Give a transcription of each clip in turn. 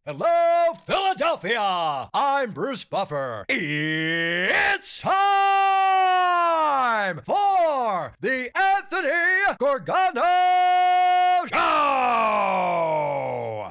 Hello, Philadelphia! I'm Bruce Buffer. It's time for the Anthony Gorgano Show!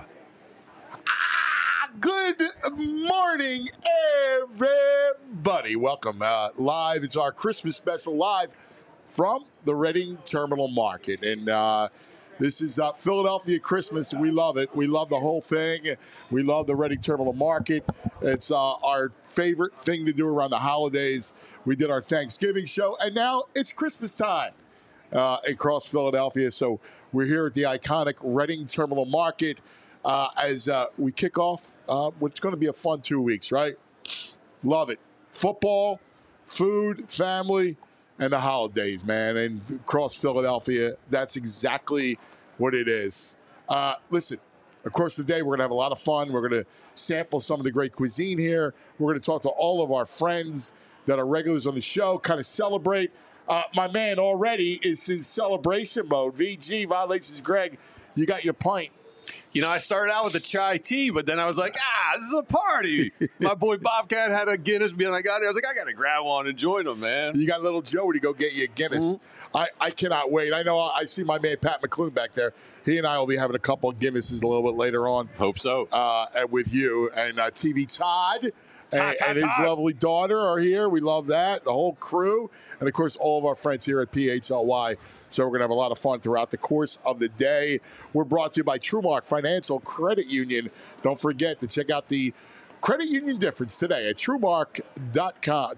Good morning, everybody. Welcome live. It's our Christmas special live from the Reading Terminal Market. And this is Philadelphia Christmas. We love it. We love the whole thing. We love the Reading Terminal Market. It's our favorite thing to do around the holidays. We did our Thanksgiving show, and now it's Christmas time across Philadelphia. So we're here at the iconic Reading Terminal Market as we kick off what's going to be a fun 2 weeks, right? Love it. Football, food, family, and the holidays, man. And across Philadelphia, that's exactly what it is. Listen, across the day, we're going to have a lot of fun. We're going to sample some of the great cuisine here. We're going to talk to all of our friends that are regulars on the show, kind of celebrate. My man already is in celebration mode. VG, Violations Greg, you got your pint. You know, I started out with a chai tea, but then I was like, this is a party. My boy Bobcat had a Guinness beer, and I got it. I was like, I got to grab one and join them, man. You got little Joey to go get you a Guinness. Mm-hmm. I cannot wait. I know I see my man Pat McClune back there. He and I will be having a couple of Guinnesses a little bit later on. Hope so. With you. And TV Todd and his lovely daughter are here. We love that. The whole crew. And, of course, all of our friends here at PHLY. So we're going to have a lot of fun throughout the course of the day. We're brought to you by TrueMark Financial Credit Union. Don't forget to check out the credit union difference today at TrueMark.com,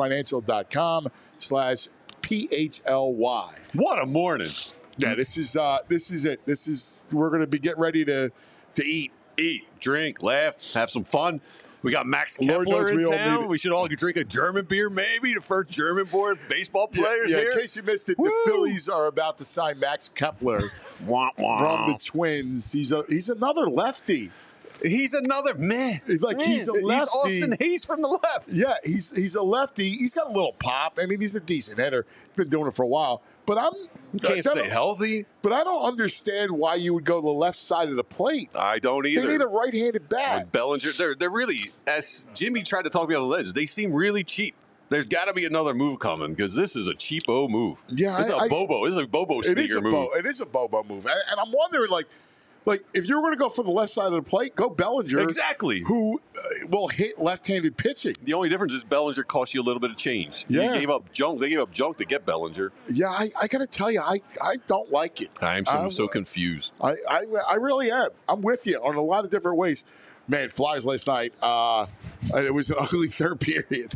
TrueMarkFinancial.com/PHLY. What a morning. Yeah, this is it. We're going to be getting ready to eat. Eat, drink, laugh, have some fun. We got Max Kepler in town. We should all drink a German beer, maybe. The first German-born baseball players here. In case you missed it, the Phillies are about to sign Max Kepler from the Twins. He's another lefty. He's another man. He's a lefty. He's Austin Hayes from the left. Yeah, he's a lefty. He's got a little pop. I mean, he's a decent hitter. He's been doing it for a while. But can't stay healthy. But I don't understand why you would go the left side of the plate. I don't either. They need a right-handed bat. Like Bellinger, they're really, as Jimmy tried to talk me on the ledge, they seem really cheap. There's got to be another move coming because this is a cheapo move. Yeah, this is a Bobo sneaker move. It is a Bobo move. And I'm wondering, like if you're going to go for the left side of the plate, go Bellinger. Exactly. Who will hit left-handed pitching. The only difference is Bellinger costs you a little bit of change. Yeah. They gave up junk to get Bellinger. Yeah, I got to tell you, I don't like it. I'm so confused. I really am. I'm with you on a lot of different ways. Man, Flyers last night, it was an ugly third period.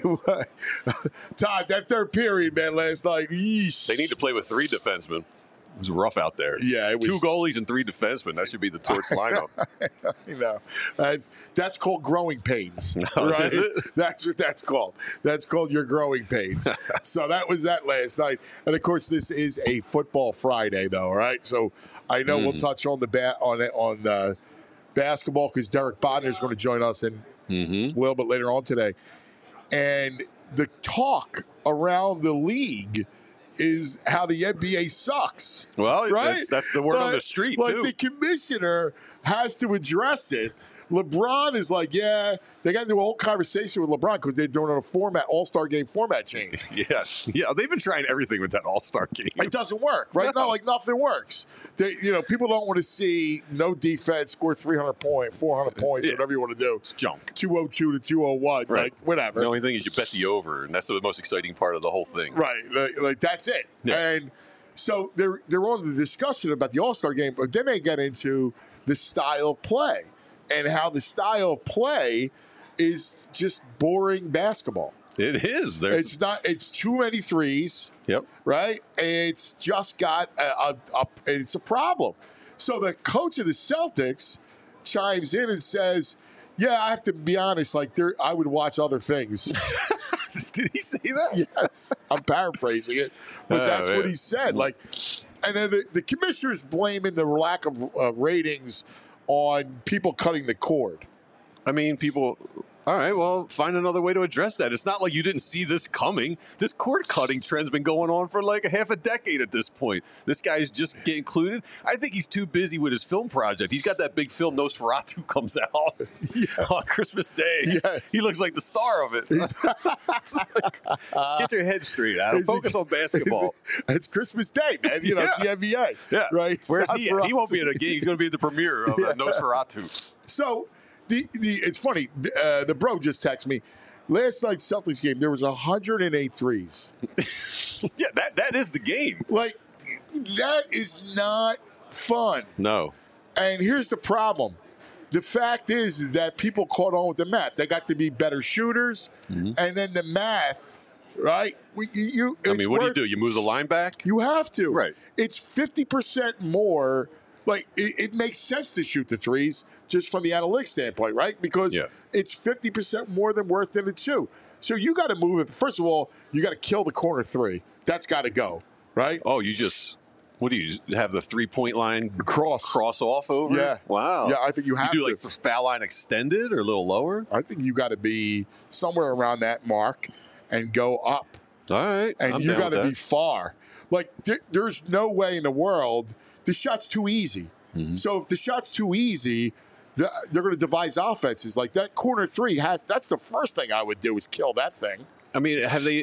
Todd, that third period, man, last night, yeesh. They need to play with 3 defensemen. It was rough out there. Yeah, it was 2 goalies and 3 defensemen. That should be the Torts lineup. You know, that's called growing pains, Oh, right? is it? That's what that's called. That's called your growing pains. So that was that last night, and of course, this is a football Friday, though, right? So I know we'll touch on the basketball because Derek Bodner is going to join us in a little bit later on today, and the talk around the league is how the NBA sucks. Well, right? that's the word on the street, too. Like, the commissioner has to address it. LeBron is like, yeah, they got into a whole conversation with LeBron because they're doing a All-Star game format change. Yes. Yeah, they've been trying everything with that All-Star game. It doesn't work, right? No. Not like nothing works. People don't want to see no defense, score 300 points, 400 points, whatever you want to do. It's junk. 202 to 201, right. Like, whatever. The only thing is you bet the over, and that's the most exciting part of the whole thing. Right. Like that's it. Yeah. And so they're on the discussion about the All-Star game, but then they get into the style of play. And how the style of play is just boring basketball. It is. It's too many threes. Yep. Right? It's just got it's a problem. So the coach of the Celtics chimes in and says, yeah, I have to be honest, I would watch other things. Did he say that? Yes. I'm paraphrasing it. But that's what he said. And then the commissioner's blaming the lack of ratings on people cutting the cord. I mean, All right, well, find another way to address that. It's not like you didn't see this coming. This cord cutting trend's been going on for like a half a decade at this point. This guy's just getting included. I think he's too busy with his film project. He's got that big film Nosferatu comes out on Christmas Day. He looks like the star of it. Get your head straight, Adam. Focus on basketball. It's Christmas Day, man. You know, it's the NBA. Yeah. Right? Where's he? He won't be at a game. He's going to be at the premiere of Nosferatu. So, it's funny. The bro just texted me. Last night's Celtics game, there was 108 threes. Yeah, that is the game. Like, that is not fun. No. And here's the problem. The fact is that people caught on with the math. They got to be better shooters. Mm-hmm. And then the math, right? What do you do? You move the line back? You have to. Right. It's 50% more. Like, it makes sense to shoot the threes just from the analytics standpoint, right? Because it's 50% more than worth than a two. So you got to move it. First of all, you got to kill the corner three. That's got to go, right? Oh, what do you have the 3-point line cross off over? Yeah. Wow. Yeah, I think you have to. You do like the foul line extended or a little lower? I think you got to be somewhere around that mark and go up. All right. And you got to be far. Like, there's no way in the world. The shot's too easy. Mm-hmm. So if the shot's too easy, they're going to devise offenses. Like that corner three that's the first thing I would do is kill that thing. I mean,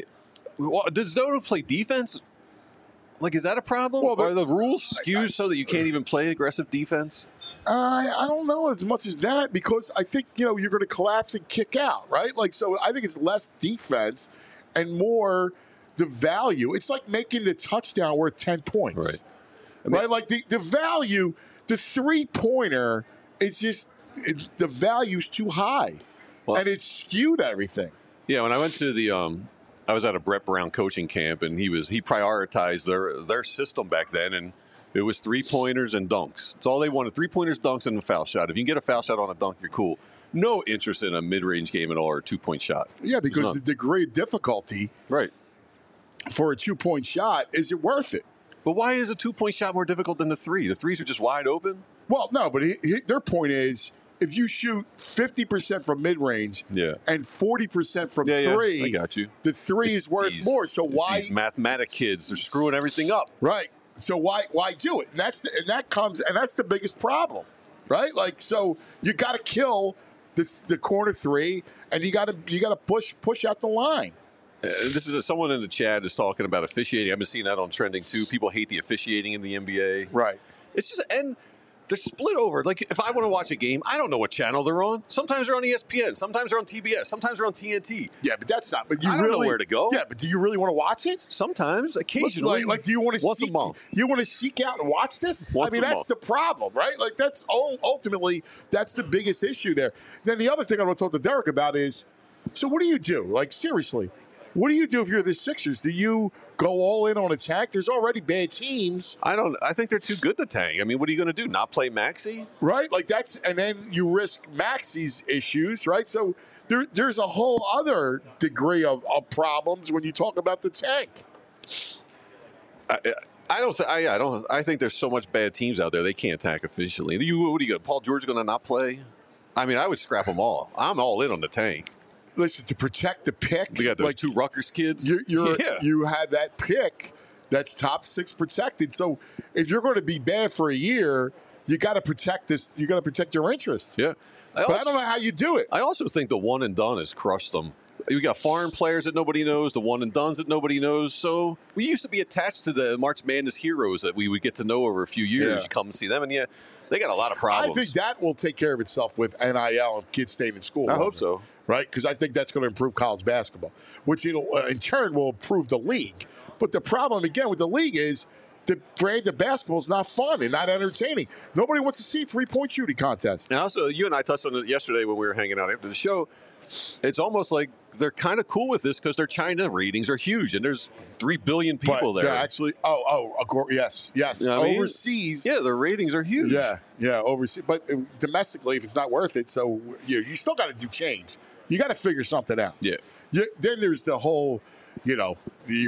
does Dodo play defense? Like, is that a problem? Well, are the rules skewed so that you can't even play aggressive defense? I don't know as much as that because I think, you're going to collapse and kick out, right? Like, so I think it's less defense and more the value. It's like making the touchdown worth 10 points. Right. Right? Like the value, the three-pointer is just, the value's too high. Well, and it's skewed everything. Yeah, when I went to I was at a Brett Brown coaching camp, and he prioritized their system back then, and it was three-pointers and dunks. That's all they wanted, three-pointers, dunks, and a foul shot. If you can get a foul shot on a dunk, you're cool. No interest in a mid-range game at all or a two-point shot. Yeah, because the degree of difficulty for a two-point shot, is it worth it? But why is a two-point shot more difficult than the three? The threes are just wide open? Well, no, but their point is if you shoot 50% from mid-range and 40% from three, I got you. The three is worth more. So why? These mathematic kids, they're screwing everything up. Right. So why do it? And that's the biggest problem, right? Like, so you got to kill the corner three, and you got to push out the line. This is someone in the chat is talking about officiating. I've been seeing that on trending too. People hate the officiating in the NBA. Right. It's just, and they're split over. Like, if I want to watch a game, I don't know what channel they're on. Sometimes they're on ESPN. Sometimes they're on TBS. Sometimes they're on TNT. Yeah, but that's not. But I don't know where to go. Yeah, but do you really want to watch it? Sometimes, occasionally. Like do you want to once a month? You want to seek out and watch this? Once that's the problem, right? Like, that's ultimately that's the biggest issue there. Then the other thing I want to talk to Derek about is, so what do you do? Like, seriously. What do you do if you're the Sixers? Do you go all in on a tank? There's already bad teams. I think they're too good to tank. I mean, what are you going to do? Not play Maxey? Right? Like, and then you risk Maxey's issues, right? So there's a whole other degree of problems when you talk about the tank. I think there's so much bad teams out there they can't tank officially. What are you going? Paul George going to not play? I mean, I would scrap them all. I'm all in on the tank. Listen, to protect the pick. We got those two Rutgers kids. You have that pick that's top 6 protected. So if you're going to be bad for a year, you got to protect this. You got to protect your interests. Yeah. I don't know how you do it. I also think the one and done has crushed them. We got foreign players that nobody knows, the one and dones that nobody knows. So we used to be attached to the March Madness heroes that we would get to know over a few years. Yeah. You come and see them, and they got a lot of problems. I think that will take care of itself with NIL and kids staying in school. I hope so. Right? Because I think that's going to improve college basketball, which in turn will improve the league. But the problem, again, with the league is the brand of basketball is not fun and not entertaining. Nobody wants to see a three-point shooting contest. And also, you and I touched on it yesterday when we were hanging out after the show. It's almost like they're kind of cool with this because their China ratings are huge, and there's 3 billion people there. Actually, yes. You know overseas. Their ratings are huge. Yeah, overseas. But domestically, if it's not worth it, so you still got to do change. You got to figure something out. Yeah. Then there's the whole, the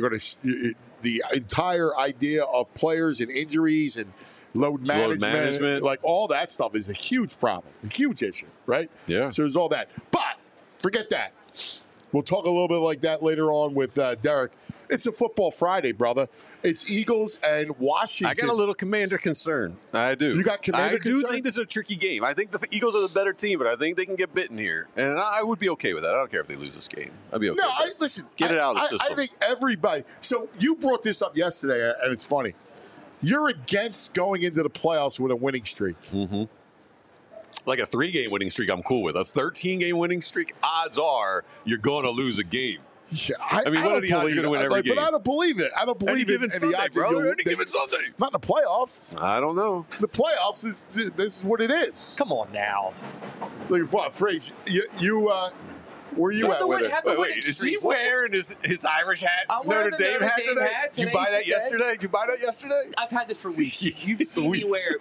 entire idea of players and injuries and load management. Like, all that stuff is a huge problem, a huge issue, right? Yeah. So there's all that. But Forget that. We'll talk a little bit like that later on with Derek. It's a football Friday, brother. It's Eagles and Washington. I got a little Commander concern. I do. You got Commander concern? I do think this is a tricky game. I think the Eagles are the better team, but I think they can get bitten here. And I would be okay with that. I don't care if they lose this game. I'd be okay. No, with that. listen. Get it out of the system. I think everybody. So you brought this up yesterday, and it's funny. You're against going into the playoffs with a winning streak. Mm-hmm. Like a 3-game winning streak, I'm cool with. A 13-game winning streak, odds are you're going to lose a game. Yeah, I mean, what are the odds you're going to win every game? But I don't believe it. I don't believe it. Any given Sunday, bro. Any given Sunday. Not in the playoffs. I don't know. The playoffs is this is what it is. Come on now. Look at what phrase you where you at with it? Wait, is he wearing his Irish hat? I'm wearing Notre Dame hat today? Did you buy that yesterday? Did you buy that yesterday? I've had this for weeks. You've seen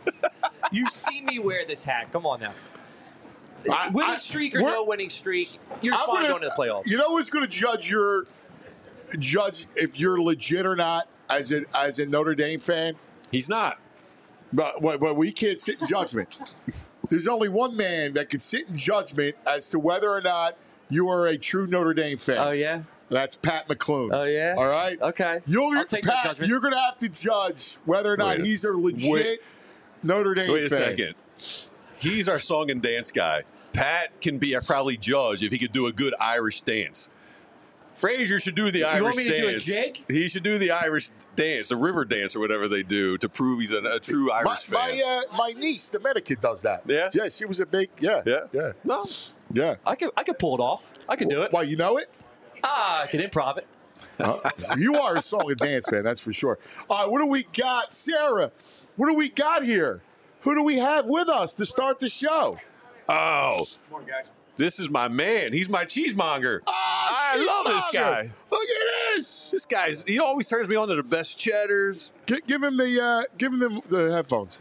me wear this hat. Come on now. Winning streak or no winning streak, you're fine going to the playoffs. You know who's going to judge if you're legit or not as a Notre Dame fan? He's not. But we can't sit in judgment. There's only one man that can sit in judgment as to whether or not you are a true Notre Dame fan. Oh, yeah? That's Pat McClune. Oh, yeah? All right? Okay. I'll take that Pat, judgment. you're going to have to judge whether or not he's a legit Notre Dame fan. Wait a second. He's our song and dance guy. Pat can be probably judge if he could do a good Irish dance. Frazier should do the Irish want me to dance. do a jig? He should do the Irish dance, the river dance, or whatever they do to prove he's a true Irish fan. My niece, the Dominican, does that. Yeah? Yeah, she was a big, yeah. No. Yeah. I could pull it off. I could do it. Why, you know it? I can improv it. You are a song and dance man, that's for sure. All right, what do we got? Sarah, what do we got here? Who do we have with us to start the show? Oh. Good morning, guys. This is my man. He's my cheesemonger. I love this guy. Look at this. This guy's, he always turns me on to the best cheddars. Give him the headphones.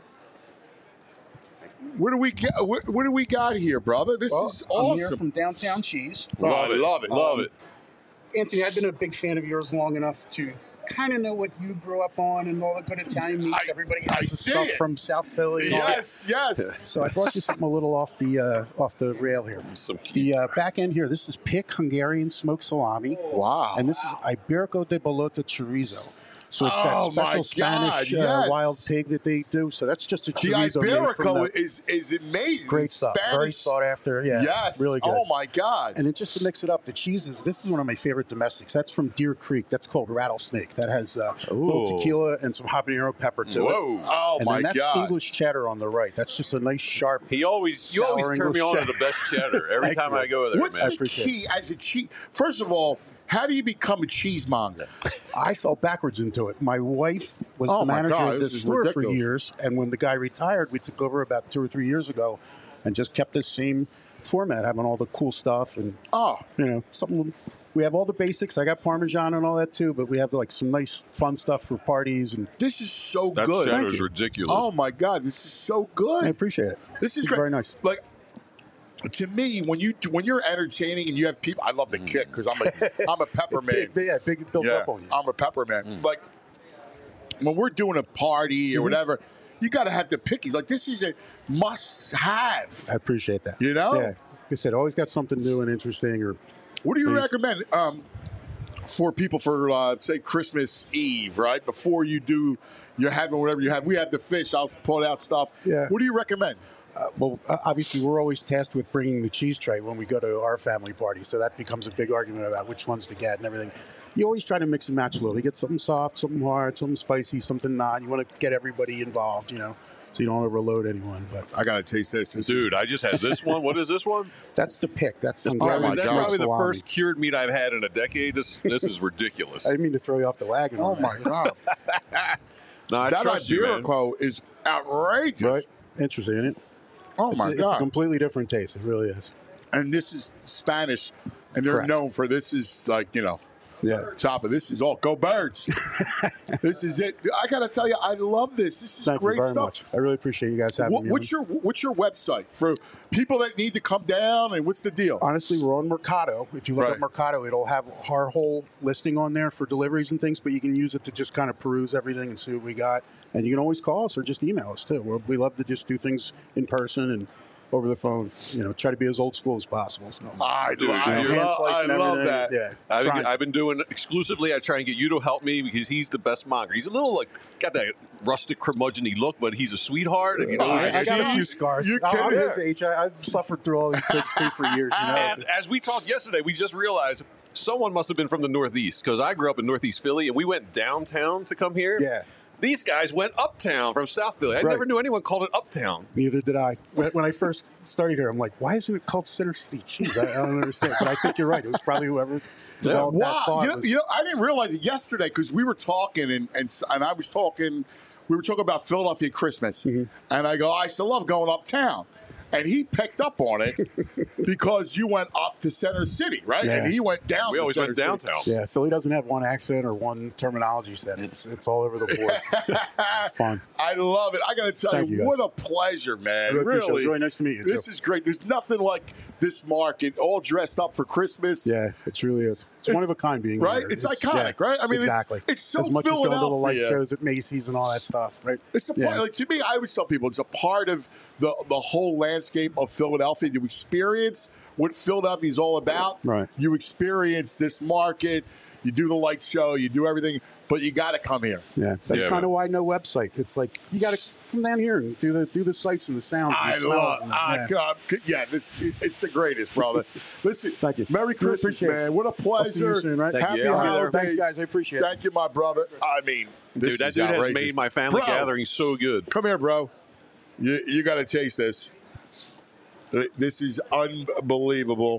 What do we got here, brother? This is awesome. I'm here from Downtown Cheese. Love it. Anthony, I've been a big fan of yours long enough to kind of know what you grew up on and all the good Italian meats. Everybody has the stuff from South Philly. Yes. So I brought you something a little off the rail here. The back end here, this is Pick Hungarian smoked salami. Wow. And this is Iberico de Bolota chorizo. So it's that special Spanish yes. wild pig that they do. So that's just a The chorizo. Iberico is amazing. Great it's stuff. Spanish. Very sought after. Yeah. Yes. Really good. Oh, my God. And then just to mix it up, the cheeses, this is one of my favorite domestics. That's from Deer Creek. That's called Rattlesnake. That has a little tequila and some habanero pepper to it. Oh, and my then that's God. English cheddar on the right. That's just a nice, sharp. You always turn me on to the best cheddar every time I go there, What's man. the key as a cheese? First of all, how do you become a cheesemonger? I fell backwards into it. My wife was the manager of this store for years, and when the guy retired, we took over about 2 or 3 years ago, and just kept the same format, having all the cool stuff and something. We have all the basics. I got Parmesan and all that too, but we have like some nice, fun stuff for parties. And this is so that good. That cheddar's ridiculous. Oh my God, this is so good. I appreciate it. This is it's great. Very nice. Like. To me, when you're entertaining and you have people, I love the kick because I'm a pepper man. Big built up on you. I'm a pepper man. Like when we're doing a party or whatever, you got to have the pickies. Like this is a must-have. I appreciate that. You know, like I said, always got something new and interesting. Or what do you recommend for people for say Christmas Eve, right before you're having whatever you have? We have the fish. I'll pull out stuff. Yeah. What do you recommend? Well, obviously, we're always tasked with bringing the cheese tray when we go to our family party, so that becomes a big argument about which ones to get and everything. You always try to mix and match a little. You get something soft, something hard, something spicy, something not. You want to get everybody involved, so you don't overload anyone. But I gotta taste this, dude. I just had this one. What is this one? That's the Pick. That's that's probably the first cured meat I've had in a decade. This is ridiculous. I didn't mean to throw you off the wagon. Oh my God! No, I trust you, man. Iberico is outrageous. Right? Interesting, isn't it? Oh my God! It's a completely different taste. It really is. And this is Spanish, and they're known for this. Is like top of this is all go birds. This is it. I gotta tell you, I love this. This is Thank great you very stuff. Much. I really appreciate you guys having me. What's your website for people that need to come down? And what's the deal? Honestly, we're on Mercado. If you look at Mercado, it'll have our whole listing on there for deliveries and things. But you can use it to just kind of peruse everything and see what we got. And you can always call us or just email us too. We love to just do things in person and over the phone. Try to be as old school as possible. So, I Dude, love that. Yeah, I've been doing exclusively. I try and get you to help me because he's the best monger. He's a little got that rustic curmudgeon-y look, but he's a sweetheart. And I got a few scars. I'm his age. I've suffered through all these things too for years. And as we talked yesterday, we just realized someone must have been from the Northeast because I grew up in Northeast Philly, and we went downtown to come here. Yeah. These guys went uptown from South Philly. I never knew anyone called it uptown. Neither did I. When I first started here, I'm like, why isn't it called Center City? Jeez, I don't understand. But I think you're right. It was probably whoever developed that thought. I didn't realize it yesterday because we were talking and I was talking. We were talking about Philadelphia Christmas, and I still love going uptown. And he picked up on it because you went up to Center City, right? Yeah. And he went down. We always went downtown. Yeah, Philly doesn't have one accent or one terminology set. It's all over the board. It's fun. I love it. I got to tell you, what a pleasure, man. Really, it was really nice to meet you. This is great. There's nothing like this market, all dressed up for Christmas. Yeah, it truly is. It's one of a kind being right. here. It's iconic, right? I mean, exactly. It's so as much Philadelphia. as going to the light shows at Macy's and all that stuff, right? It's a part. Like, to me, I always tell people it's a part of the whole landscape of Philadelphia. You experience what Philadelphia is all about. Right. You experience this market. You do the light show. You do everything, but you got to come here. Yeah, that's kind of why no website. It's like you got to come down here and do the sights and the sounds. And the smells. It's the greatest, brother. Listen, thank you. Merry Christmas, man. What a pleasure. See you soon, right? Happy holidays. Thanks, guys. I appreciate it. Thank you, my brother. I mean, Dude, that dude has made my family gathering so good. Come here, bro. You got to taste this. This is unbelievable.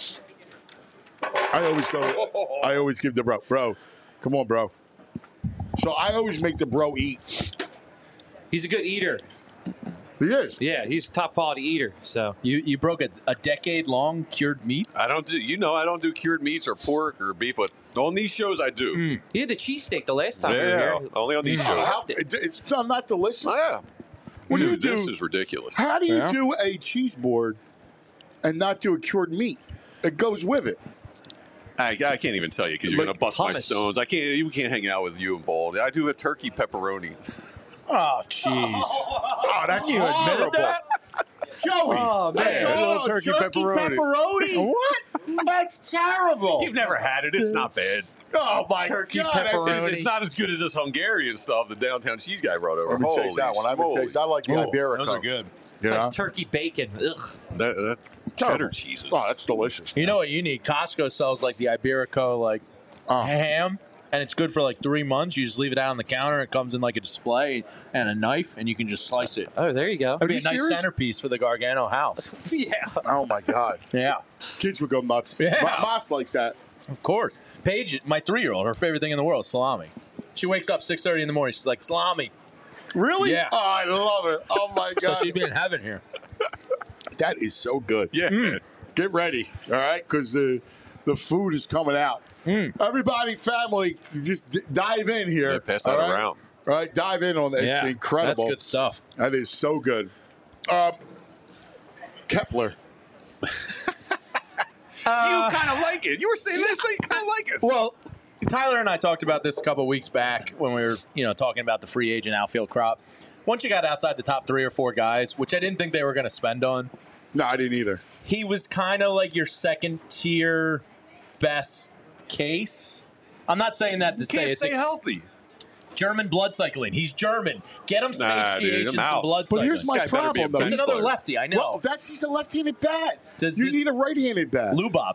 I always give the bro. Come on, bro. So I always make the bro eat. He's a good eater. He is. Yeah, he's a top quality eater. So you broke a decade-long cured meat? I don't do cured meats or pork or beef, but on these shows I do. He had the cheesesteak the last time we were here. Only on these shows. It's not delicious. Oh, yeah. What do you do? This is ridiculous. How do you do a cheese board and not do a cured meat? It goes with it. I can't even tell you because you're going to bust my stones. We can't hang out with you and Bald. I do a turkey pepperoni. Oh, jeez. Oh, that's you admitted that? Joey. Oh, man. That's all turkey pepperoni. What? That's terrible. You've never had it. It's not bad. Oh, my Turkey God. pepperoni. It's not as good as this Hungarian stuff the downtown cheese guy brought over. Let me taste that one. I like the Iberico. Those are good. It's like turkey bacon. Ugh. That cheddar cheeses. Oh, that's delicious. You know what you need? Costco sells like the Iberico ham, and it's good for like 3 months. You just leave it out on the counter. It comes in like a display and a knife, and you can just slice it. Oh, there you go. It'd be a nice centerpiece for the Gargano house. Yeah. Oh, my God. Yeah. Kids would go nuts. Yeah. Moss likes that. Of course. Paige, my 3-year-old, her favorite thing in the world is salami. She wakes up 6:30 in the morning. She's like, salami. Really? Yeah. Oh, I love it. Oh, my God. So she'd be in heaven here. That is so good. Yeah. Get ready, all right? Because the food is coming out. Everybody, family, just dive in here. Yeah, pass that around. All right, dive in on that. It's incredible. That's good stuff. That is so good. Kepler. You kind of like it. You were saying this, but you kind of like it. Well, Tyler and I talked about this a couple of weeks back when we were, talking about the free agent outfield crop. Once you got outside the top 3 or 4 guys, which I didn't think they were going to spend on. No, I didn't either. He was kind of like your second tier best case. I'm not saying that to say it's stay healthy. German blood cycling. He's German. Get him some HGH and some blood cycling. But here's my problem, though. He's another lefty, I know. Well, he's a left-handed bat. You need a right-handed bat. Lubop.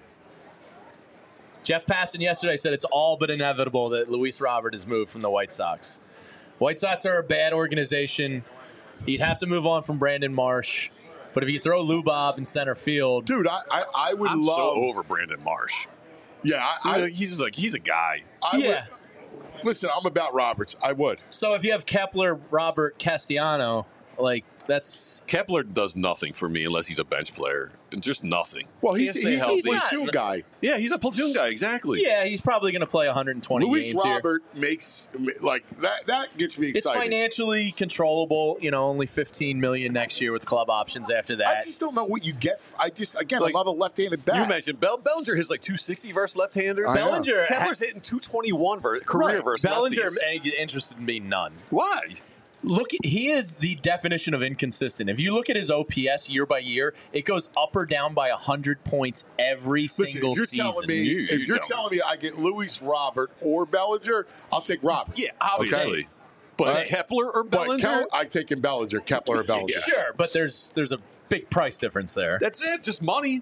Jeff Passan yesterday said it's all but inevitable that Luis Robert is moved from the White Sox. White Sox are a bad organization. You'd have to move on from Brandon Marsh. But if you throw Lubop in center field. Dude, I would I'm love. so over Brandon Marsh. Yeah, he's a guy. Listen, I'm about Roberts. I would. So if you have Kepler, Robert, Castellano, that's Kepler does nothing for me unless he's a bench player. Just nothing. Well, he's a platoon guy. Yeah, he's a platoon guy. Exactly. Yeah, he's probably going to play 120 Luis games Robert makes that. That gets me excited. It's financially controllable. Only $15 million next year with club options after that. I just don't know what you get. I love a left-handed bat. You mentioned Bellinger hits like 260 versus left-handers. Bellinger Kepler's hitting 221 career versus Bellinger lefties. interested in being none. Why? Look, he is the definition of inconsistent. If you look at his OPS year by year, it goes up or down by 100 points every single season. If you're telling me I get Luis Robert or Bellinger, I'll take Robert. Yeah, obviously. Okay. But Kepler or Bellinger? I take in Bellinger, Kepler or Bellinger. Yeah. Sure, but there's a big price difference there. That's it, just money.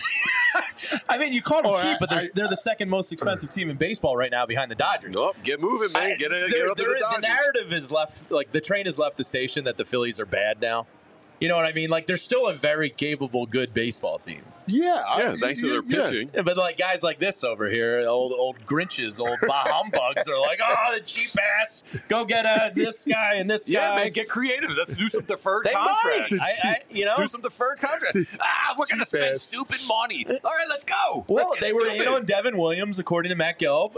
I mean, you call them cheap, but they're the second most expensive team in baseball right now behind the Dodgers. Oh, get moving, man. Get up to the Dodgers. The narrative is left, like the train has left the station that the Phillies are bad now. You know what I mean? Like, they're still a very capable, good baseball team. Yeah. Thanks to their pitching. Yeah, but, like, guys like this over here, old Grinches, old humbugs are like, oh, the cheap ass. Go get this guy and this guy. Yeah, man, get creative. Let's do some deferred contracts. Do some deferred contracts. We're going to spend stupid money. All right, let's go. Well, they were in on Devin Williams, according to Matt Gelb.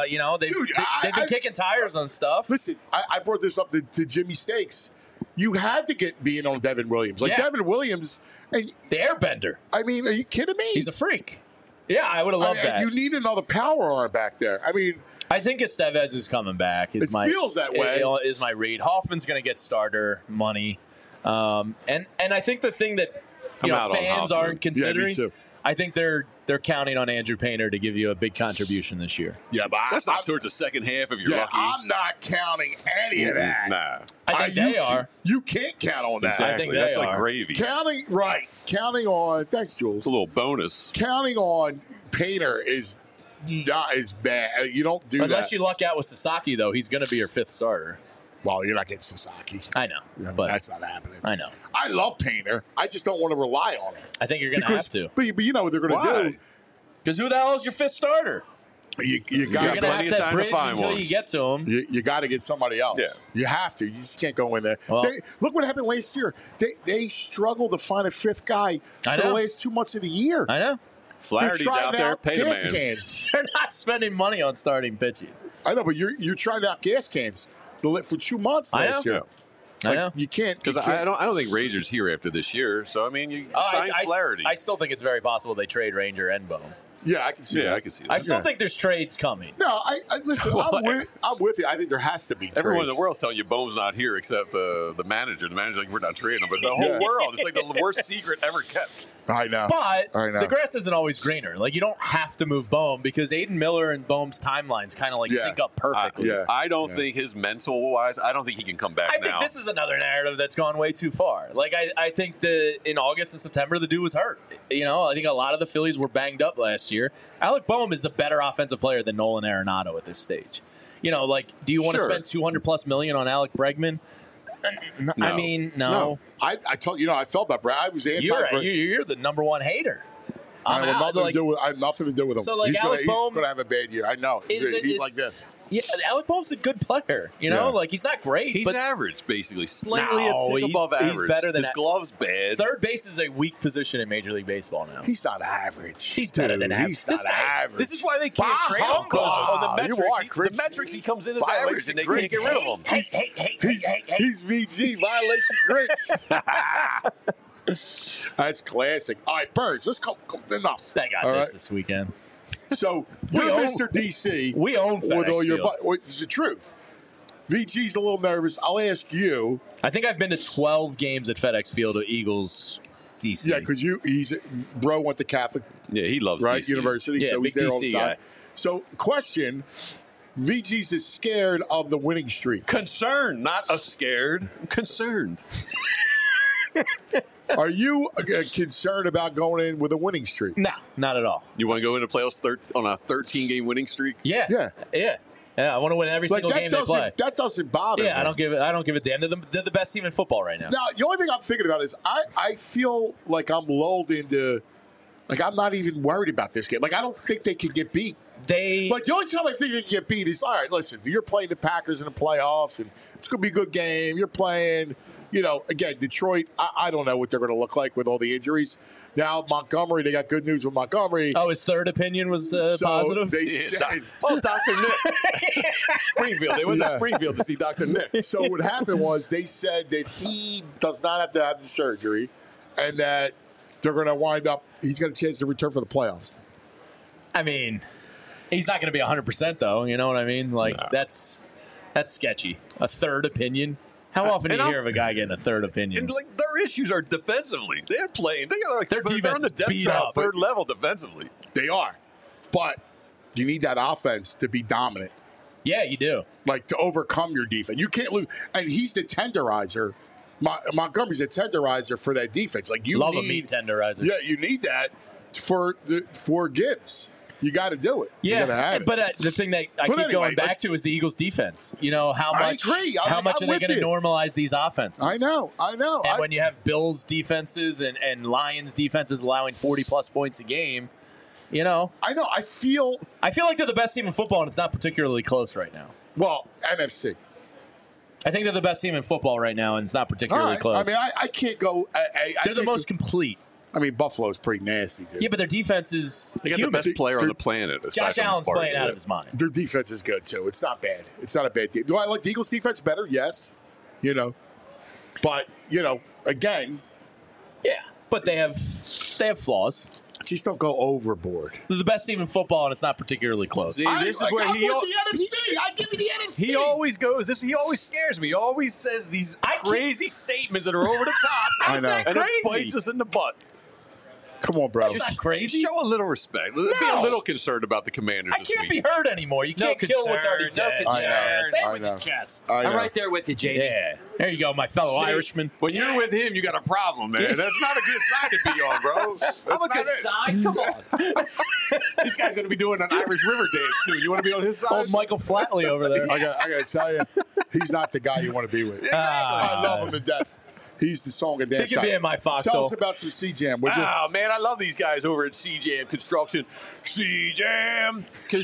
They've been kicking tires on stuff. Listen, I brought this up to Jimmy Stakes. You had to be in on Devin Williams. Devin Williams. And, the airbender. I mean, are you kidding me? He's a freak. Yeah, I would have loved that. You need another power arm back there. I mean, I think Estevez is coming back. Feels that way. Is my read. Hoffman's going to get starter money. And I think the thing that fans aren't considering, I think they're counting on Andrew Painter to give you a big contribution this year. Yeah, but that's not towards the second half if you're lucky. I'm not counting any of that. Nah. I think they are. You can't count on that. Exactly. I think that's they like are. gravy. Counting on. Thanks, Jules. It's a little bonus. Counting on Painter is bad. You don't do that unless you luck out with Sasaki. Though he's going to be your fifth starter. Well, you're not getting Sasaki. I know, but that's not happening. I know. I love Painter. I just don't want to rely on him. I think you're going to have to. But you know what they're going to do. Because who the hell is your fifth starter? You got to have that bridge until you get to him. You got to get somebody else. Yeah. You have to. You just can't go in there. Well, look what happened last year. They struggled to find a fifth guy for the last 2 months of the year. I know. Flaherty's out there. Pay the man. They're not spending money on starting pitching. I know, but you're trying out gas cans for 2 months last year. I know. You can't. Because I don't think Razor's here after this year. So, I mean, you sign Flaherty. I still think it's very possible they trade Ranger and Bone. Yeah, I can see that. I can see that. I still think there's trades coming. No, I listen. I'm with you. I think there has to be trades. Everyone in the world's telling you Bohm's not here except the manager. The manager's like, we're not trading him. But the whole world, it's like the worst secret ever kept. I know. But the grass isn't always greener. Like, you don't have to move Bohm because Aiden Miller and Bohm's timelines kind of sync up perfectly. I don't think his mental-wise, I don't think he can come back now. I think this is another narrative that's gone way too far. Like, I think in August and September, the dude was hurt. I think a lot of the Phillies were banged up last year. Alec Bohm is a better offensive player than Nolan Arenado at this stage. Do you want to spend $200+ million on Alec Bregman? No. I mean, no. I told I felt about Brad. I was anti. You're the number one hater. I have nothing to do with him. So, he's Alec Bohm going to have a bad year. I know. He's like this. Yeah, Alec Bohm's a good player. He's not great. He's average, basically, slightly above average. He's better than his glove's bad. Third base is a weak position in Major League Baseball now. He's not average. He's better than average. He's not average. This is why they can't trade him the metrics he comes in as average, and they can't get rid of him. He's VG violation Grinch. That's classic. All right, Birds. Let's go. Enough. I got this weekend. So you're Mr. DC. We own FedEx with all your. Field. It's the truth. VG's a little nervous. I'll ask you. I think I've been to 12 games at FedEx Field of Eagles DC. Yeah, because bro went to Catholic. Yeah, he loves DC. University, so he's there all the time. So, question: VG's is scared of the winning streak. Concerned, not a scared. I'm concerned. Are you concerned about going in with a winning streak? No, not at all. You want to go into playoffs on a 13-game winning streak? Yeah. I want to win every single game they play. That doesn't bother me. I don't give a damn. They're the best team in football right now. Now, the only thing I'm thinking about is I feel like I'm lulled into, I'm not even worried about this game. I don't think they can get beat. The only time I think they can get beat is, all right, listen, you're playing the Packers in the playoffs, and it's going to be a good game. You're playing, again, Detroit, I don't know what they're going to look like with all the injuries. Now, Montgomery, they got good news with Montgomery. Oh, his third opinion was positive? They said, Dr. Nick. Springfield. They went to Springfield to see Dr. Nick. So what happened was they said that he does not have to have the surgery and that they're going to wind up, he's got a chance to return for the playoffs. I mean, he's not going to be 100%, though. You know what I mean? That's sketchy. A third opinion. How often do you And hear of a guy getting a third opinion? And like their issues are defensively. They're playing. They are like Their they're defense on the is depth beat chart, up. third level defensively. They are. But you need that offense to be dominant, Yeah, you do. like to overcome your defense. You can't lose. And he's the tenderizer. Montgomery's a tenderizer for that defense. Like you Love need a meat tenderizer. Yeah, you need that for Gibbs. You got to do it. You gotta Yeah, have it. but the thing that I But keep anyway, going back like- to is the Eagles' defense. You know how I much? agree. How much I'm are they with going to you. normalize these offenses? I know. And when you have Bills defenses and Lions defenses allowing 40-plus points a game, you know. I know. I feel like they're the best team in football, and it's not particularly close right now. well, NFC. I think they're the best team in football right now, and it's not All particularly right. close. I mean, I can't go. they're the most complete. I mean, Buffalo's pretty nasty, dude. Yeah, but their defense is They got human. the best player on the planet. aside Josh from Allen's Barkley. playing out of his mind. Their defense is good too. It's not bad. It's not a bad team. Do I like the Eagles' defense better? Yes. But again, Yeah, but they have flaws. just don't go overboard. They're the best team in football, and it's not particularly close. See, this is where I'm he with the NFC. I give you the NFC. He always goes. He always scares me. He always says these crazy statements that are over the top. I know. And it Crazy. bites us in the butt. Come on, bro. That's not crazy. Show a little respect. Be a little concerned about the Commanders I this can't week. be hurt anymore. You can't kill what's already concern, dead. no I know. Yeah, say I it with know. your chest. I know. I'm right there with you, JD. Yeah. There you go, my fellow Irishman. When you're with him, you got a problem, man. That's not a good side to be on, bro. That's I'm a not good it. side. Come on. This guy's going to be doing an Irish River dance soon. You want to be on his side? Old Michael Flatley over there. I got to tell you, he's not the guy you want to be with. I love him to death. He's the song and dance He can be guy. in my foxhole. Tell us about some C-Jam, would you? Oh, man, I love these guys over at C-Jam Construction. C-Jam. Because,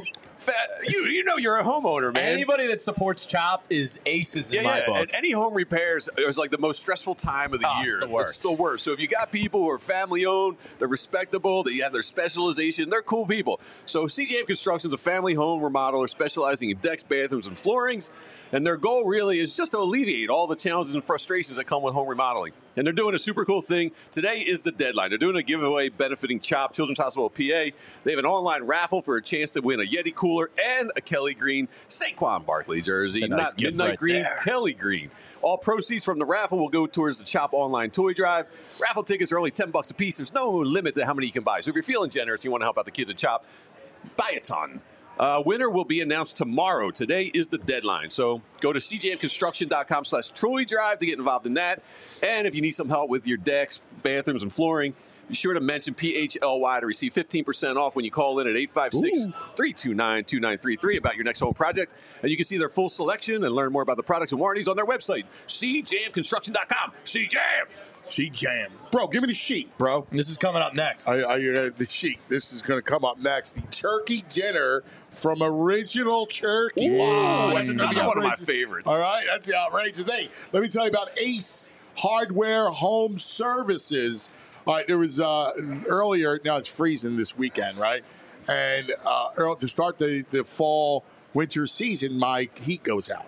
you're a homeowner, man. Anybody that supports CHOP is aces in my book. And any home repairs is like the most stressful time of the year. It's the worst. It's the worst. So if you got people who are family owned, they're respectable, they have their specialization, they're cool people. So CJM Construction is a family home remodeler specializing in decks, bathrooms, and floorings. And their goal really is just to alleviate all the challenges and frustrations that come with home remodeling. And they're doing a super cool thing. Today is the deadline. They're doing a giveaway benefiting CHOP, Children's Hospital of PA. They have an online raffle for a chance to win a Yeti cooler and a Kelly Green Saquon Barkley jersey. That's a nice Not gift midnight right green, there. Kelly Green. All proceeds from the raffle will go towards the CHOP online toy drive. Raffle tickets are only $10 a piece. There's no limit to how many you can buy. So if you're feeling generous, you want to help out the kids at CHOP, buy a ton. Winner will be announced tomorrow. Today is the deadline. So go to cjmconstruction.com/Troy Drive to get involved in that. And if you need some help with your decks, bathrooms, and flooring, be sure to mention PHLY to receive 15% off when you call in at 856-329-2933 about your next home project. And you can see their full selection and learn more about the products and warranties on their website, cjmconstruction.com. CJM! C-Jam. Bro, give me the sheet, bro. This is coming up next. The sheet. This is going to come up next. The turkey dinner from Original Turkey. Wow, that's It's another gonna be one of my outrageous. favorites. All right, that's the outrageous. Hey, let me tell you about Ace Hardware Home Services. All right, there was earlier, now it's freezing this weekend, right? And to start the fall winter season, my heat goes out.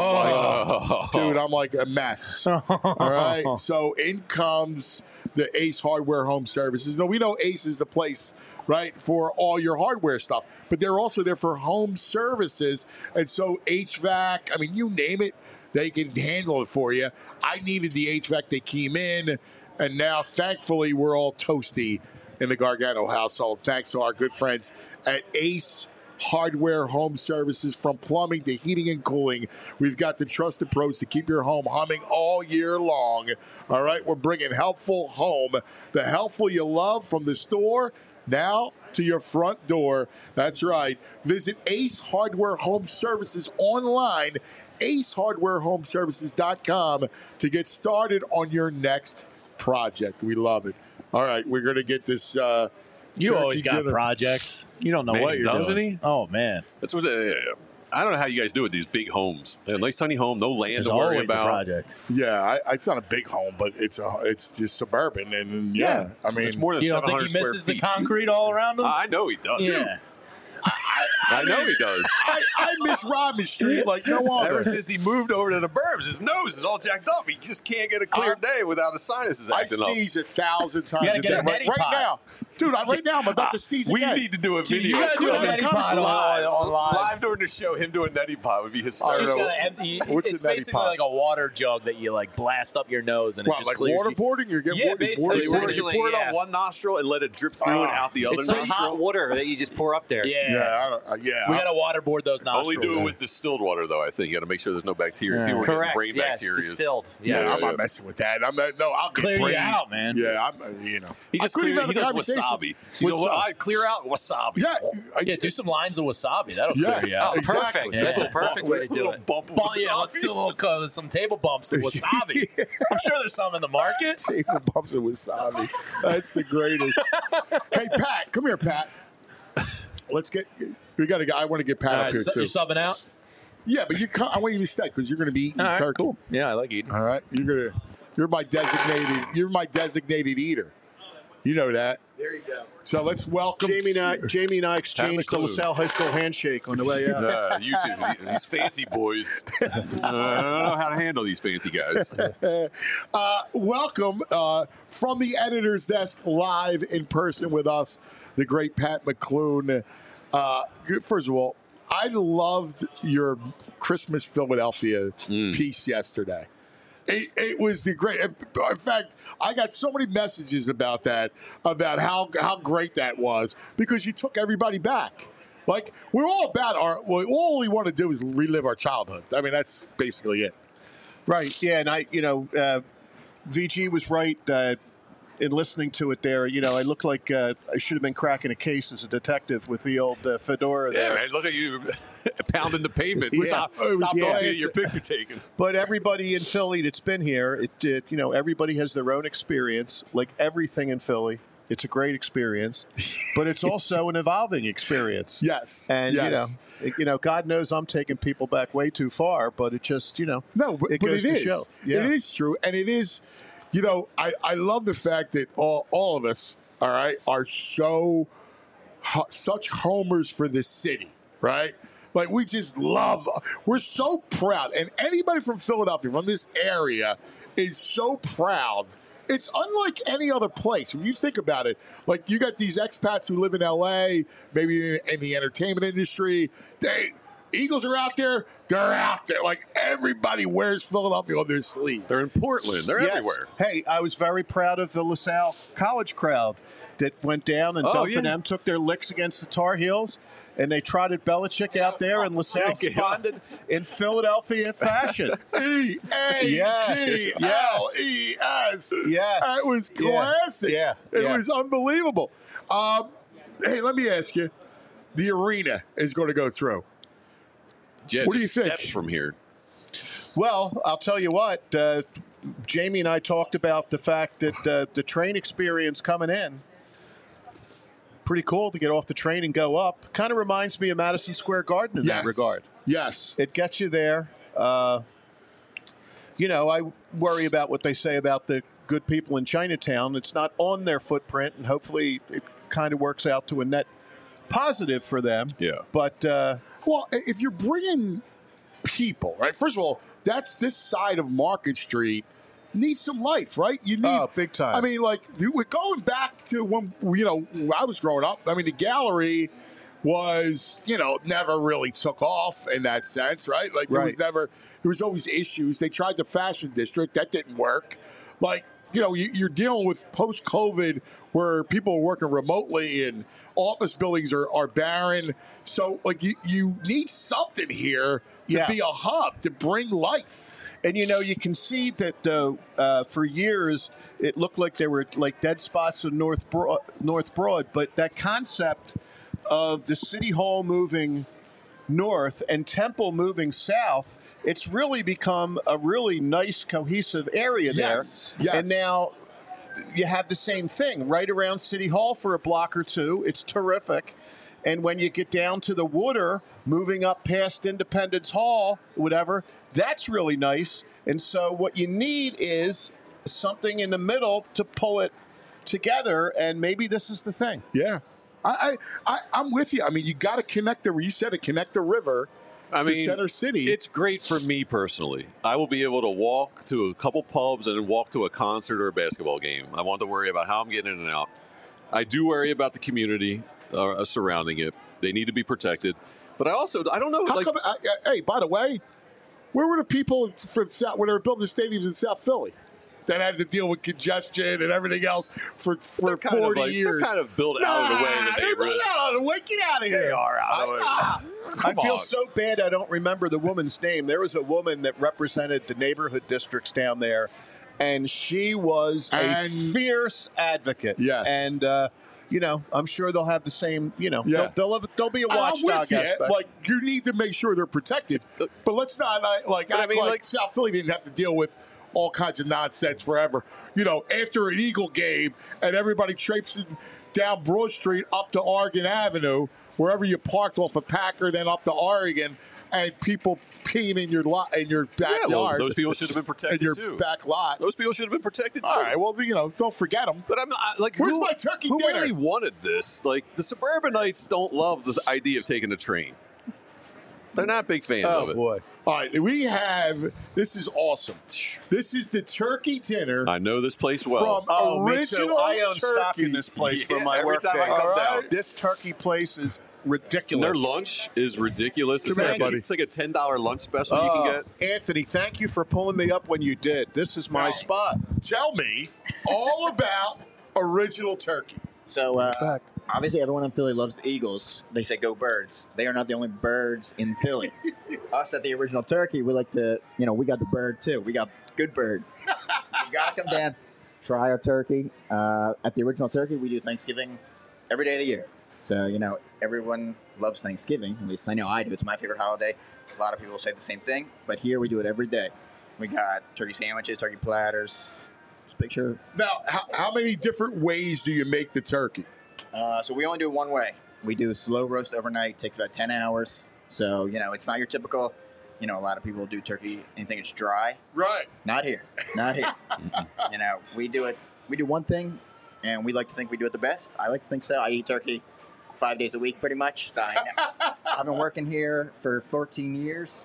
Dude, I'm like a mess. All right. So in comes the Ace Hardware Home Services. Now, we know Ace is the place, right, for all your hardware stuff, but they're also there for home services. And so HVAC, I mean, you name it, they can handle it for you. I needed the HVAC. They came in, and now, thankfully, we're all toasty in the Gargano household, thanks to our good friends at Ace Hardware Home Services. From plumbing to heating and cooling, we've got the trusted pros to keep your home humming all year long. All right, we're bringing helpful home, the helpful you love, from the store now to your front door. That's right. Visit Ace Hardware Home Services online, acehardwarehomeservices.com, to get started on your next project. We love it. All right, we're going to get this You always turkey got dinner. projects. You don't know Man, what you're doesn't doing. he? Oh, man. That's what. I don't know how you guys do with these big homes. A nice tiny home, no land There's to worry always about. a project. Yeah, it's not a big home, but it's just suburban, and I mean, It's more than You don't think 700 he square misses the feet. concrete all around him? I know he does. Yeah. I know he does. I miss Rodman Street like no other. Ever since he moved over to the burbs, his nose is all jacked up. He just can't get a clear day without his sinuses I acting up. sneeze 1,000 times gotta a get day. a neti Right pot. now. Dude, right now I'm about to sneeze We again. need to do a video. You gotta do a neti pot on live. Live during the show, him doing neti pot would be hysterical. Just know. gotta empty. What's It's a neti basically pot? like a water jug that you like blast up your nose and it What, just like clears you. waterboarding? You're getting Yeah, basically. You pour Essentially, it on one nostril and let it drip through and out the other It's like nostril. hot water that you just pour up there. Yeah. Yeah. We gotta waterboard those nostrils. Only do it with distilled water, though. I think you got to make sure there's no bacteria. Yeah. People are getting Correct. brain Yes, bacteria. distilled. Yeah, I'm not messing with that. I'll get Clear you brain. out, man. Yeah, I'm. He just I couldn't clear, even he have a does conversation wasabi. You know with what? some- I clear out wasabi. Yeah, Yeah, do some lines of wasabi. That'll Yeah. clear you out. Exactly. Perfect. That's a perfect way to do Little it. bump of Well, yeah, wasabi. let's do a little some table bumps of wasabi. I'm sure there's some in the market. Table bumps of wasabi. That's the greatest. Hey, Pat, come here, Pat. Let's get. We got a guy. I want to get Pat up here So too. you're subbing out? Yeah, but I want you to stay because you're going to be eating turkey. Yeah, I like eating. All right, you're my designated eater. You know that. There you go. So let's welcome Jamie and I exchanged the clue. LaSalle High School handshake on the way out. You two, these fancy boys. I don't know how to handle these fancy guys. Welcome from the editor's desk, live in person with us, the great Pat McClune. First of all, I loved your Christmas Philadelphia piece yesterday. It was the great. In fact, I got so many messages about that, about how great that was, because you took everybody back. Like, we're all about all we want to do is relive our childhood. I mean, that's basically it. Right. Yeah. And VG was right in listening to it there. I look like I should have been cracking a case as a detective with the old fedora Yeah, there. man, look at you pounding the pavement. Yeah. Stop It was looking at classic. your picture taken. But everybody in Philly that's been here, everybody has their own experience. Like everything in Philly, it's a great experience, but it's also an evolving experience. Yes. And yes. God knows I'm taking people back way too far, but it just No, but it goes it to is. show. It is true, and it is. I love the fact that all of us, all right, are such homers for this city, right? Like, we just love. We're so proud, and anybody from Philadelphia, from this area, is so proud. It's unlike any other place. If you think about it, like, you got these expats who live in L.A., maybe in the entertainment industry. Eagles are out there. They're out there. Like, everybody wears Philadelphia on their sleeve. They're in Portland. They're Yes. everywhere. Hey, I was very proud of the LaSalle College crowd that went down and Dump and them took their licks against the Tar Heels, and they trotted Belichick out there, and LaSalle responded in Philadelphia fashion. E-A-G-L-E-S. Yes. That was classic. Yeah. It was unbelievable. Hey, let me ask you. The arena is going to go through. Yeah, What do you just think? steps from here. Well, I'll tell you what. Jamie and I talked about the fact that the train experience coming in, pretty cool to get off the train and go up. Kind of reminds me of Madison Square Garden in that regard. Yes. It gets you there. I worry about what they say about the good people in Chinatown. It's not on their footprint, and hopefully it kind of works out to a net positive for them. Yeah. But Well, if you're bringing people, right? First of all, this side of Market Street needs some life, right? You need big time. I mean, like, we're going back to when I was growing up. I mean, the gallery was never really took off in that sense, right? Like, there was always issues. They tried the Fashion District, that didn't work. Like, you're dealing with post-COVID where people are working remotely and office buildings are barren. So, like, you need something here to be a hub, to bring life. And, you can see that for years it looked like there were, like, dead spots in North Broad. But that concept of the City Hall moving north and Temple moving south, it's really become a really nice, cohesive area there. Yes. And now you have the same thing right around City Hall for a block or two. It's terrific. And when you get down to the Water, moving up past Independence Hall, whatever, that's really nice. And so what you need is something in the middle to pull it together, and maybe this is the thing. Yeah. I'm with you. I mean, you got to connect connect the river to Center City. It's great for me personally. I will be able to walk to a couple pubs and then walk to a concert or a basketball game. I want to worry about how I'm getting in and out. I do worry about the community surrounding it. They need to be protected. But I don't know. How come, hey, by the way, where were the people from South when they were building the stadiums in South Philly that had to deal with congestion and everything else for 40 years? They're kind of built out of the way. They're out of the way. Get out of here. They are out of the way. I feel so bad I don't remember the woman's name. There was a woman that represented the neighborhood districts down there, and she was a fierce advocate. Yes. And, I'm sure they'll have the same, there'll be a watchdog aspect. Like, you need to make sure they're protected. But let's not, like South Philly didn't have to deal with all kinds of nonsense forever. After an Eagle game and everybody traipsing down Broad Street up to Oregon Avenue, wherever you parked off of Packer, then up to Oregon, and people peeing in your backyard. Yeah, well, those people should have been protected in your too. back lot. Those people should have been protected too. All right, well, don't forget them. But I'm like, where's my turkey who dinner? really wanted this? Like, the suburbanites don't love the idea of taking a train. They're not big fans of it. Oh, boy. All right, this is awesome. This is the turkey dinner. I know this place well. From Me too. original I own turkey. stock in this place for my every work time I days. come down. This turkey place is ridiculous. Their lunch is ridiculous. It's Come on, like a $10 lunch special you can get. Anthony, thank you for pulling me up when you did. This is my spot. Tell me all about original turkey. So, obviously, everyone in Philly loves the Eagles. They say go Birds. They are not the only birds in Philly. Us at the original turkey, we like to, we got the bird too. We got good bird. So you got to come down, try our turkey. At the original turkey, we do Thanksgiving every day of the year. So, everyone loves Thanksgiving. At least I know I do. It's my favorite holiday. A lot of people say the same thing. But here we do it every day. We got turkey sandwiches, turkey platters. Just picture. Now, how many different ways do you make the turkey? So we only do it one way. We do slow roast overnight. Takes about 10 hours. So, it's not your typical, a lot of people do turkey and think it's dry. Right. Not here. Not here. We do it. We do one thing, and we like to think we do it the best. I like to think so. I eat turkey 5 days a week pretty much. So I've been working here for 15 years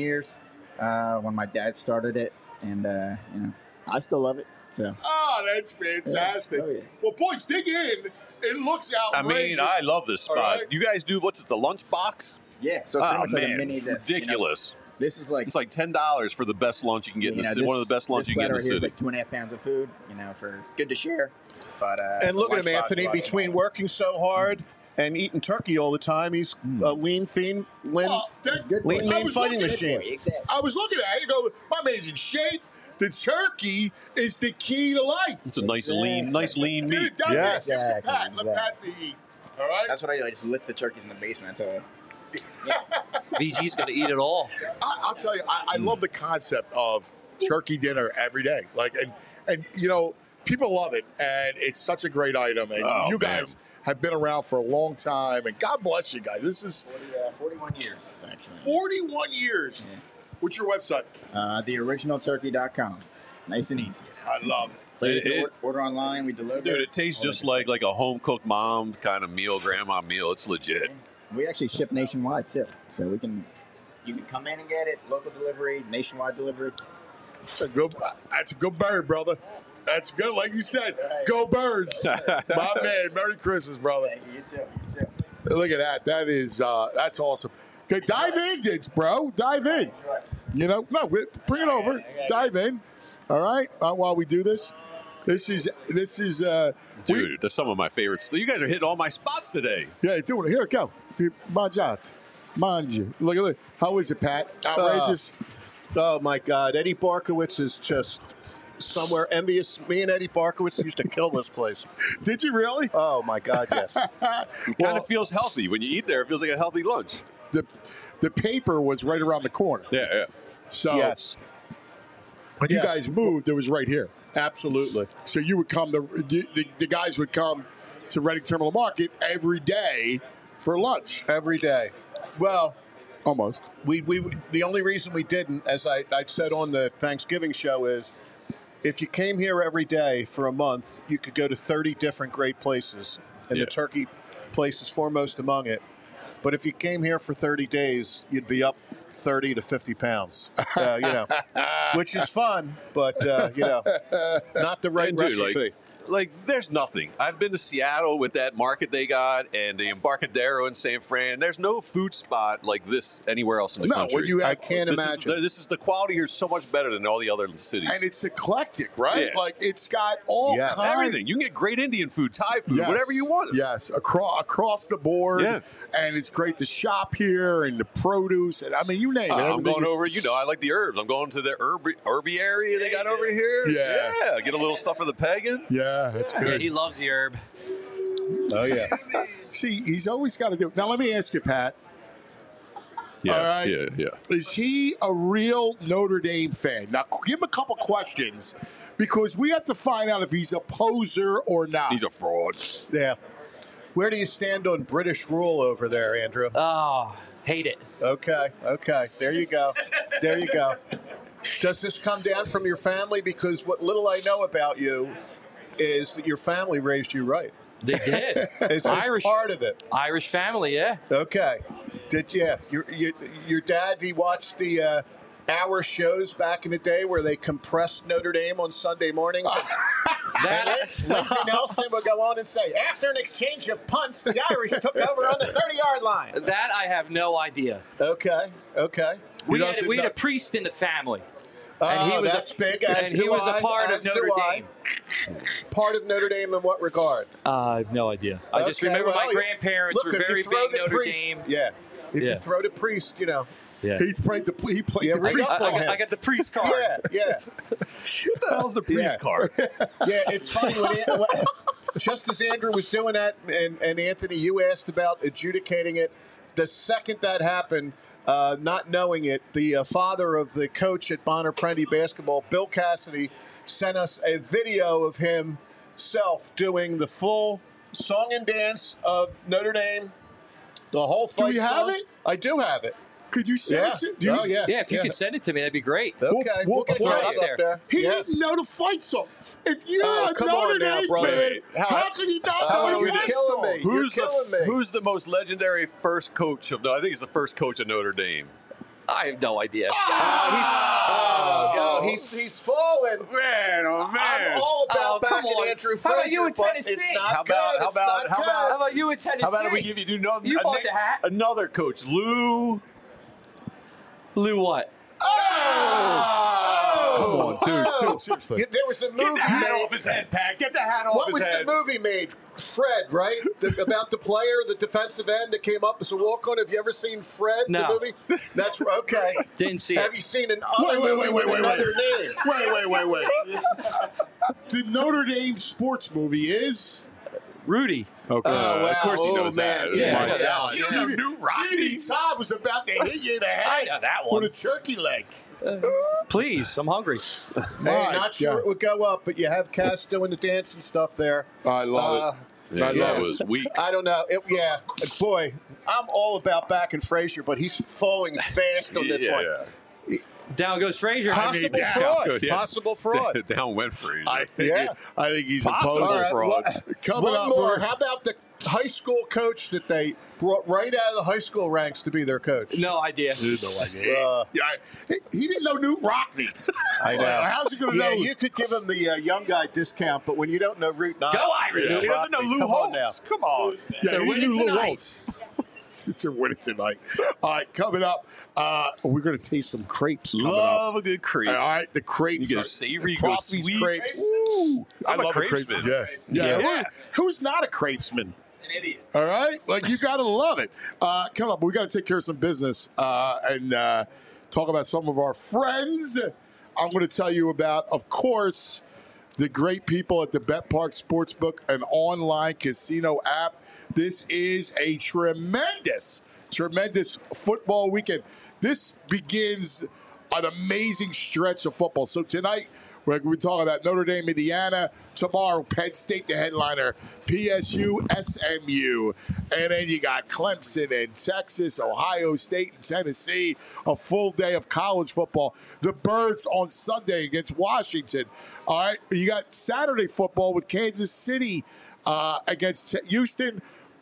when my dad started it. And, I still love it. So. Oh, that's fantastic. Yeah. Oh, yeah. Well, boys, dig in. It looks outrageous. I love this spot. Right. You guys do what's it, the lunch box? Yeah, so it's pretty much like a mini this. Ridiculous. This is like it's like $10 for the best lunch you can get in the city. One of the best lunch you can get in the city. This like 2.5 pounds of food, for good to share. But and look at him, Anthony. Between working so hard and eating turkey all the time, he's a lean, fiend, lean fighting machine. I was looking at it and go, my man's in shape. The turkey is the key to life. It's a nice lean meat. Yes. Exactly. Let Pat eat. All right. That's what I do. I just lift the turkeys in the basement. VG's going to eat it all. I'll tell you, I love the concept of turkey dinner every day. And people love it, and it's such a great item. And you guys have been around for a long time, and God bless you guys. This is 41 years, actually. 41 years. Yeah. What's your website? TheOriginalTurkey.com. Nice and easy. I love it. Order online, we deliver. Dude, it tastes just like a home-cooked mom kind of meal, grandma meal. It's legit. We actually ship nationwide, too. So you can come in and get it, local delivery, nationwide delivery. That's a good bird, brother. That's good. Like you said, go Birds. My man, Merry Christmas, brother. Thank you, you too. Look at that. That is, that's awesome. Okay, dive in, Diggs, bro. Dive in. Bring it over. Dive in. All right, while we do this. This is dude. That's some of my favorites. You guys are hitting all my spots today. Yeah, doing it. Here, go. Manji. Look. How is it, Pat? Outrageous. Oh my God, Eddie Barkowitz is just somewhere envious. Me and Eddie Barkowitz used to kill this place. Did you really? Oh my God, yes. It kind of feels healthy when you eat there. It feels like a healthy lunch. The paper was right around the corner. Yeah. So yes. When you guys moved, it was right here. Absolutely. So you would come, the guys would come to Reading Terminal Market every day for lunch. Every day. Well, almost. We the only reason we didn't, as I said on the Thanksgiving show, is if you came here every day for a month, you could go to 30 different great places, and the turkey place is foremost among it. But if you came here for 30 days, you'd be up 30 to 50 pounds, which is fun, but, not the right recipe. Like, there's nothing. I've been to Seattle with that market they got and the Embarcadero in San Fran. There's no food spot like this anywhere else in the country. I can't imagine. This is the quality here is so much better than all the other cities. And it's eclectic, right? Yeah. Like, it's got all kinds. Everything. You can get great Indian food, Thai food, whatever you want. Yes, across the board. Yeah. And it's great to shop here and the produce. And I mean, you name it. I'm going over, I like the herbs. I'm going to the herby area they got over here. Yeah. Get a little stuff for the pagan. Yeah, that's good. Yeah, he loves the herb. Oh, yeah. See, he's always got to do it. Now, let me ask you, Pat. Yeah, all right. yeah. Is he a real Notre Dame fan? Now, give him a couple questions because we have to find out if he's a poser or not. He's a fraud. Yeah. Where do you stand on British rule over there, Andrew? Oh, hate it. Okay. There you go. Does this come down from your family? Because what little I know about you is that your family raised you right. They did. Is this part of it? Irish family, yeah. Okay. Your dad, he watched the hour shows back in the day where they compressed Notre Dame on Sunday mornings? Lindsey Nelson would go on and say, after an exchange of punts, the Irish took over on the 30-yard line. That I have no idea. Okay. We had a priest in the family. And he was big. And he was a part of Notre Dame. Part of Notre Dame in what regard? I have no idea. I just remember my grandparents were very big Notre Dame. Yeah. If you throw the priest, Yeah. He played the priest. I got the priest card. Yeah. What the hell's the priest card? Yeah, it's funny. Just as Andrew was doing that, and Anthony, you asked about adjudicating it, the second that happened, not knowing it, the father of the coach at Bonner Prendy basketball, Bill Cassidy, sent us a video of himself doing the full song and dance of Notre Dame, the whole fight. Do you have it? I do have it. Could you send it to me? Yeah, if you could send it to me, that'd be great. Okay, we'll get throw it it up there. He didn't know the fight song. If you're a come Notre on now, Dame brother. fan, how can he not know the you're fight killing song? me. You're killing me. Who's the most legendary first coach of? No, I think he's the first coach of Notre Dame. I have no idea. He's fallen. Man, oh man! I'm all about come backing on. Andrew How Frazier, about you in but Tennessee? It's not How about- good. how It's about- not how good. about- How about you in Tennessee? How about if we give you You bought the hat. another coach, Lou? Lou what? Come on, dude. Seriously. There was a movie Get the hat made. off his head, Pat. Get the hat off What his was head. the movie made? Fred, right? About the player, the defensive end that came up as a walk-on. Have you ever seen Fred, No. the movie? That's okay. Didn't see Have it. you seen another movie with another name? Wait. The Notre Dame sports movie is... Rudy. Okay. wow. Of course he knows man. that. Yeah. I know that one. You knew Rodney Todd was about to hit you in the head I know that one. with a turkey leg. Please, I'm hungry. Hey, not sure it would go up, but you have Cass doing the dance and stuff there. I love it. Yeah, that was weak. I don't know. Boy, I'm all about backing Frazier, but he's falling fast on this one. Down goes Frazier. Possible down fraud. goes, yeah. Possible fraud. Down went Frazier. I think he's a Possible poser. fraud. Coming One up, more. we're- How about the high school coach that they brought right out of the high school ranks to be their coach? No idea. he didn't know Newt Rockney. I know. How's he going to know? Yeah, you could give him the young guy discount, but when you don't know Root 9, Go Irish. He doesn't know Lou Come on now. Holtz. Come on. They're he winning knew Lou tonight. Holtz. They're winning tonight. All right, coming up, we're going to taste some crepes. Coming Love up. a good crepe. All right, the crepes. You get are- savory, you go Proppy's sweet. crepes. Ooh, I I'm a love crepesman. Yeah. Yeah. Who's not a crepesman? An idiot. All right, like you got to love it. Come up, we got to take care of some business and talk about some of our friends. I'm going to tell you about, of course, the great people at the Bet Park Sportsbook, an online casino app. This is a tremendous football weekend. This begins an amazing stretch of football. So tonight, we're going to be talking about Notre Dame, Indiana. Tomorrow, Penn State, the headliner, PSU, SMU. And then you got Clemson and Texas, Ohio State and Tennessee. A full day of college football. The Birds on Sunday against Washington. All right, you got Saturday football with Kansas City against Houston.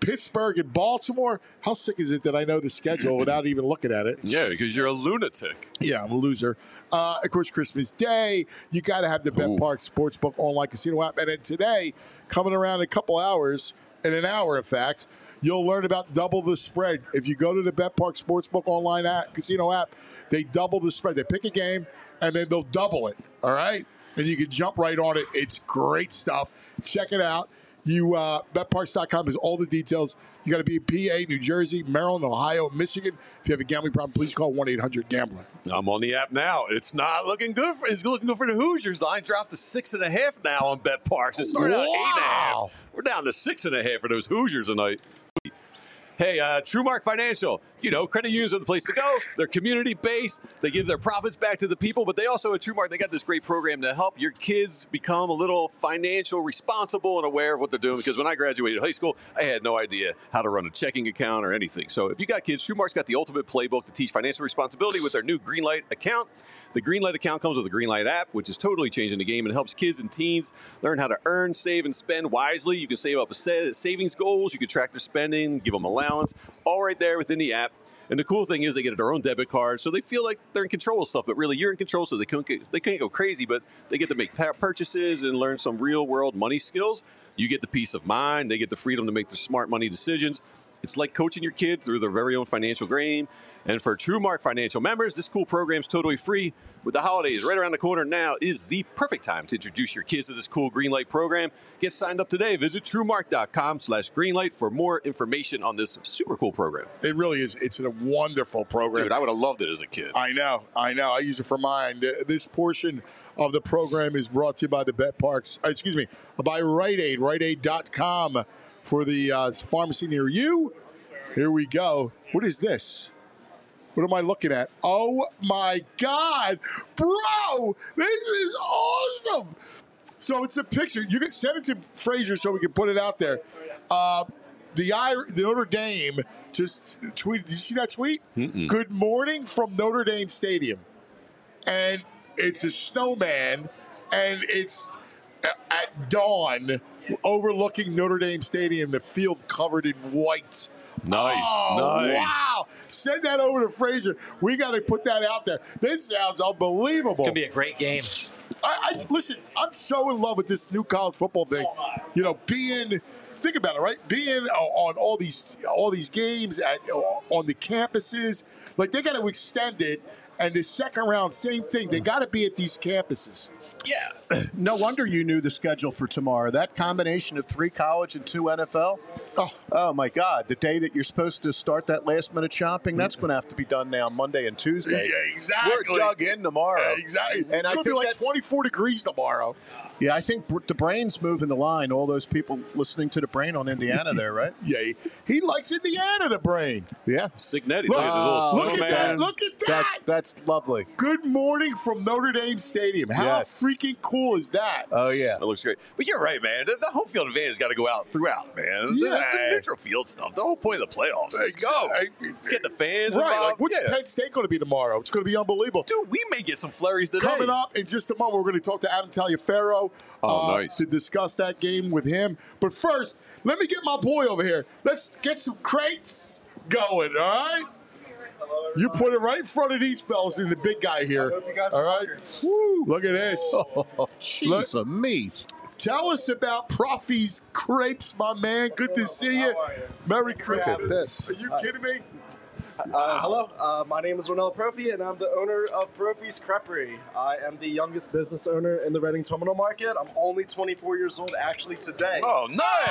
Pittsburgh and Baltimore. How sick is it that I know the schedule without even looking at it? Yeah, because you're a lunatic. Yeah, I'm a loser. Of course, Christmas Day, you got to have the Bet Park Sportsbook online casino app. And then today, coming around in a couple hours, in an hour, in fact, you'll learn about double the spread. If you go to the Bet Park Sportsbook online casino app, they double the spread. They pick a game, and then they'll double it, all right? And you can jump right on it. It's great stuff. Check it out. BetParks.com has all the details. You got to be in PA, New Jersey, Maryland, Ohio, Michigan. If you have a gambling problem, please call 1-800-GAMBLER. I'm on the app now. It's not looking good. It's looking good for the Hoosiers. Line dropped to 6.5 now on BetParks. It started at 8.5. We're down to 6.5 for those Hoosiers tonight. Hey, TrueMark Financial, credit unions are the place to go. They're community-based. They give their profits back to the people, but they also, at TrueMark, they got this great program to help your kids become a little financial responsible and aware of what they're doing. Because when I graduated high school, I had no idea how to run a checking account or anything. So if you got kids, TrueMark's got the ultimate playbook to teach financial responsibility with their new Greenlight account. The Greenlight account comes with the Greenlight app, which is totally changing the game and helps kids and teens learn how to earn, save, and spend wisely. You can save up savings goals. You can track their spending, give them allowance, all right there within the app. And the cool thing is they get their own debit card, so they feel like they're in control of stuff, but really you're in control, so they can't go crazy, but they get to make purchases and learn some real-world money skills. You get the peace of mind. They get the freedom to make their smart money decisions. It's like coaching your kid through their very own financial game. And for TrueMark Financial members, this cool program is totally free. With the holidays right around the corner now is the perfect time to introduce your kids to this cool Greenlight program. Get signed up today. Visit TrueMark.com/Greenlight for more information on this super cool program. It really is. It's a wonderful program. Dude, I would have loved it as a kid. I know. I use it for mine. This portion of the program is brought to you by the Bet Parks. By Rite Aid. RiteAid.com for the pharmacy near you. Here we go. What is this? What am I looking at? Oh, my God. Bro, this is awesome. So it's a picture. You can send it to Frazier so we can put it out there. The Notre Dame just tweeted. Did you see that tweet? Mm-mm. Good morning from Notre Dame Stadium. And it's a snowman, and it's at dawn overlooking Notre Dame Stadium, the field covered in white. Nice. Wow. Send that over to Frazier. We got to put that out there. This sounds unbelievable. It's going to be a great game. Listen, I'm so in love with this new college football thing. Think about it, right? Being on all these games on the campuses, like they got to extend it. And the second round, same thing. They got to be at these campuses. Yeah. No wonder you knew the schedule for tomorrow. That combination of 3 college and 2 NFL. Oh my God. The day that you're supposed to start that last-minute shopping, that's going to have to be done now Monday and Tuesday. Yeah, exactly. We're dug in tomorrow. Yeah, exactly. And it's going to be like 24 degrees tomorrow. Yeah, I think the Brain's moving the line. All those people listening to the Brain on Indiana there, right? Yeah, he likes Indiana, the Brain. Yeah. Signetti. Look at that. Look at that. That's lovely. Good morning from Notre Dame Stadium. How freaking cool is that? Oh, yeah. That looks great. But you're right, man. The home field advantage has got to go out throughout, man. Yeah. The neutral field stuff. The whole point of the playoffs. Let's go. Let's get the fans right. involved. Like, what's Penn State going to be tomorrow? It's going to be unbelievable. Dude, we may get some flurries today. Coming up in just a moment, we're going to talk to Adam Taliaferro nice. to discuss that game with him. But first, let me get my boy over here. Let's get some crepes going, all right? You put it right in front of these fellas and the big guy here. All right? Woo, look at this. Oh, jeez, me. Tell us about Profi's Crepes, my man. Good to see you. Merry Christmas. Are you kidding me? Hello, my name is Ronel Profi, and I'm the owner of Profi's Creperie. I am the youngest business owner in the Reading Terminal Market. I'm only 24 years old actually today. Oh,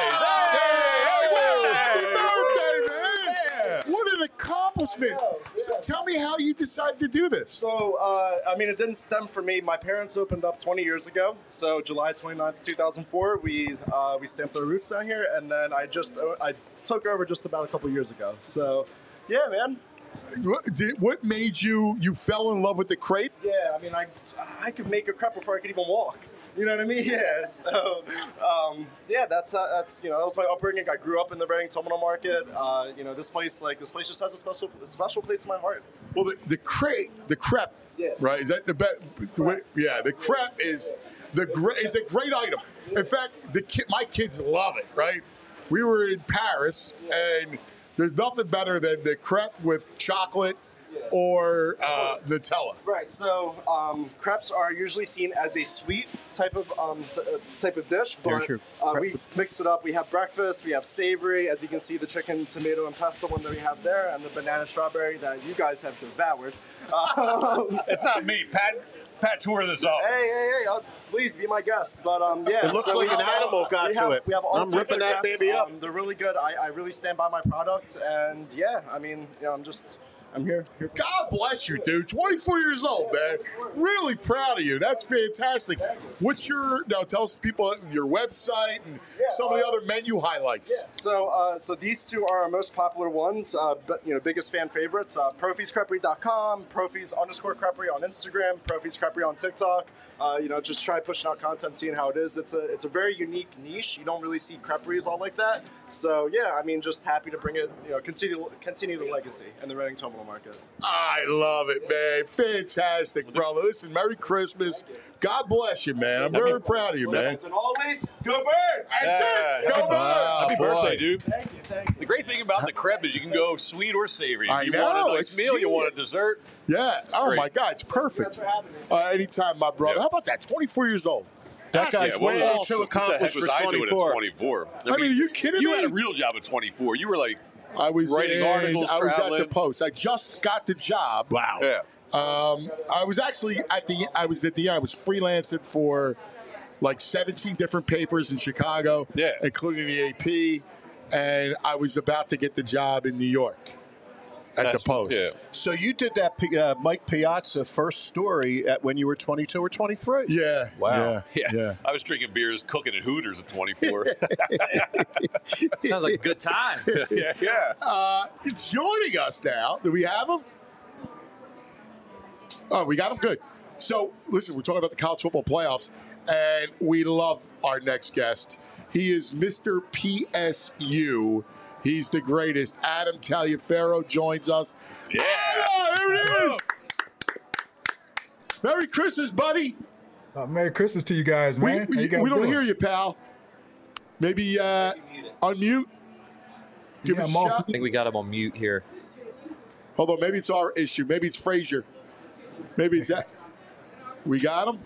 nice! Happy birthday, man! Yeah. What an accomplishment! So tell me how you decided to do this. So, it didn't stem from me. My parents opened up 20 years ago. So, July 29th, 2004, we stamped our roots down here, and then I took over just about a couple years ago. So. Yeah, man. What made you fell in love with the crepe? Yeah, I could make a crepe before I could even walk. You know what I mean? Yeah. So, that was my upbringing. I grew up in the Reading Terminal Market. This place just has a special place in my heart. Well, the crepe, yeah. Right? Is that the best? Yeah, the crepe is a great item. In fact, my kids love it, right? we were in Paris, and there's nothing better than the crepe with chocolate or Nutella. Right. So crepes are usually seen as a sweet type of dish, but we mix it up. We have breakfast. We have savory. As you can see, the chicken, tomato, and pesto one that we have there, and the banana strawberry that you guys have devoured. It's not me, Pat tore this up. Hey! Please be my guest. But yeah, it looks like an animal got to it. We have all I'm ripping that baby up. They're really good. I really stand by my product, and yeah, I mean, I'm here. God bless you, dude. 24 years old, man. Really proud of you. That's fantastic. What's tell us people your website and some of the other menu highlights. Yeah. So these two are our most popular ones, biggest fan favorites. ProfiesCreperie.com, Profies_Creperie on Instagram, Profies Creperie on TikTok. Just try pushing out content, seeing how it is. It's a very unique niche. You don't really see creperies all like that. So yeah, I mean, just happy to bring it, continue the legacy in the Reading Terminal Market. I love it, man. Fantastic, brother. Listen, Merry Christmas. God bless you, man. I'm very proud of you, man. And always, go Birds! That's it. Go Birds! Happy birthday, dude. Thank you. The great thing about the crepe is you can go sweet or savory. I You know, want a nice it's meal, you genius. want a dessert. Yeah. Oh, great. my God. It's perfect. Thanks for having me. Anytime, my brother. Yeah. How about that? 24 years old. That guy's way awesome. too What the heck accomplished was for I doing at 24. 24? I mean, are you kidding You me? had a real job at 24. You were like, I was writing articles, I was at traveling. the Post. I just got the job. wow. Yeah. I was actually I was freelancing for like 17 different papers in Chicago, including the AP, and I was about to get the job in New York at the Post. Yeah. So you did that Mike Piazza first story when you were 22 or 23. Yeah. Wow. Yeah. I was drinking beers, cooking at Hooters at 24. Sounds like a good time. yeah. Joining us now. Do we have him? Oh, we got him. Good. So, listen, we're talking about the college football playoffs, and we love our next guest. He is Mr. PSU. He's the greatest. Adam Taliaferro joins us. Yeah. Oh, here it is. Merry Christmas, buddy. Merry Christmas to you guys, man. We don't hear you, pal. Maybe unmute. Give us a shot. I think we got him on mute here. Hold on, maybe it's our issue. Maybe it's Frazier. Maybe it's that. We got him.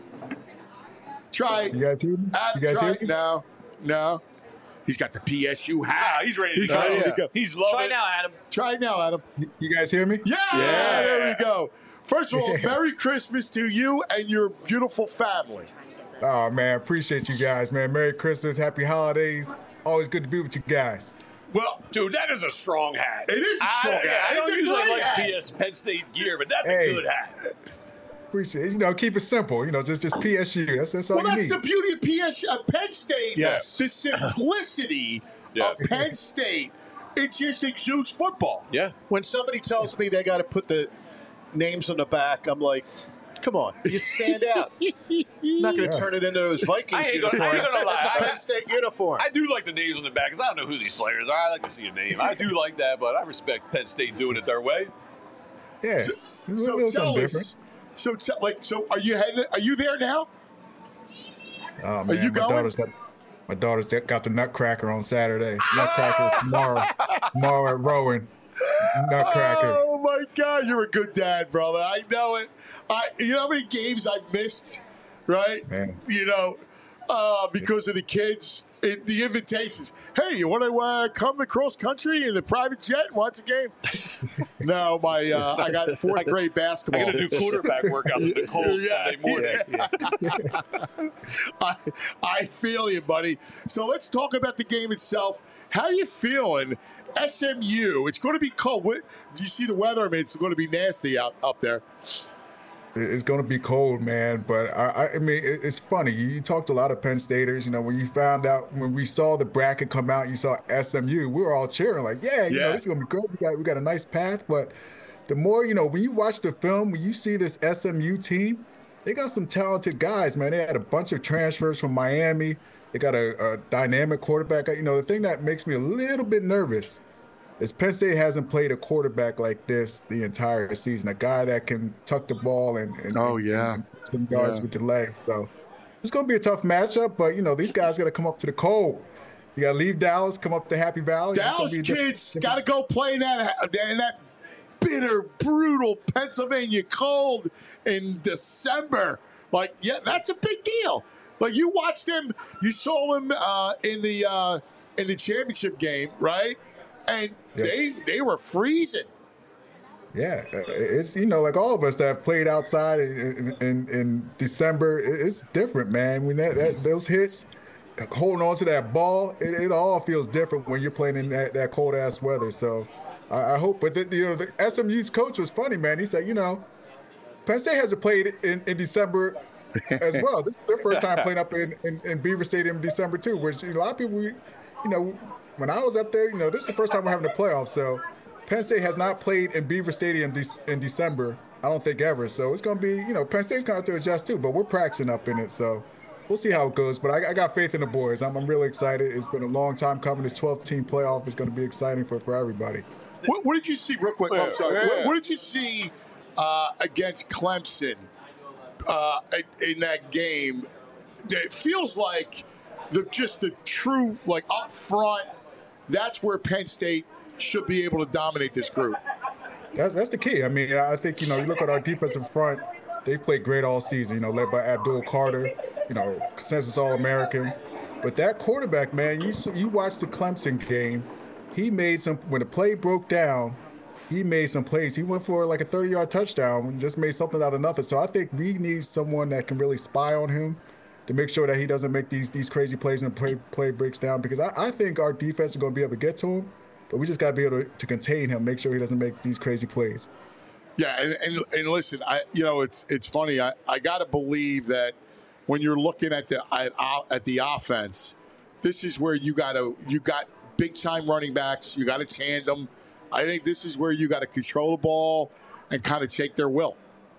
Try it. You guys hear me? Adam, You guys try hear it. me? No. He's got the PSU hat. He's ready to ready go. to go. He's loving Try it. now, Adam. Try it now, Adam. You guys hear me? Yeah, there we go. First of all, Merry Christmas to you and your beautiful family. Oh, man, appreciate you guys, man. Merry Christmas, happy holidays. Always good to be with you guys. Well, dude, that is a strong hat. It is a strong hat. I don't It's a usually great like hat. Penn State gear, but that's Hey. a good hat. Appreciate it. Keep it simple. Just PSU. That's all Well, you that's need. the beauty of Penn State. Yes. The simplicity of Penn State. It just exudes football. Yeah. When somebody tells me they got to put the names on the back, I'm like, come on, you stand out. I'm not going to turn it into those Vikings uniforms. I ain't gonna It's lie. a Penn State uniform. I do like the names on the back because I don't know who these players are. I like to see a name. I do like that, but I respect Penn State doing it their way. Yeah. So It's a little tell something us. So are you heading? Are you there now? Oh, man. you going? My daughter's got the Nutcracker on Saturday. Nutcracker tomorrow. Tomorrow at Rowan. Nutcracker. Oh my God, you're a good dad, brother. I know it. You know how many games I've missed, right? Man. Because of the kids, the invitations. Hey, you want to come across country in a private jet and watch a game? No, I got fourth grade basketball. I got to do quarterback workouts in the cold Saturday morning. I feel you, buddy. So let's talk about the game itself. How are you feeling? SMU, it's going to be cold. Do you see the weather? I mean, it's going to be nasty up there. It's going to be cold, man. But I mean, it's funny. You talked to a lot of Penn Staters. When you found out, when we saw the bracket come out, you saw SMU. We were all cheering, like, yeah, this is going to be good. We got a nice path. But the more, when you watch the film, when you see this SMU team, they got some talented guys, man. They had a bunch of transfers from Miami. They got a dynamic quarterback. The thing that makes me a little bit nervous is Penn State hasn't played a quarterback like this the entire season. A guy that can tuck the ball and some yards with the legs. So it's going to be a tough matchup, but these guys got to come up to the cold. You got to leave Dallas, come up to Happy Valley. Dallas kids got to go play in that bitter, brutal Pennsylvania cold in December. Like, yeah, that's a big deal. Like, you watched him, you saw him in the championship game, right? And they were freezing. Yeah, it's, like all of us that have played outside in December, it's different, man. When those hits, holding on to that ball, it all feels different when you're playing in that cold ass weather. So I hope, but the SMU's coach was funny, man. He said, Penn State hasn't played in December as well. This is their first time playing up in Beaver Stadium in December too, which a lot of people, when I was up there, this is the first time we're having a playoff. So Penn State has not played in Beaver Stadium in December, I don't think ever. So it's going to be, Penn State's going to have to adjust too, but we're practicing up in it. So we'll see how it goes. But I got faith in the boys. I'm really excited. It's been a long time coming. This 12-team playoff is going to be exciting for everybody. What did you see, real quick? I'm sorry. What did you see against Clemson in that game? It feels like the true, like, up front, that's where Penn State should be able to dominate this group. That's the key. I mean, I think, you look at our defensive front, they've played great all season, led by Abdul Carter, consensus All-American. But that quarterback, man, you watch the Clemson game, he made when the play broke down, he made some plays. He went for like a 30-yard touchdown and just made something out of nothing. So I think we need someone that can really spy on him to make sure that he doesn't make these crazy plays and the play breaks down, because I think our defense is going to be able to get to him. But we just got to be able to contain him, make sure he doesn't make these crazy plays. Yeah, and listen, it's funny. I got to believe that when you're looking at the offense, this is where you got big time running backs. You got a tandem. I think this is where you got to control the ball and kind of take their will.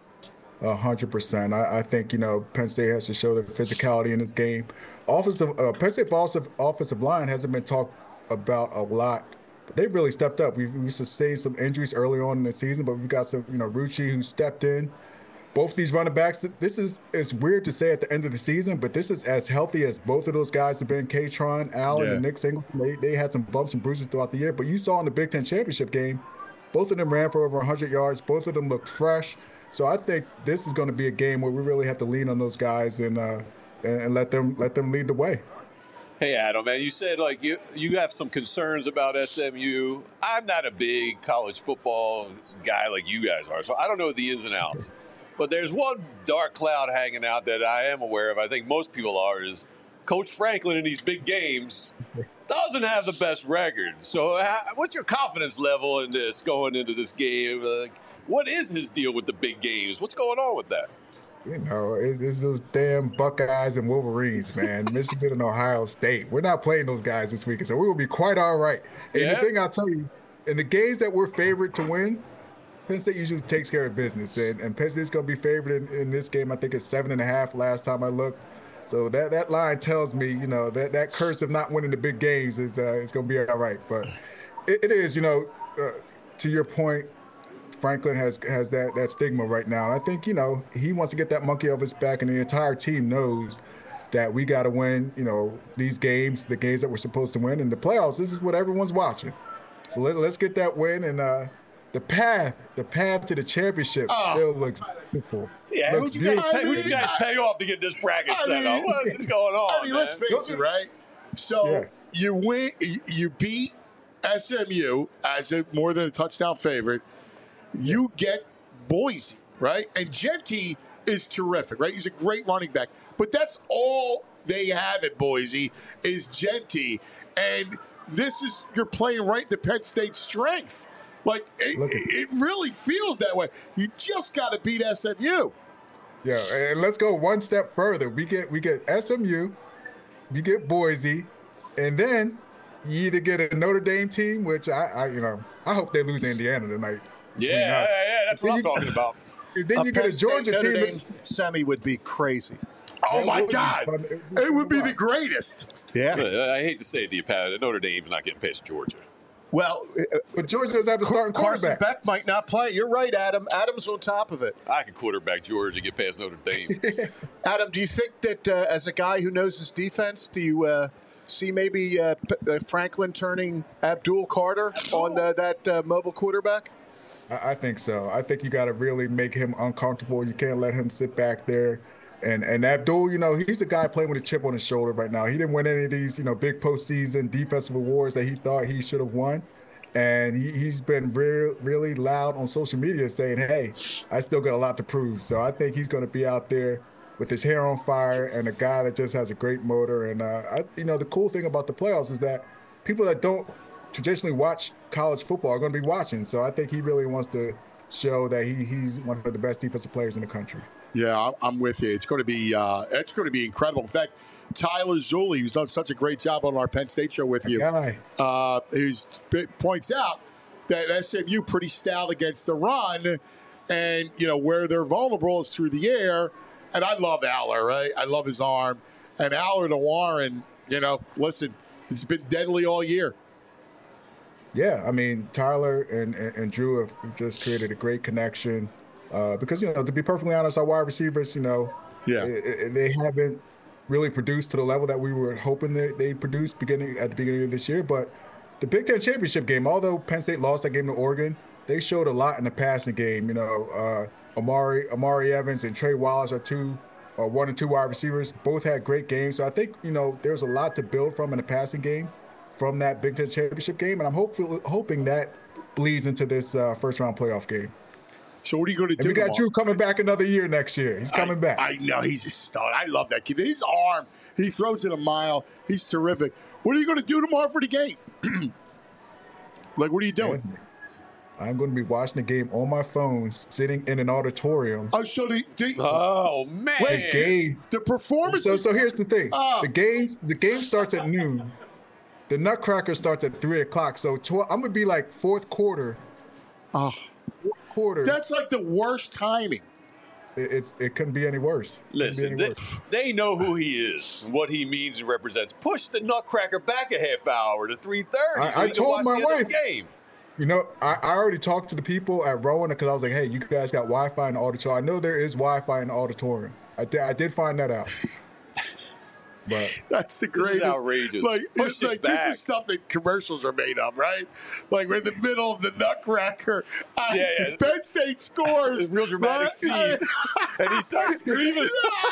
100%. I think Penn State has to show their physicality in this game. Penn State offensive line hasn't been talked about a lot. But they've really stepped up. We've sustained some injuries early on in the season, but we've got some, Rucci who stepped in. Both these running backs, it's weird to say at the end of the season, but this is as healthy as both of those guys have been. Katron Allen and Nick Singleton, they had some bumps and bruises throughout the year. But you saw in the Big Ten championship game, both of them ran for over 100 yards. Both of them looked fresh. So I think this is going to be a game where we really have to lean on those guys and let them lead the way. Hey, Adam, man, you said like you have some concerns about SMU. I'm not a big college football guy like you guys are, so I don't know the ins and outs. But there's one dark cloud hanging out that I am aware of. I think most people are, is Coach Franklin in these big games doesn't have the best record. So what's your confidence level in this going into this game? Like, what is his deal with the big games? What's going on with that? It's those damn Buckeyes and Wolverines, man. Michigan and Ohio State. We're not playing those guys this weekend, so we will be quite all right. And the thing I'll tell you, in the games that we're favored to win, Penn State usually takes care of business. And Penn State's going to be favored in this game. I think it's 7.5 last time I looked. So that line tells me, that curse of not winning the big games is going to be all right. But it is, to your point, Franklin has that stigma right now. And I think, he wants to get that monkey off his back, and the entire team knows that we got to win, these games, the games that we're supposed to win. And the playoffs, this is what everyone's watching. So let's get that win. And the path to the championship still looks beautiful. Yeah, who'd you guys pay off to get this bracket set up? What is going on, man? Let's face it, right? So you win, you beat SMU as more than a touchdown favorite. You get Boise, right? And Genty is terrific, right? He's a great running back. But that's all they have at Boise is Genty. And you're playing right to Penn State's strength. Like, it really feels that way. You just got to beat SMU. Yeah, and let's go one step further. We get SMU, we get Boise, and then you either get a Notre Dame team, which I hope they lose Indiana tonight. Yeah, that's what I'm talking about. Then you get a Georgia Notre team. Dame semi would be crazy. Oh, my God. It would be the greatest. Yeah. I hate to say it to you, Pat, Notre Dame's not getting past Georgia. Well, but Georgia doesn't have the starting quarterback. Carson Beck might not play. You're right, Adam. Adam's on top of it. I can quarterback Georgia, get past Notre Dame. Adam, do you think that as a guy who knows his defense, do you see maybe Franklin turning Abdul Carter on that mobile quarterback? I think so. I think you got to really make him uncomfortable. You can't let him sit back there. And Abdul, he's a guy playing with a chip on his shoulder right now. He didn't win any of these, big postseason defensive awards that he thought he should have won. And he's been really loud on social media saying, hey, I still got a lot to prove. So I think he's going to be out there with his hair on fire and a guy that just has a great motor. And, the cool thing about the playoffs is that people that don't traditionally watch college football are going to be watching. So I think he really wants to show that he's one of the best defensive players in the country. Yeah, I'm with you. It's going to be incredible. In fact, Tyler Zulli, who's done such a great job on our Penn State show with you, points out that SMU pretty stout against the run, and where they're vulnerable is through the air. And I love Aller, right? I love his arm. And Aller to Warren, listen, it's been deadly all year. Yeah, I mean, Tyler and Drew have just created a great connection because, to be perfectly honest, our wide receivers, they haven't really produced to the level that we were hoping they produced at the beginning of this year. But the Big Ten championship game, although Penn State lost that game to Oregon, they showed a lot in the passing game. Amari Evans and Trey Wallace are 1 and 2 wide receivers. Both had great games. So I think, there's a lot to build from in the passing game from that Big Ten championship game. And I'm hoping that bleeds into this first-round playoff game. So what are you going to do? And we got Drew coming back another year next year. He's coming back. I know. He's a stud. I love that kid. His arm, he throws it a mile. He's terrific. What are you going to do tomorrow for the game? What are you doing? I'm going to be watching the game on my phone, sitting in an auditorium. Oh, so oh man! Wait, the game, the performance. So here's the thing: the game starts at noon. The Nutcracker starts at 3:00. So I'm going to be like fourth quarter. That's like the worst timing. It couldn't be any worse. Listen, they know who he is, what he means and represents. Push the Nutcracker back a half hour to 3:30. I told my wife. Game. I already talked to the people at Rowan because I was like, hey, you guys got Wi-Fi in the auditorium. I know there is Wi-Fi in the auditorium. I did find that out. But that's the greatest. This is outrageous. This is stuff that commercials are made of, right? Like we're in the middle of the Nutcracker. Penn State scores. Real dramatic scene. And he starts screaming.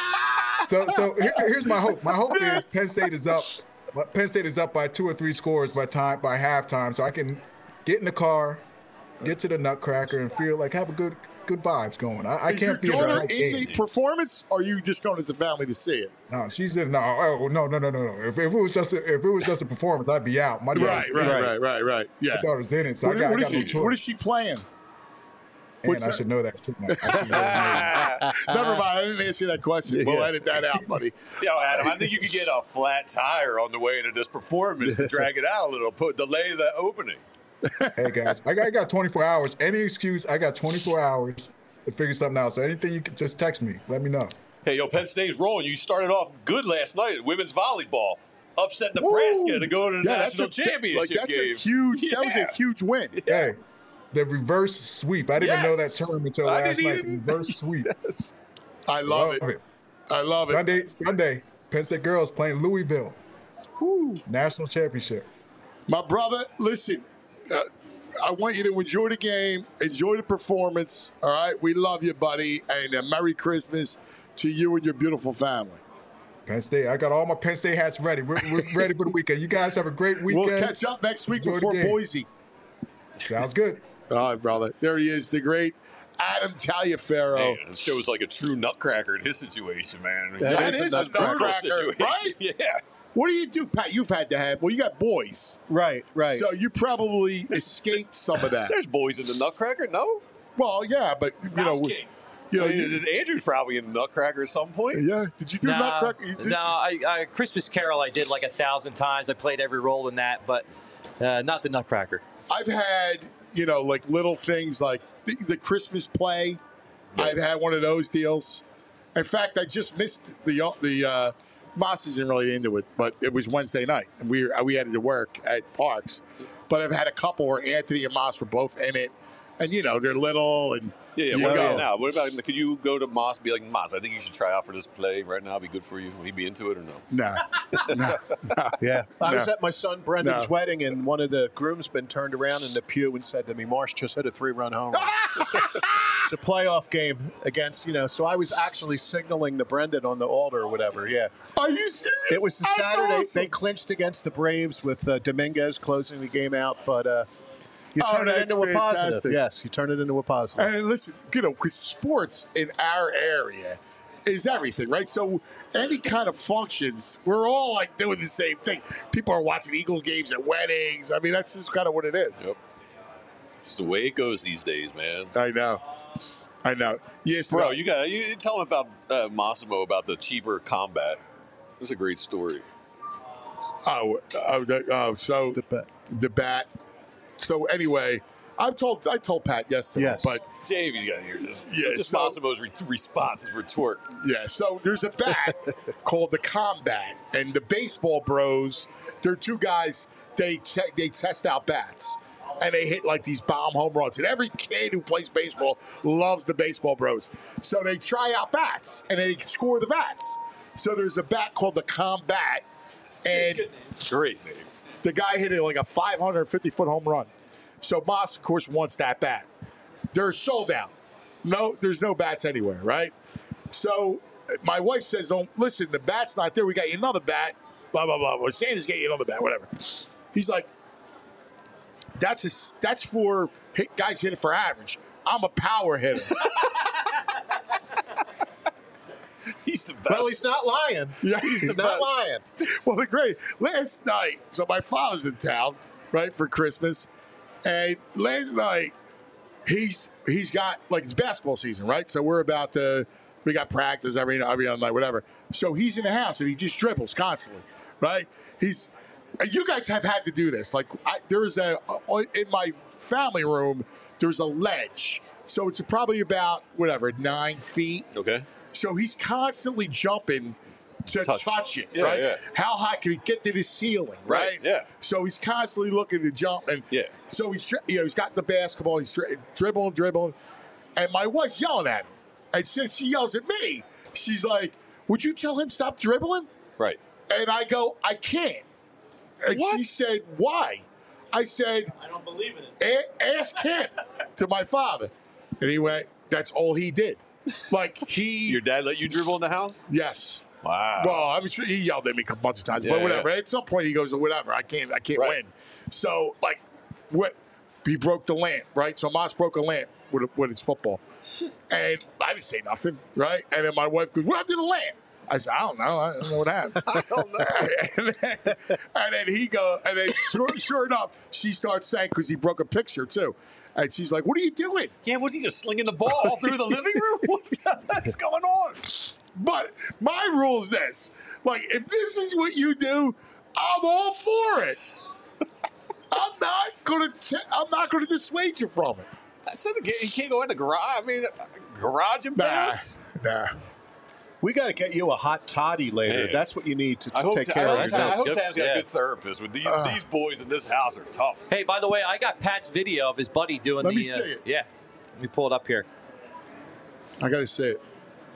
So here's my hope. My hope is Penn State is up. Penn State is up by 2 or 3 scores by halftime, so I can get in the car, get to the Nutcracker, and feel like have a good vibes going. I can't be your daughter in the performance, or are you just going as a family to see it? No, she's in. No. If it was just a performance, I'd be out. My right. Yeah, my daughter's in it, so what is she playing? I should know that. Never mind. I didn't answer that question. We'll edit that out, buddy. Adam, I think you could get a flat tire on the way to this performance to drag it out a little, delay the opening. Hey guys, I got 24 hours. Any excuse, I got 24 hours to figure something out. So anything you can just text me. Let me know. Hey, Penn State's rolling. You started off good last night at women's volleyball. Upset Nebraska to go to the national championship game. That was a huge win. Hey, the reverse sweep. I didn't even know that term until last night. Reverse sweep. Yes. I love it. I love it. Sunday, Penn State girls playing Louisville. National championship. My brother, listen. I want you to enjoy the game, enjoy the performance. All right, we love you, buddy, and Merry Christmas to you and your beautiful family. Penn State, I got all my Penn State hats ready. We're ready for the weekend. You guys have a great weekend. We'll catch up next week before Boise. Sounds good. All right, brother. There he is, the great Adam Taliaferro. Man, this shows like a true Nutcracker in his situation, man. That is a Nutcracker, right? Yeah. What do you do, Pat? You've had to have. Well, you got boys, right? So you probably escaped some of that. There's boys in the Nutcracker, no? Well, yeah, but Andrew's probably in the Nutcracker at some point. Yeah. Did you do Nutcracker? No, Christmas Carol I did like 1,000 times. I played every role in that, but not the Nutcracker. I've had like little things like the Christmas play. Yeah. I've had one of those deals. In fact, I just missed the. Moss isn't really into it, but it was Wednesday night, and we had to work at Parks. But I've had a couple where Anthony and Moss were both in it, and they're little, and Yeah, we'll go now. What about, could you go to Moss and be like, Moss, I think you should try out for this play right now. It'd be good for you. Will he be into it or no? No. Yeah. I was at my son Brendan's wedding, and one of the groomsmen turned around in the pew and said to me, Marsh just hit a 3-run home run. It's a playoff game against, so I was actually signaling to Brendan on the altar or whatever, yeah. Are you serious? It was the Saturday. Awesome. They clinched against the Braves with Dominguez closing the game out, but... You turn it into a positive. Yes, you turn it into a positive. And listen, because sports in our area is everything, right? So any kind of functions, we're all like doing the same thing. People are watching Eagles games at weddings. I mean, that's just kind of what it is. Yep. It's the way it goes these days, man. I know. Yes, bro. You tell him about Massimo about the cheaper combat. It was a great story. So the bat. So anyway, I told Pat yesterday, but Davey's got here. Just Massimo's response is retort. Yeah, so there's a bat called the Combat, and the baseball bros, they're two guys. They test out bats, and they hit like these bomb home runs. And every kid who plays baseball loves the baseball bros. So they try out bats, and they score the bats. So there's a bat called the Combat, and great name. The guy hit it like a 550-foot home run. So Moss, of course, wants that bat. They're sold out. No, there's no bats anywhere, right? So my wife says, "Oh, listen, the bat's not there. We got you another bat. Blah blah blah. Well, Santa's getting you another bat. Whatever." He's like, "That's for guys hitting for average. I'm a power hitter." He's the best. Well, he's not lying. Yeah, he's not lying. Well, the great last night. So my father's in town, right, for Christmas, and last night he's got like it's basketball season, right? So we got practice every night, whatever. So he's in the house and he just dribbles constantly, right? You guys have had to do this. Like there's in my family room, there's a ledge, so it's probably about 9 feet. Okay. So he's constantly jumping to touch it, right? Yeah. How high can he get to the ceiling, right? Yeah. So he's constantly looking to jump, and so he's got the basketball, he's dribbling, and my wife's yelling at him, and since she yells at me, she's like, "Would you tell him stop dribbling?" Right. And I go, "I can't." And she said, "Why?" I said, "I don't believe in it." Ask him to my father, and he went, "That's all he did." Like Your dad let you dribble in the house? Yes. Wow. Well, I'm sure he yelled at me a bunch of times, but whatever. At some point, he goes, "Whatever, I can't win." So, he broke the lamp, right? So Moss broke a lamp with his football, and I didn't say nothing, right? And then my wife goes, "What happened to the lamp?" I said, "I don't know. I don't know what happened." I don't know. and then he goes, and then sure enough, she starts saying because he broke a picture too. And she's like, "What are you doing?" Yeah, was he just slinging the ball all through the living room? What the heck's going on? But my rule is this: if this is what you do, I'm all for it. I'm not gonna dissuade you from it. I said he can't go in the garage. I mean, garage and bats. Nah. We got to get you a hot toddy later. Hey. That's what you need to take care of yourself. I hope Tam's got a good therapist. With these boys in this house are tough. Hey, by the way, I got Pat's video of his buddy doing Let me see it. Yeah. Let me pull it up here. I got to see it.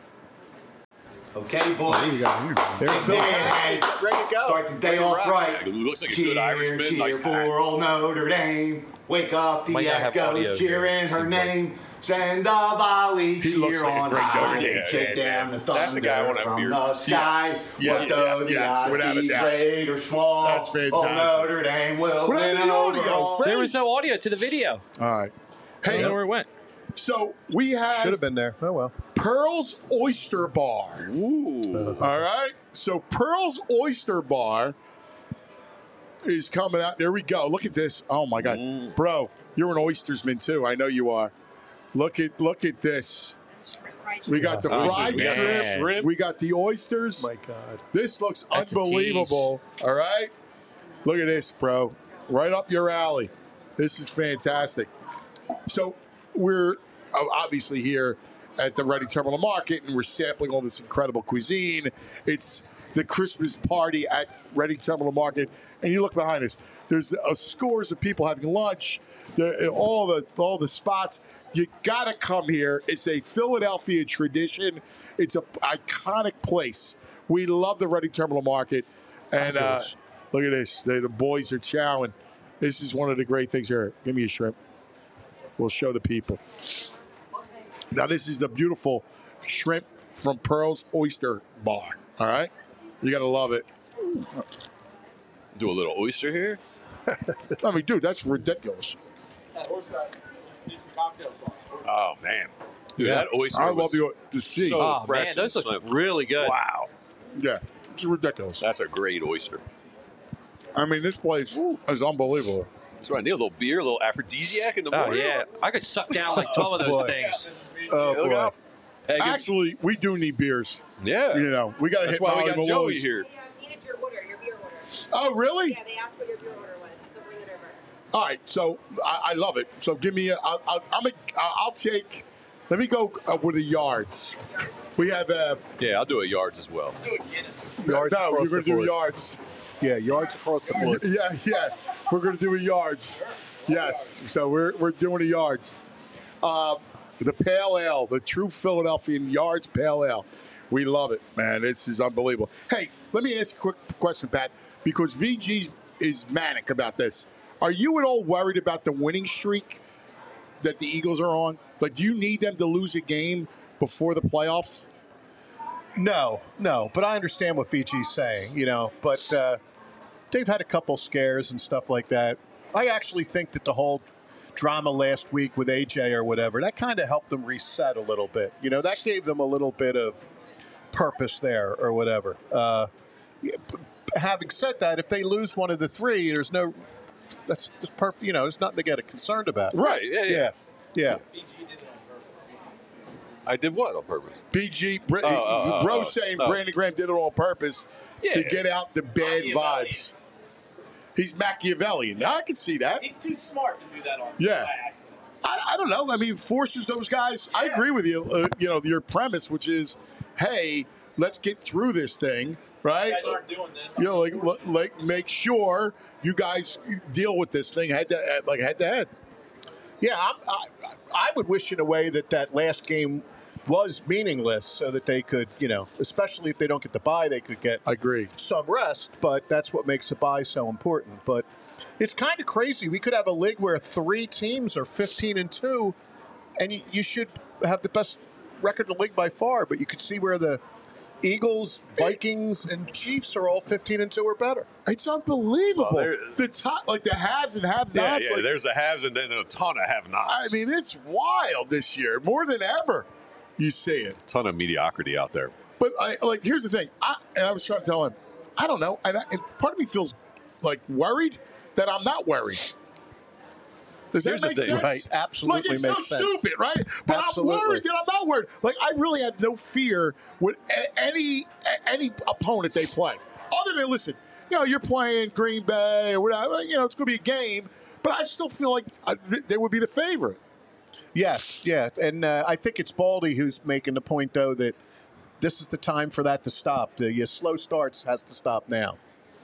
Okay, boys. There you go. There's Bill. Ready to go. Start the day off right. It looks like a Cheer, good Irishman. cheer Nice for old Notre Dame. Wake up the Might not have audio echoes here. cheering her name. Send a volley, He looks cheer like a on great high. Notre Dame Shake fan, down the thunder That's a guy I wanna have from beers the with. sky. Yes, What does yes, without a the doubt. great or small? That's fantastic. Notre Dame will What win happened to the audio, overall. Fred? There was no audio to the video. All right. I don't Hey, know where it went. so we have Should have been there. Oh, well. Pearl's Oyster Bar. Ooh. All right. So Pearl's Oyster Bar is coming out. There we go. Look at this. Oh my God, bro, you're an oystersman too. I know you are. Look at this. We got the fried shrimp. We got the oysters. My God. This looks That's a unbelievable. All right. Look at this, bro. Right up your alley. This is fantastic. So we're obviously here at the Reading Terminal Market, and we're sampling all this incredible cuisine. It's the Christmas party at Reading Terminal Market, and you look behind us. There's scores of people having lunch. All the spots. You gotta come here. It's a Philadelphia tradition. It's an iconic place. We love the Reading Terminal Market, and look at this. The boys are chowing. This is one of the great things here. Give me a shrimp. We'll show the people. Now this is the beautiful shrimp from Pearl's Oyster Bar. All right, you gotta love it. Do a little oyster here. I mean, dude, that's ridiculous. Oh man, dude, that oyster. I love the sea. So fresh. Man, those look really good. Wow. Yeah, it's ridiculous. That's a great oyster. I mean, this place is unbelievable. That's right. I need a little beer, a little aphrodisiac in the morning. Oh yeah, I could suck down like 12 of those things. Oh, Look out. Hey, actually, we do need beers. Yeah. You know, we got to hit That's why we got Molly Joey Maloney's. here. They needed your beer order. Oh, really? Yeah, they asked what your beer order was. They'll bring it over. All right, so I love it. So give me I'll take. Let me go with the yards. We have Yeah, I'll do a yards as well. Yards no, we're across going the to do board. yards. Yeah, yards across the board. Yeah, we're going to do a yards. Yes, so we're doing a yards. The Pale Ale, the true Philadelphian Yards Pale Ale. We love it, man. This is unbelievable. Hey, let me ask a quick question, Pat, because VG is manic about this. Are you at all worried about the winning streak that the Eagles are on? Like, do you need them to lose a game before the playoffs? No, but I understand what VG's saying, but they've had a couple scares and stuff like that. I actually think that the whole drama last week with AJ or whatever, that kind of helped them reset a little bit. That gave them a little bit of purpose there or whatever. Having said that, if they lose one of the three, that's perfect. There's nothing to get concerned about. Right. Yeah. I did what on purpose? BG, bro saying Brandon Graham did it on purpose to get out the bad vibes. He's Machiavellian. Now I can see that. He's too smart to do that on by accident. I don't know. I mean, forces those guys. I agree with you. Your premise, which is, hey, let's get through this thing, right? You guys aren't doing this. Like make sure you guys deal with this thing head to head. Yeah, I would wish in a way that last game was meaningless so that they could, especially if they don't get the bye, they could get some rest. But that's what makes the bye so important. But it's kind of crazy. We could have a league where 3 teams are 15-2, and you should have the best record in the league by far. But you could see where the Eagles, Vikings, and Chiefs are all 15-2 or better. It's unbelievable. Well, the top, like the haves and have-nots. Yeah, there's the haves and then a ton of have-nots. I mean, it's wild this year, more than ever. You see it. Ton of mediocrity out there. But here's the thing. I was trying to tell him, I don't know, and part of me feels like worried that I'm not worried. Does that make sense? Right, absolutely it's makes so sense. stupid, right? But Absolutely. I'm worried that I'm not worried. Like, I really have no fear with any opponent they play. Other than, listen, you're playing Green Bay or whatever. It's going to be a game, but I still feel like they would be the favorite. Yes, yeah. And I think it's Baldy who's making the point, though, that this is the time for that to stop. The slow starts has to stop now.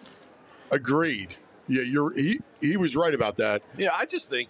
Agreed. Yeah, he was right about that. Yeah, I just think,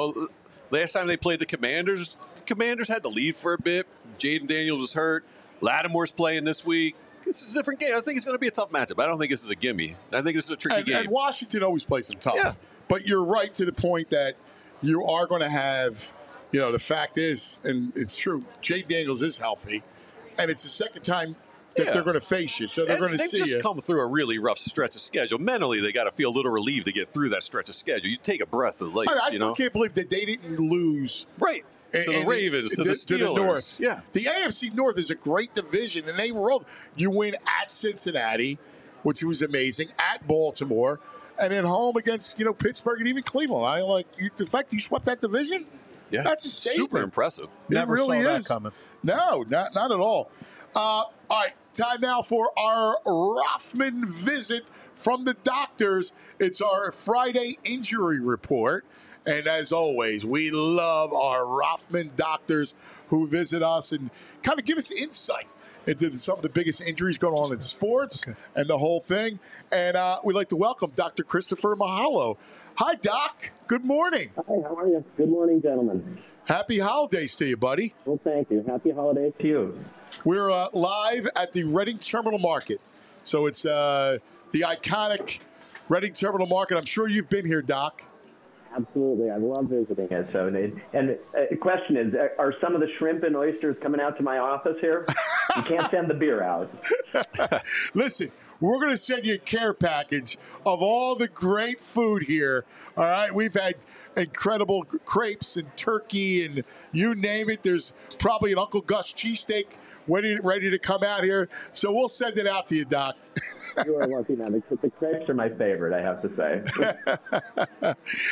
last time they played the Commanders had the lead for a bit. Jaden Daniels was hurt. Lattimore's playing this week. It's a different game. I think it's going to be a tough matchup. I don't think this is a gimme. I think this is a tricky game. And Washington always plays them tough. Yeah. But you're right to the point that you are going to have, the fact is, and it's true, Jaden Daniels is healthy, and it's the second time that they're going to face you, so they're going to see you. They've just come through a really rough stretch of schedule. Mentally, they got to feel a little relieved to get through that stretch of schedule. You take a breath of life. I still can't believe that they didn't lose. Right. To the Ravens, to the Steelers. To the North. Yeah. The AFC North is a great division, and they rolled. You win at Cincinnati, which was amazing, at Baltimore, and then home against, Pittsburgh and even Cleveland. The fact you swept that division, that's a statement. Super impressive. Never really saw that is. coming. No, not at all. All right, time now for our Rothman visit from the doctors. It's our Friday injury report. And as always, we love our Rothman doctors who visit us and kind of give us insight into some of the biggest injuries going on in sports and the whole thing. And we'd like to welcome Dr. Christopher Mahalo. Hi, Doc. Good morning. Hi, how are you? Good morning, gentlemen. Happy holidays to you, buddy. Well, thank you. Happy holidays to you. We're live at the Reading Terminal Market. So it's the iconic Reading Terminal Market. I'm sure you've been here, Doc. Absolutely. I love visiting it. So, and the question is, are some of the shrimp and oysters coming out to my office here? You can't send the beer out. Listen, we're going to send you a care package of all the great food here. All right? We've had incredible crepes and turkey and you name it. There's probably an Uncle Gus cheesesteak ready to come out here. So we'll send it out to you, Doc. You are lucky, man. The crepes are my favorite, I have to say.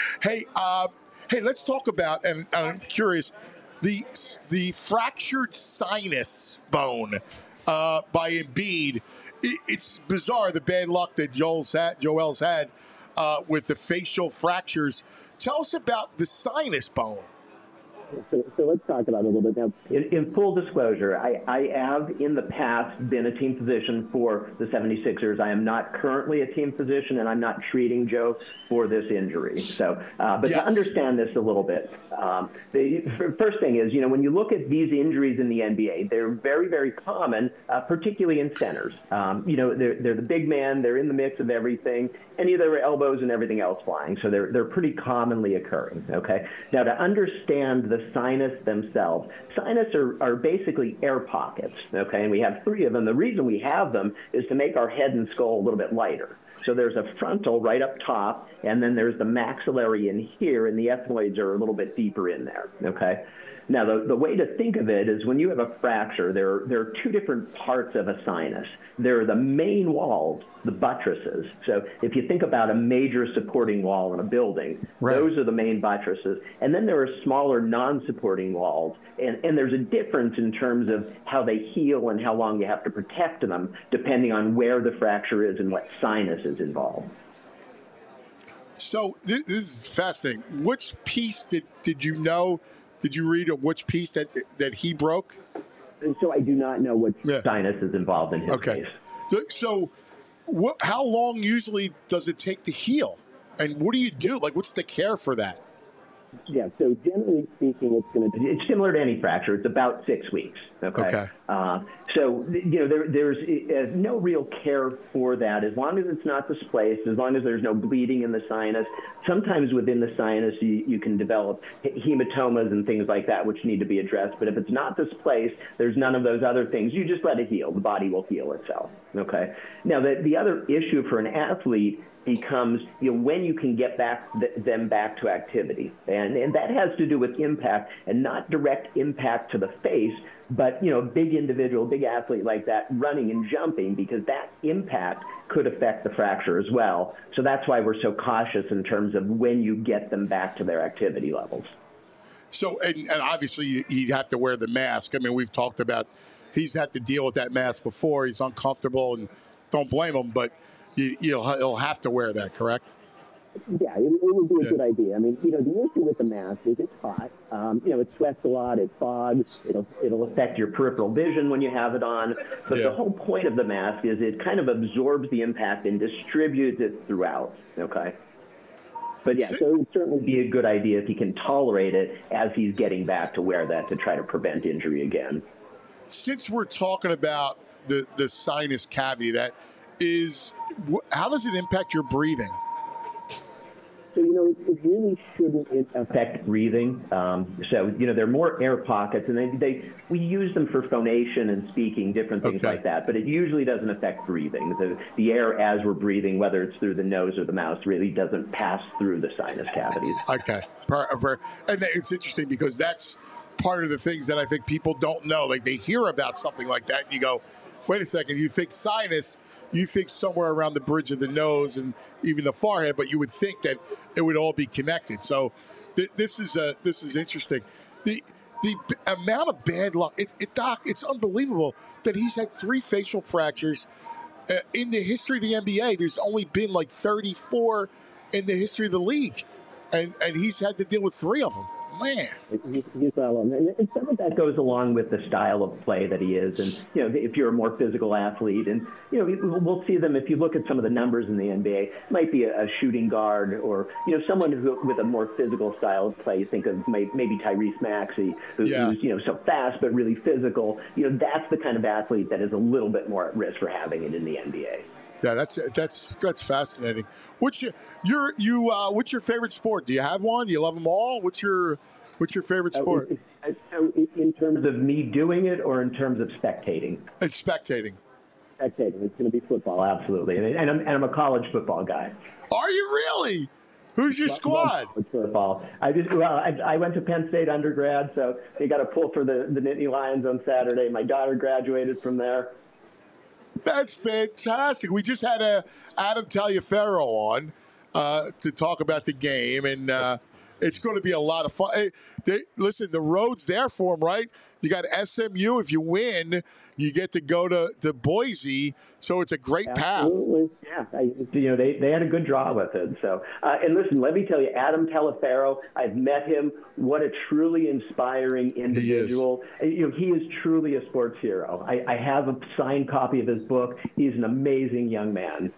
Hey, let's talk about, and I'm curious, the fractured sinus bone by Embiid. It's bizarre, the bad luck that Joel's had with the facial fractures. Tell us about the sinus bone. So let's talk about it a little bit now. In full disclosure, I have in the past been a team physician for the 76ers. I am not currently a team physician, and I'm not treating Joe for this injury. So, but to understand this a little bit, the first thing is, when you look at these injuries in the NBA, they're very, very common, particularly in centers. They're the big man, they're in the mix of everything, and their elbows and everything else flying. So they're pretty commonly occurring, okay? Now, to understand the sinus themselves, sinus are basically air pockets, okay? And we have 3 of them. The reason we have them is to make our head and skull a little bit lighter. So there's a frontal right up top, and then there's the maxillary in here, and the ethmoids are a little bit deeper in there, okay? Now, the way to think of it is when you have a fracture, there are 2 different parts of a sinus. There are the main walls, the buttresses. So if you think about a major supporting wall in a building, those are the main buttresses. And then there are smaller non-supporting walls. And there's a difference in terms of how they heal and how long you have to protect them, depending on where the fracture is and what sinus is involved. So this is fascinating. Which piece did you know? Did you read of which piece that he broke? So I do not know what sinus is involved in his case. So how long usually does it take to heal? And what do you do? Like, what's the care for that? Yeah, so generally speaking, it's similar to any fracture. It's about 6 weeks. Okay. So there's no real care for that as long as it's not displaced, as long as there's no bleeding in the sinus. Sometimes within the sinus, you can develop hematomas and things like that, which need to be addressed. But if it's not displaced, there's none of those other things. You just let it heal. The body will heal itself. Okay. Now, the other issue for an athlete becomes when you can get them back to activity. And that has to do with impact and not direct impact to the face, but, big individual, big athlete like that running and jumping, because that impact could affect the fracture as well. So that's why we're so cautious in terms of when you get them back to their activity levels. So, and obviously he'd have to wear the mask. I mean, we've talked about he's had to deal with that mask before. He's uncomfortable, and don't blame him, but he'll have to wear that, correct? Yeah, it would be a good idea. I mean, the issue with the mask is it's hot. It sweats a lot, it fogs, it'll affect your peripheral vision when you have it on. But the whole point of the mask is it kind of absorbs the impact and distributes it throughout, okay? But so it would certainly be a good idea if he can tolerate it as he's getting back to wear that to try to prevent injury again. Since we're talking about the sinus cavity, how does it impact your breathing? So, it really shouldn't affect breathing. They're more air pockets, and we use them for phonation and speaking, different things like that. But it usually doesn't affect breathing. The air as we're breathing, whether it's through the nose or the mouth, really doesn't pass through the sinus cavities. Okay. And it's interesting because that's part of the things that I think people don't know. Like, they hear about something like that, and you go, wait a second, you think sinus, you think somewhere around the bridge of the nose and even the forehead, but you would think that it would all be connected. So this is interesting. The amount of bad luck, Doc, it's unbelievable that he's had 3 facial fractures in the history of the NBA. There's only been like 34 in the history of the league, and he's had to deal with 3 of them. man. He's well, and some of that goes along with the style of play that he is. And, if you're a more physical athlete, and, we'll see them, if you look at some of the numbers in the NBA, it might be a shooting guard or, someone with a more physical style of play. You think of maybe Tyrese Maxey, who's, so fast but really physical. That's the kind of athlete that is a little bit more at risk for having it in the NBA. Yeah, that's fascinating. What's your favorite sport? Do you have one? Do you love them all? What's your favorite sport? So in terms of me doing it, or in terms of spectating? It's spectating. Spectating. It's going to be football, absolutely. And I'm a college football guy. Are you really? Who's your squad? Football. I went to Penn State undergrad, so they got a pull for the Nittany Lions on Saturday. My daughter graduated from there. That's fantastic. We just had Adam Taliaferro on to talk about the game, and it's going to be a lot of fun. Hey, listen, the road's there for them, right? You got SMU. If you win, you get to go to Boise, so it's a great path. Absolutely, yeah. They had a good draw with it. So, and listen, let me tell you, Adam Taliaferro, I've met him. What a truly inspiring individual. He is truly a sports hero. I have a signed copy of his book. He's an amazing young man.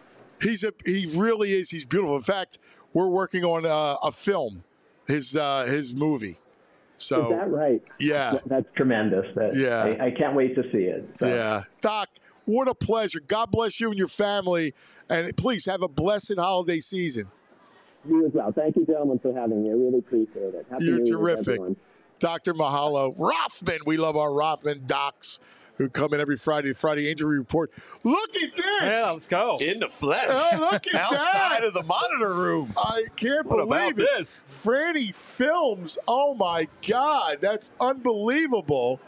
He really is. He's beautiful. In fact, we're working on a film, his movie. So, is that right? Yeah. That's tremendous. I can't wait to see it. So. Yeah. Doc, what a pleasure. God bless you and your family. And please have a blessed holiday season. You as well. Thank you, gentlemen, for having me. I really appreciate it. Happy You're New Year, terrific. everyone. Dr. Mahalo. Rothman. We love our Rothman docs who come in every Friday injury report. Look at this. Yeah, let's go. In the flesh. Oh, look at Outside that. of the monitor room. I can't What believe about it. this? Franny Films. Oh, my God. That's unbelievable.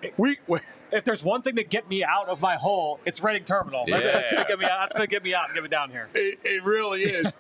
If there's one thing to get me out of my hole, it's Reading Terminal. Yeah. That's going to get me out. That's going to get me out and get me down here. It really is.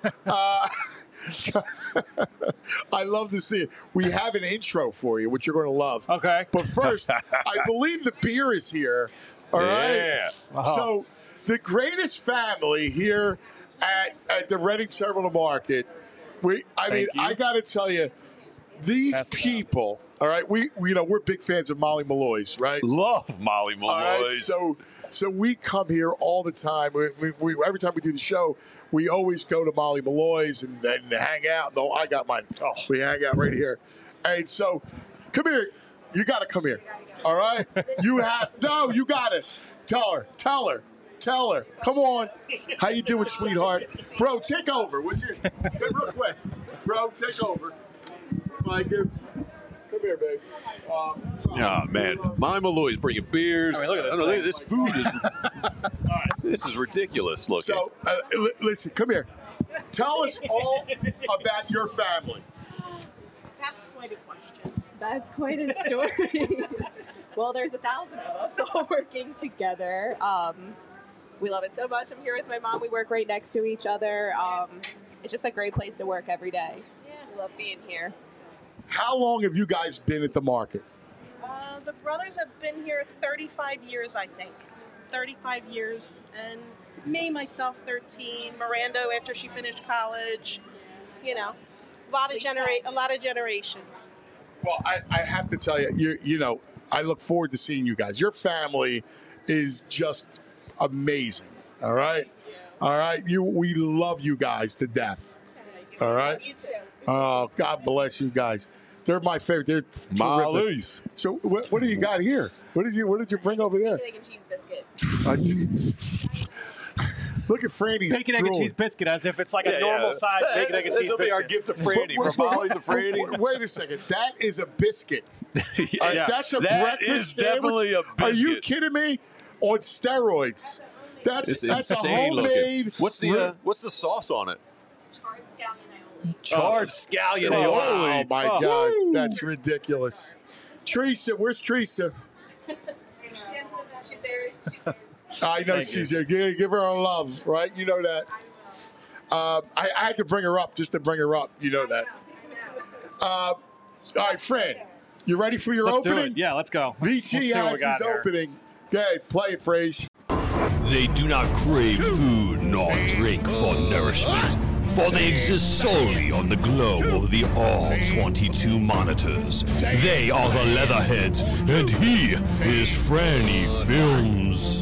I love to see it. We have an intro for you, which you're going to love. Okay. But first, I believe the beer is here. All right. Yeah. Uh-huh. So the greatest family here at the Reading Terminal Market. I got to tell you, these people. All right, we're big fans of Molly Malloy's, right? Love Molly Malloy's. All right, so we come here all the time. We every time we do the show, we always go to Molly Malloy's and hang out. No, I got mine. Oh, we hang out right here. And so, come here. You got to come here. All right? You got it. Tell her. Come on. How you doing, sweetheart? Bro, take over. Real quick. Bro, take over. Mike, come here, babe. Oh, man. Molly Malloy's bringing beers. Look at this. Look at this food. This is ridiculous looking. So, listen, come here. Tell us all about your family. That's quite a question. That's quite a story. Well, there's 1,000 of us all working together. We love it so much. I'm here with my mom. We work right next to each other. It's just a great place to work every day. Yeah, we love being here. How long have you guys been at the market? The brothers have been here 35 years, I think. 35 years. And me, myself, 13. Miranda, after she finished college. A lot of generations. Well, I have to tell you, I look forward to seeing you guys. Your family is just amazing. All right? Yeah. All right? We love you guys to death. All right? You too. Oh, God bless you guys. They're my favorite. They're terrific. Molly's. So what do you got here? What did you bring over there? Bacon, egg, and cheese biscuit. Look at Franny's Bacon, egg, and cheese biscuit, as if it's like a normal size bacon, egg, and cheese biscuit. This will be our gift to Franny. From Molly to Franny. Wait a second. That is a biscuit. Yeah. That's a That breakfast is sandwich? definitely a biscuit. Are you kidding me? On steroids. That's a insane homemade. looking. What's the sauce on it? Charred scallion aioli. Charred scallion Oh, aioli. my God. That's ridiculous. Teresa, where's Teresa? She's there. I know she's here. Give her our love, right? You know that. I had to bring her up just to bring her up. You know that. All right, Fred, you ready for your Let's opening? do it. Yeah, let's go. VT has his opening. Okay, play it, Frage. They do not crave food nor drink for nourishment, for they exist solely on the glow of the All-22 monitors. They are the Leatherheads, and he is Franny Films.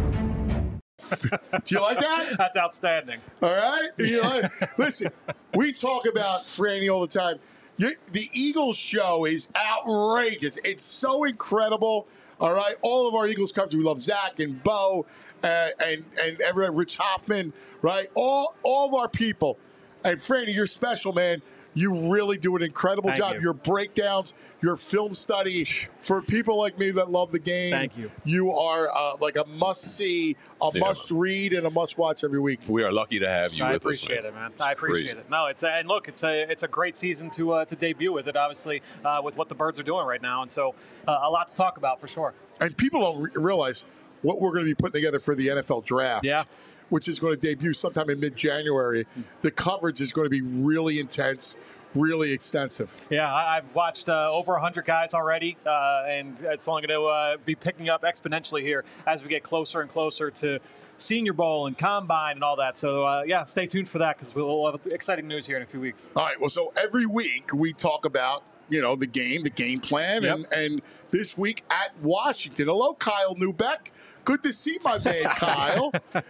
Do you like that? That's outstanding. All right? You know, listen, we talk about Franny all the time. The Eagles show is outrageous. It's so incredible. All right? All of our Eagles coverage. We love Zach and Bo and everyone, Rich Hoffman, right? All of our people. And Franny, you're special, man. You really do an incredible job. You. Your breakdowns, your film study, for people like me that love the game. Thank you. You are like a must-see, must-read, and a must-watch every week. We are lucky to have you with us. I appreciate it, man. I appreciate it. No, it's a great season to debut with it, obviously, with what the Birds are doing right now. And so a lot to talk about for sure. And people don't realize what we're going to be putting together for the NFL draft. Yeah. Which is going to debut sometime in mid-January. The coverage is going to be really intense, really extensive. Yeah, I've watched over 100 guys already, and it's only going to be picking up exponentially here as we get closer and closer to Senior Bowl and Combine and all that. So, stay tuned for that because we'll have exciting news here in a few weeks. All right, well, so every week we talk about, the game plan, and this week at Washington. Hello, Kyle Neubeck. Good to see my man, Kyle.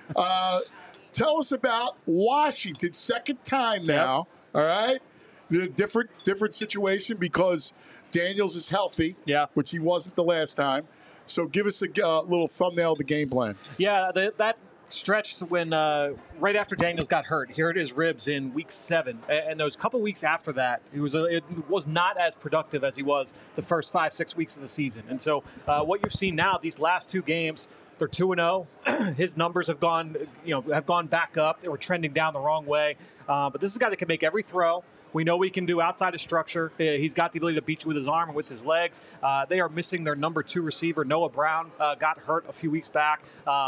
Tell us about Washington. Second time now, all right? The different situation because Daniels is healthy, which he wasn't the last time. So give us a little thumbnail of the game plan. Yeah, that stretch when right after Daniels got hurt, he hurt his ribs in week 7, and those couple weeks after that, it was not as productive as he was the first 5-6 weeks of the season. And so what you've seen now, these last 2 games, they're 2-0. His numbers have gone back up. They were trending down the wrong way. But this is a guy that can make every throw. We know he can do outside of structure. He's got the ability to beat you with his arm and with his legs. They are missing their number 2 receiver. Noah Brown got hurt a few weeks back.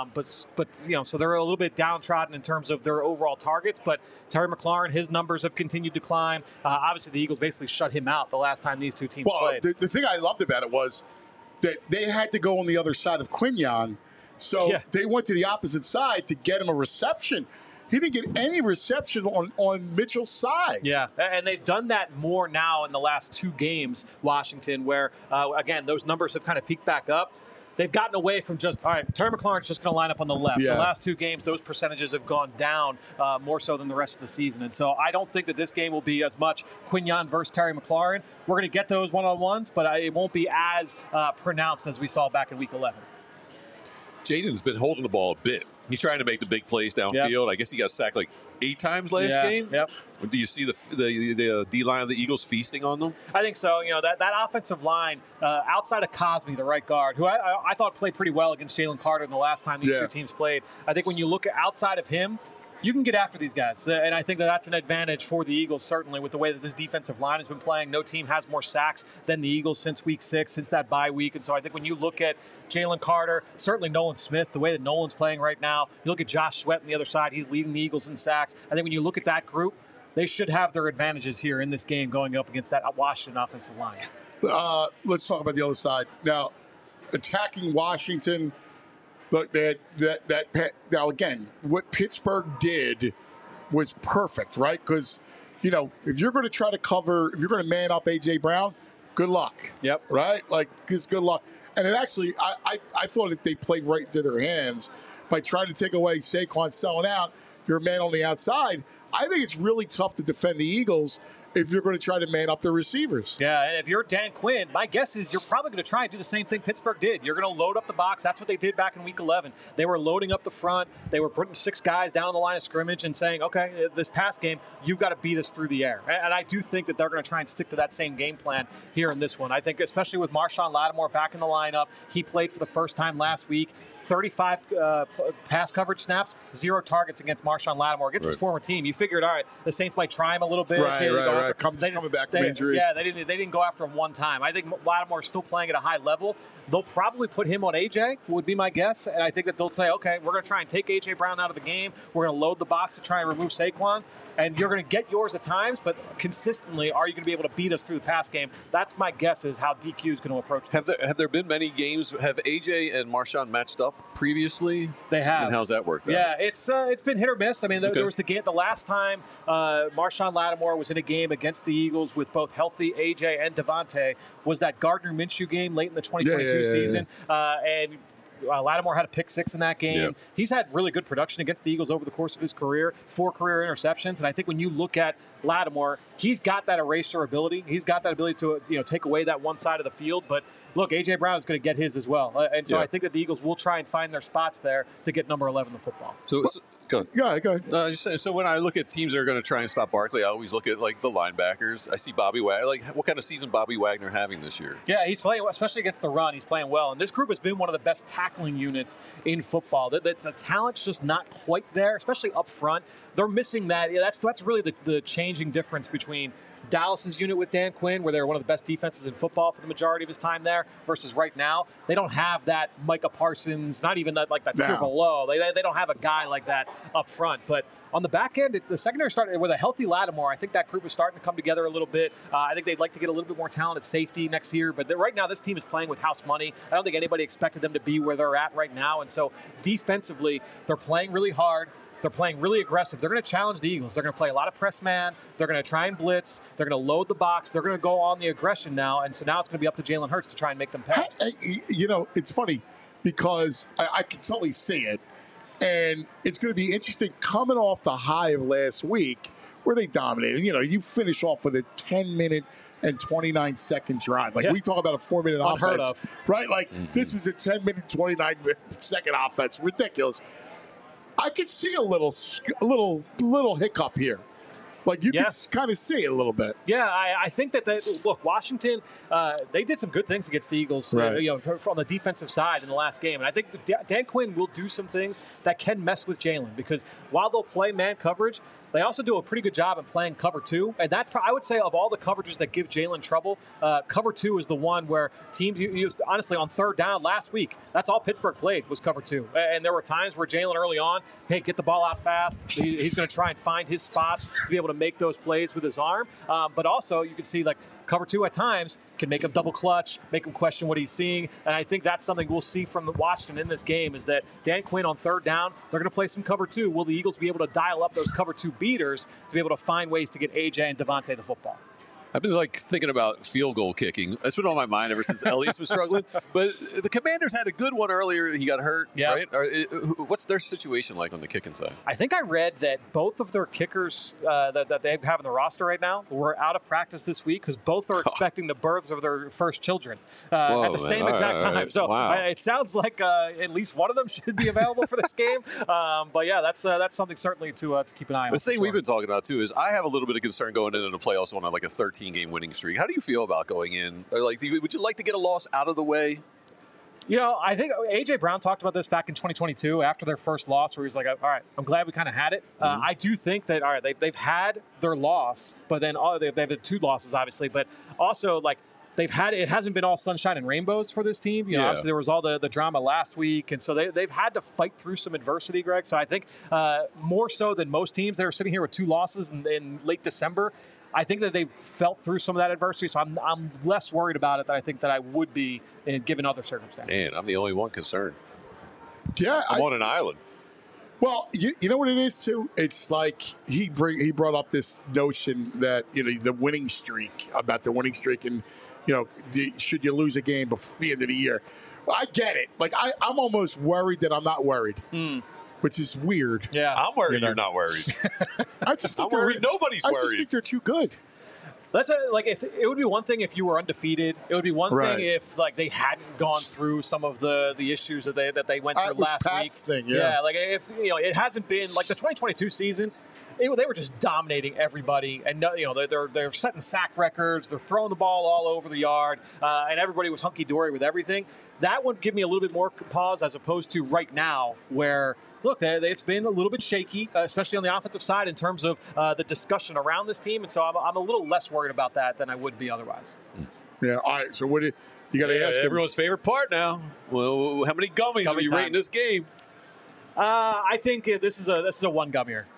So they're a little bit downtrodden in terms of their overall targets. But Terry McLaurin, his numbers have continued to climb. Obviously, the Eagles basically shut him out the last time these two teams played. The thing I loved about it was that they had to go on the other side of Quinyon. So they went to the opposite side to get him a reception. He didn't get any reception on Mitchell's side. Yeah, and they've done that more now in the last 2 games, Washington, where, again, those numbers have kind of peaked back up. They've gotten away from just, all right, Terry McLaurin's just going to line up on the left. Yeah. The last 2 games, those percentages have gone down more so than the rest of the season. And so I don't think that this game will be as much Quinyon versus Terry McLaurin. We're going to get those one-on-ones, but it won't be as pronounced as we saw back in Week 11. Jaden's been holding the ball a bit. He's trying to make the big plays downfield. Yep. I guess he got sacked like 8 times last game. Yep. Do you see the D-line of the Eagles feasting on them? I think so. That offensive line, outside of Cosme, the right guard, who I thought played pretty well against Jalen Carter in the last time these 2 teams played. I think when you look outside of him, you can get after these guys. And I think that's an advantage for the Eagles, certainly, with the way that this defensive line has been playing. No team has more sacks than the Eagles since week 6, since that bye week. And so I think when you look at Jalen Carter, certainly Nolan Smith, the way that Nolan's playing right now, you look at Josh Sweat on the other side, he's leading the Eagles in sacks. I think when you look at that group, they should have their advantages here in this game going up against that Washington offensive line. Let's talk about the other side. Now, attacking Washington, look, now again, what Pittsburgh did was perfect, right? Because, if you're going to try to cover, if you're going to man up A.J. Brown, good luck. Yep. Right? Just good luck. And it actually, I thought that they played right into their hands by trying to take away Saquon selling out. You're a man on the outside. I think it's really tough to defend the Eagles if you're going to try to man up the receivers. Yeah, and if you're Dan Quinn, my guess is you're probably going to try and do the same thing Pittsburgh did. You're going to load up the box. That's what they did back in Week 11. They were loading up the front. They were putting 6 guys down the line of scrimmage and saying, okay, this past game, you've got to beat us through the air. And I do think that they're going to try and stick to that same game plan here in this one. I think especially with Marshawn Lattimore back in the lineup, he played for the first time last week. 35 pass coverage snaps, 0 targets against Marshawn Lattimore against his former team. You figured, all right, the Saints might try him a little bit. Right. Coming back from injury. Yeah, they didn't go after him one time. I think Lattimore's still playing at a high level. They'll probably put him on AJ, would be my guess. And I think that they'll say, okay, we're going to try and take AJ Brown out of the game. We're going to load the box to try and remove Saquon. And you're going to get yours at times, but consistently, are you going to be able to beat us through the pass game? That's my guess is how DQ is going to approach this. Have there been many games? Have AJ and Marshawn matched up previously? They have. And how's that worked out? Yeah, it's been hit or miss. I mean, there was the last time Marshawn Lattimore was in a game against the Eagles with both healthy AJ and Devontae was that Gardner Minshew game late in the 2022 season. And Lattimore had a pick 6 in that game. Yep. He's had really good production against the Eagles over the course of his career, 4 career interceptions. And I think when you look at Lattimore, he's got that eraser ability. He's got that ability to take away that one side of the field. But look, A.J. Brown is going to get his as well. And so I think that the Eagles will try and find their spots there to get number 11 in the football. So go ahead. Just saying, so when I look at teams that are going to try and stop Barkley, I always look at like the linebackers. I see Bobby Wagner. Like, what kind of season Bobby Wagner having this year? Yeah, he's playing, especially against the run. He's playing well. And this group has been one of the best tackling units in football. The talent's just not quite there, especially up front. They're missing that. Yeah, that's really the changing difference between Dallas's unit with Dan Quinn, where they're one of the best defenses in football for the majority of his time there, versus right now, they don't have that Micah Parsons, not even that tier below. They don't have a guy like that up front. But on the back end, the secondary started with a healthy Lattimore. I think that group is starting to come together a little bit. I think they'd like to get a little bit more talent at safety next year. But right now, this team is playing with house money. I don't think anybody expected them to be where they're at right now. And so defensively, they're playing really hard. They're playing really aggressive. They're going to challenge the Eagles. They're going to play a lot of press man. They're going to try and blitz. They're going to load the box. They're going to go on the aggression now. And so now it's going to be up to Jalen Hurts to try and make them pay. It's funny because I can totally see it. And it's going to be interesting coming off the high of last week where they dominated. You finish off with a 10-minute and 29 seconds drive. We talk about a 4-minute offense. Right? This was a 10-minute, 29-second offense. Ridiculous. I could see a little hiccup here. You can kind of see it a little bit. Yeah, I think that look, Washington, they did some good things against the Eagles, on the defensive side in the last game. And I think Dan Quinn will do some things that can mess with Jalen because while they'll play man coverage, they also do a pretty good job in playing cover 2. And that's, I would say, of all the coverages that give Jalen trouble, cover 2 is the one where teams used, honestly, on third down last week, that's all Pittsburgh played was cover 2. And there were times where Jalen early on, hey, get the ball out fast. He's going to try and find his spot to be able to make those plays with his arm. But also, you can see, cover 2 at times can make him double clutch, make him question what he's seeing. And I think that's something we'll see from Washington in this game is that Dan Quinn on third down, they're going to play some cover 2. Will the Eagles be able to dial up those cover 2 beaters to be able to find ways to get AJ and Devontae the football? I've been thinking about field goal kicking. It's been on my mind ever since Elliott's been struggling. But the Commanders had a good one earlier. He got hurt, right? What's their situation like on the kicking side? I think I read that both of their kickers that they have in the roster right now were out of practice this week because both are expecting the births of their first children at the same exact time. Right. So it sounds like at least one of them should be available for this game. But yeah, that's something certainly to keep an eye on. The thing we've been talking about too is I have a little bit of concern going into the playoffs on a 13-game winning streak. How do you feel about going in? Or would you like to get a loss out of the way? I think A.J. Brown talked about this back in 2022 after their first loss where he was like, all right, I'm glad we kind of had it. I do think that, all right, they've had their loss, but then they've had 2 losses, obviously, but also, it hasn't been all sunshine and rainbows for this team. Obviously there was all the drama last week, and so they've had to fight through some adversity, Greg. So I think more so than most teams that are sitting here with 2 losses in late December, I think that they've felt through some of that adversity, so I'm less worried about it than I think that I would be given other circumstances. Man, I'm the only one concerned. Yeah, I'm on an island. Well, you know what it is too. It's like he brought up this notion that the winning streak and should you lose a game before the end of the year? Well, I get it. I'm almost worried that I'm not worried. Which is weird. Yeah, I'm worried you're not worried. I just think I'm worried. Nobody's worried. I just think they're too good. That's if it would be one thing if you were undefeated. It would be one thing if they hadn't gone through some of the issues that they went through last Pat's week. Thing, yeah. If it hasn't been the 2022 season. They were just dominating everybody, and they're setting sack records. They're throwing the ball all over the yard, and everybody was hunky dory with everything. That would give me a little bit more pause as opposed to right now, where look, it's been a little bit shaky, especially on the offensive side in terms of the discussion around this team, and so I'm a little less worried about that than I would be otherwise. Yeah. All right. So what you got to ask everyone's favorite part now? Well, how many gummies are you rating this game? I think this is a one gummier. Wow!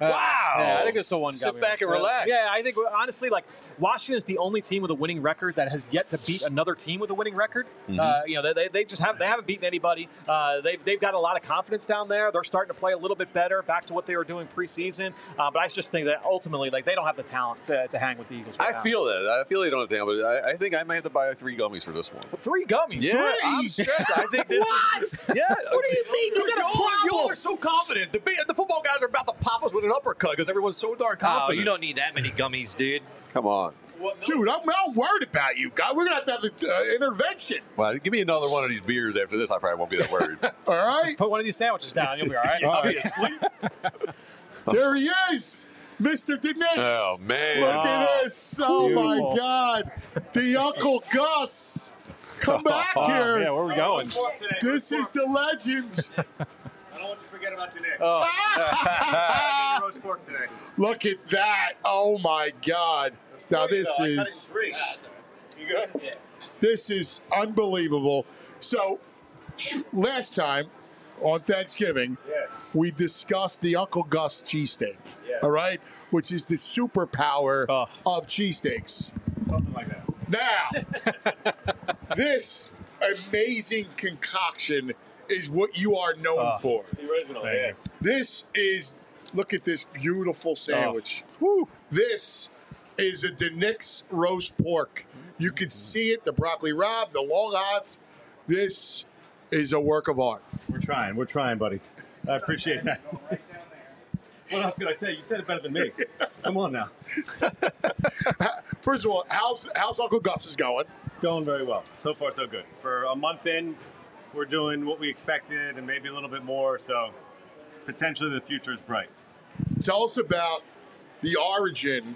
Yeah, I think it's the one gummy. Sit back and relax. Yeah, I think honestly, like Washington is the only team with a winning record that has yet to beat another team with a winning record. They just haven't beaten anybody. They've got a lot of confidence down there. They're starting to play a little bit better, back to what they were doing preseason. But I just think that ultimately, like, they don't have the talent to hang with the Eagles. Right now. Feel that. I feel they don't have talent, but I think I might have to buy 3 gummies for this one. 3 gummies? Yeah, I'm stressed. I think this is. Yeah. What do you mean? You got a problem? Y'all are so confident. The football guys are about to pop us with an uppercut because everyone's so darn confident. Oh, you don't need that many gummies, dude. Come on. Dude, I'm not worried about you, guy. We're going to have an intervention. Well, give me another one of these beers after this. I probably won't be that worried. All right. Just put one of these sandwiches down. You'll be all right. I'll be asleep. There he is, Mr. DeNix. Oh, man. Look at this. Oh, my God. The Uncle Gus. Come back here. Yeah, where are we going? This is the legend. I don't want you to forget about today. Roast pork today. Look at that. Oh, my God. Now, this is... You good? Yeah. This is unbelievable. So, last time on Thanksgiving, we discussed the Uncle Gus cheesesteak, all right, which is the superpower of cheesesteaks. Something like that. Now, this amazing concoction is what you are known for. The original, yes. This is, look at this beautiful sandwich. Woo. This is a DeNix roast pork. You can see it, the broccoli rabe, the long hots. This is a work of art. We're trying, buddy. I appreciate that. What else could I say? You said it better than me. Come on now. First of all, how's Uncle Gus's going? It's going very well. So far, so good. For a month in, we're doing what we expected and maybe a little bit more. So potentially the future is bright. Tell us about the origin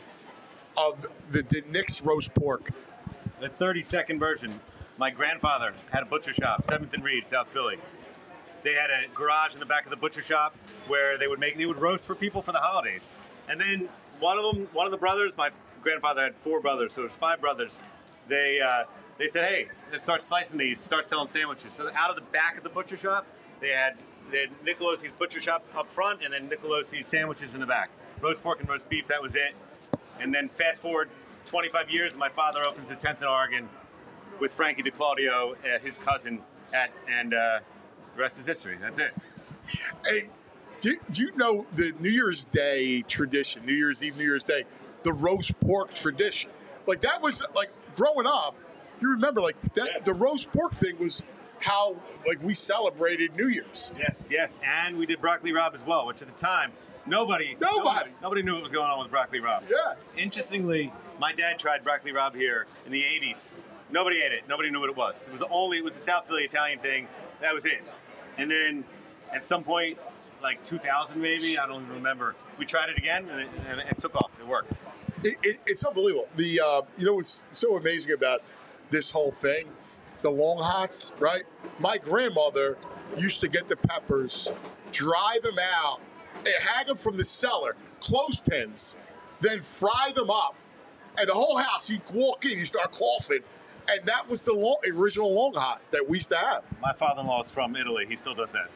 of the DeNix roast pork. The 30-second version. My grandfather had a butcher shop, 7th and Reed, South Philly. They had a garage in the back of the butcher shop where they would roast for people for the holidays. And then one of the brothers, my grandfather had 4 brothers, so it was 5 brothers. They said, hey, let's start slicing these, start selling sandwiches. So out of the back of the butcher shop, they had Nicolosi's butcher shop up front and then Nicolosi's sandwiches in the back. Roast pork and roast beef, that was it. And then fast forward 25 years, and my father opens a 10th in Oregon with Frankie DeClaudio, his cousin, and the rest is history. That's it. Hey, do you know the New Year's Day tradition, New Year's Eve, New Year's Day, the roast pork tradition? Like, that was, like, growing up, you remember, like, that the roast pork thing was how, like, we celebrated New Year's. Yes. And we did broccoli rabe as well, which at the time, nobody knew what was going on with broccoli rabe. Yeah. Interestingly, my dad tried broccoli rabe here in the 80s. Nobody ate it. Nobody knew what it was. It was a South Philly Italian thing. That was it. And then at some point, like 2000 maybe, I don't even remember, we tried it again and it took off. It worked. It's unbelievable. You know what's so amazing about this whole thing? The long hots, right? My grandmother used to get the peppers, dry them out, and hang them from the cellar, clothespins, then fry them up. And the whole house, you walk in, you start coughing. And that was the original long hot that we used to have. My father-in-law is from Italy. He still does that.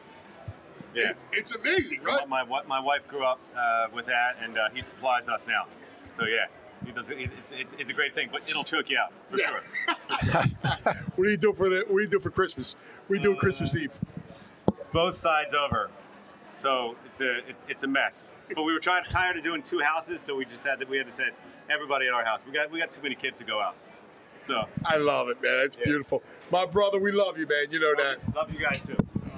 Yeah. It's amazing, right? So my wife grew up with that, and he supplies us now. So, yeah, he does. It's a great thing, but it'll choke you out, for sure. What do you do for Christmas? What do you do Christmas Eve? Both sides over. So it's a mess. But we were tired of doing 2 houses, so we had to say everybody at our house. We got too many kids to go out. So I love it, man. It's beautiful. My brother, we love you, man. You know that. Love you guys too.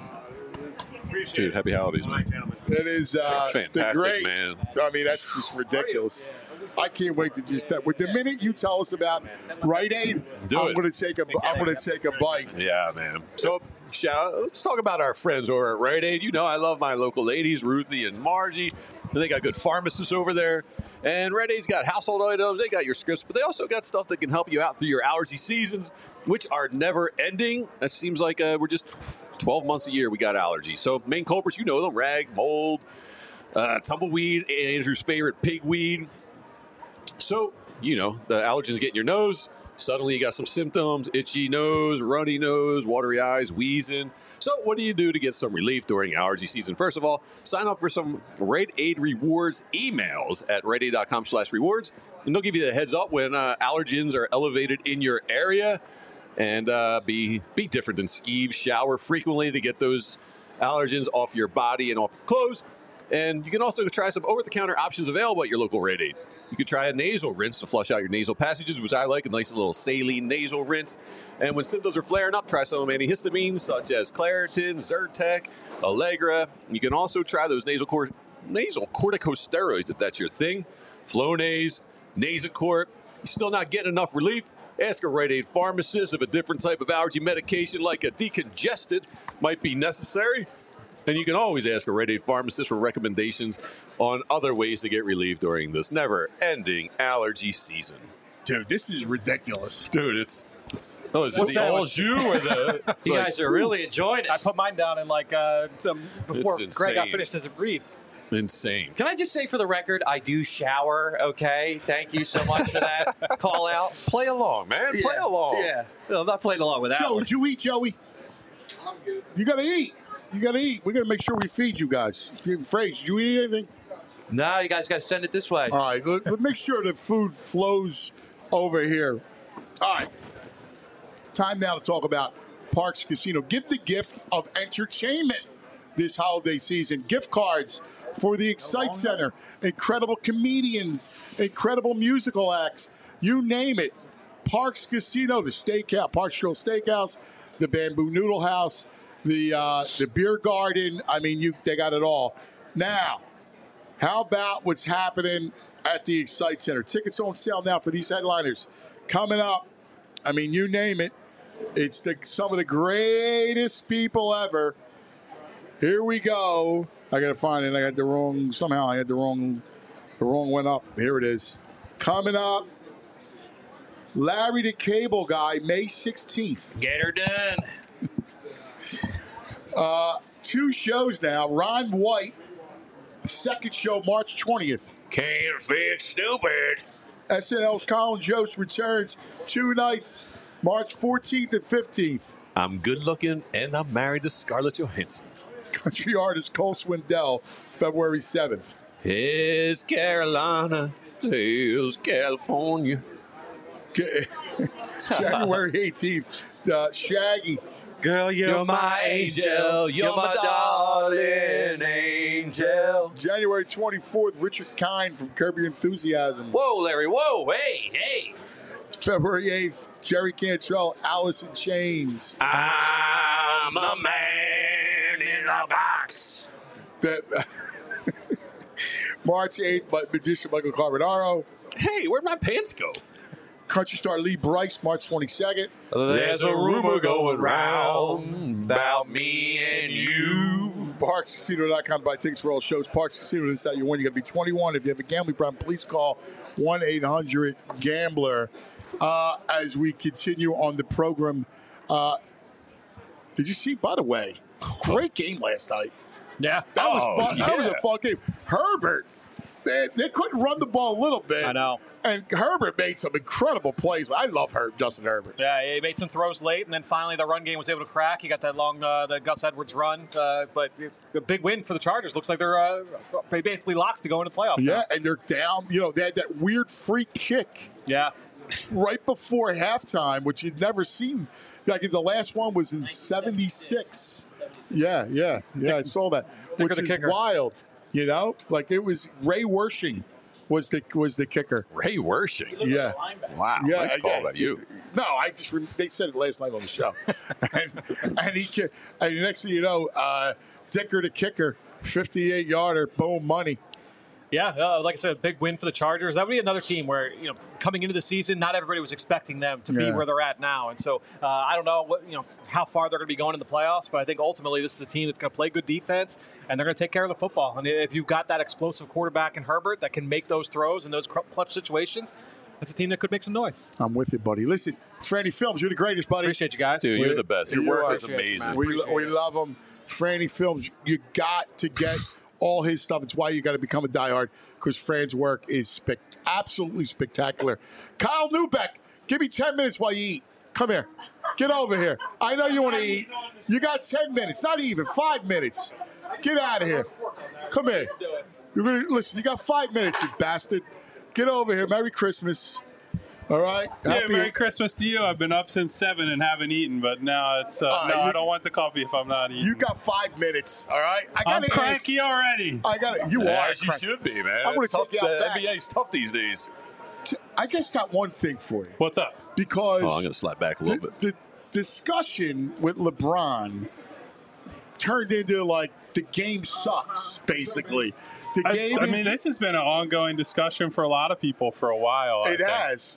Appreciate Dude, it. happy holidays, All man. right, gentlemen. That is fantastic, the great, man. I mean, that's just ridiculous. I can't wait to just with the minute you tell us about Rite Aid, I'm going to take a bite. Yeah, man. So let's talk about our friends over at Rite Aid. You know, I love my local ladies, Ruthie and Margie. They got good pharmacists over there. And Rite Aid's got household items, they got your scripts, but they also got stuff that can help you out through your allergy seasons, which are never ending. It seems like we're just 12 months a year we got allergies. So main culprits, you know them, rag, mold, tumbleweed, Andrew's favorite, pigweed. So, you know, the allergens get in your nose, Suddenly you got some symptoms, itchy nose, runny nose, watery eyes, wheezing. So what do you do to get some relief during allergy season? First of all, sign up for some Rite Aid Rewards emails at riteaid.com/rewards. And they'll give you the heads up when allergens are elevated in your area. And be different than skeeve. Shower frequently to get those allergens off your body and off your clothes. And you can also try some over-the-counter options available at your local Rite Aid. You could try a nasal rinse to flush out your nasal passages, which I like, a nice little saline nasal rinse. And when symptoms are flaring up, try some antihistamines such as Claritin, Zyrtec, Allegra. You can also try those nasal corticosteroids if that's your thing. Flonase, Nasacort. You're still not getting enough relief? Ask a Rite Aid pharmacist if a different type of allergy medication like a decongestant might be necessary. And you can always ask a Rite Aid pharmacist for recommendations on other ways to get relief during this never-ending allergy season. Dude, this is ridiculous. Dude, it's is it the all jus or the... You guys are really enjoying it. I put mine down in before Greg got finished his read. Insane. Can I just say for the record, I do shower, okay? Thank you so much for that call out. Play along, man. Play along. Yeah. No, I'm not playing along with that Joe, one. did you eat, Joey? I'm good. You got to eat. You got to eat. We got to make sure we feed you guys. Phrase, did you eat anything? No, you guys got to send it this way. All right. Let's make sure the food flows over here. All right. Time now to talk about Parx Casino. Give the gift of entertainment this holiday season. Gift cards for the Excite Center. Incredible comedians, incredible musical acts. You name it. Parx Casino, the steakhouse, Parx Grill Steakhouse, the Bamboo Noodle House, the beer garden. I mean, they got it all. Now, how about what's happening at the Excite Center? Tickets on sale now for these headliners. Coming up, I mean, you name it. It's some of the greatest people ever. Here we go. I got to find it. I got the wrong one up. Here it is. Coming up, Larry the Cable Guy, May 16th. Get her done. 2 shows now. Ron White, second show, March 20th. Can't fix stupid. SNL's Colin Jost returns 2 nights, March 14th and 15th. I'm good looking and I'm married to Scarlett Johansson. Country artist Cole Swindell, February 7th. Here's Carolina, here's California. January 18th, Shaggy. Girl, you're my angel. You're my darling angel. January 24th, Richard Kind from Curb Your Enthusiasm. Whoa, Larry, whoa, hey. February 8th, Jerry Cantrell, Alice in Chains. I'm a man in a box. March 8th, magician Michael Carbonaro. Hey, where'd my pants go? Country star Lee Brice, March 22nd. There's a rumor going round about me and you. ParxCasino.com to buy tickets for all shows. Parx Casino, this is how you win. You got to be 21. If you have a gambling problem, please call 1-800-GAMBLER. As we continue on the program, did you see, by the way, great game last night? Yeah. That was fun. Yeah. That was a fun game. Herbert, they couldn't run the ball a little bit. I know. And Herbert made some incredible plays. I love Justin Herbert. Yeah, he made some throws late, and then finally the run game was able to crack. He got that long, the Gus Edwards run. But the big win for the Chargers. Looks like they're basically locks to go into the playoffs. Yeah, now. and they're down. They had that weird free kick. Yeah. Right before halftime, which you'd never seen. Like the last one was in 76. Yeah, I saw that. Which is wild. Like it was Ray Wersching. Was the kicker? Ray Wersching. Yeah. Wow. Yeah, nice call by you. No, they said it last night on the show, and the next thing you know, Dicker the kicker, 58-yarder, boom, money. Yeah, like I said, a big win for the Chargers. That would be another team where, coming into the season, not everybody was expecting them to be where they're at now. And so I don't know how far they're going to be going in the playoffs, but I think ultimately this is a team that's going to play good defense and they're going to take care of the football. And if you've got that explosive quarterback in Herbert that can make those throws in those clutch situations, that's a team that could make some noise. I'm with you, buddy. Listen, Franny Films, you're the greatest, buddy. Appreciate you guys. Dude, you're the best. Your work is amazing. We love them. Franny Films, you got to get all his stuff. It's why you got to become a diehard, because Fran's work is absolutely spectacular. Kyle Neubeck, Give me 10 minutes while you eat. Come here. Get over here. I know you want to eat. You got 10 minutes, not even 5 minutes. Get out of here. Come here. You're gonna listen. You got 5 minutes, you bastard. Get over here. Merry Christmas. All right. Yeah, Merry Christmas to you. I've been up since 7 and haven't eaten, but now it's I don't want the coffee if I'm not eating. You got 5 minutes. All right. I'm cranky already. I got it. You are. As you should be, man. I'm going to take you out back. NBA's tough these days. I just got one thing for you. What's up? Because I'm going to slap back a little bit. The discussion with LeBron turned into like the game sucks, basically. The game I mean, this has been an ongoing discussion for a lot of people for a while. It has.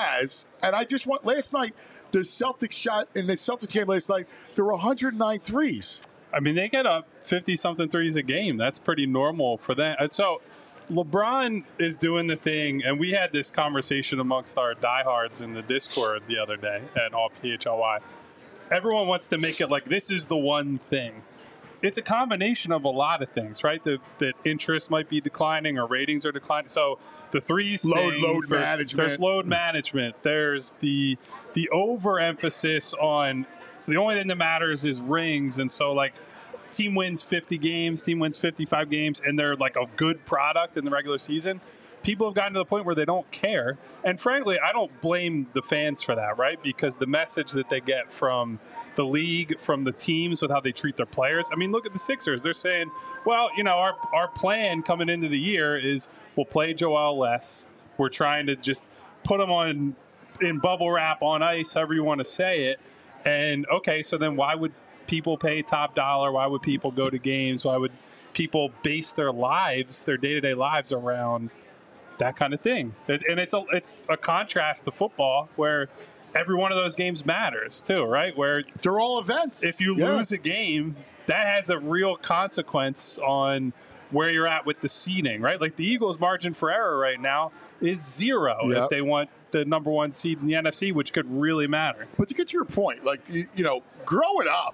And I just want, last night, the Celtics shot in the Celtics game last night, there were 109 threes. I mean, they get up 50-something threes a game. That's pretty normal for them. And so LeBron is doing the thing, and we had this conversation amongst our diehards in the Discord the other day at All PHLY. Everyone wants to make it like this is the one thing. It's a combination of a lot of things, right? That interest might be declining or ratings are declining. So the threes load management. There's load management. There's the overemphasis on the only thing that matters is rings. And so like team wins 50 games, team wins 55 games, and they're like a good product in the regular season. People have gotten to the point where they don't care. And frankly, I don't blame the fans for that, right? Because the message that they get from the league, from the teams with how they treat their players. I mean, look at the Sixers. They're saying, well, you know, our plan coming into the year is we'll play Joel less. We're trying to just put him on in bubble wrap on ice, however you want to say it. And, okay, so then why would people pay top dollar? Why would people go to games? Why would people base their lives, their day-to-day lives around that kind of thing? And it's a contrast to football where every one of those games matters too, right? Where they're all events. If you lose a game, that has a real consequence on where you're at with the seeding, right? Like the Eagles' margin for error right now is 0 if they want the number 1 seed in the NFC, which could really matter. But to get to your point, like you know, growing up,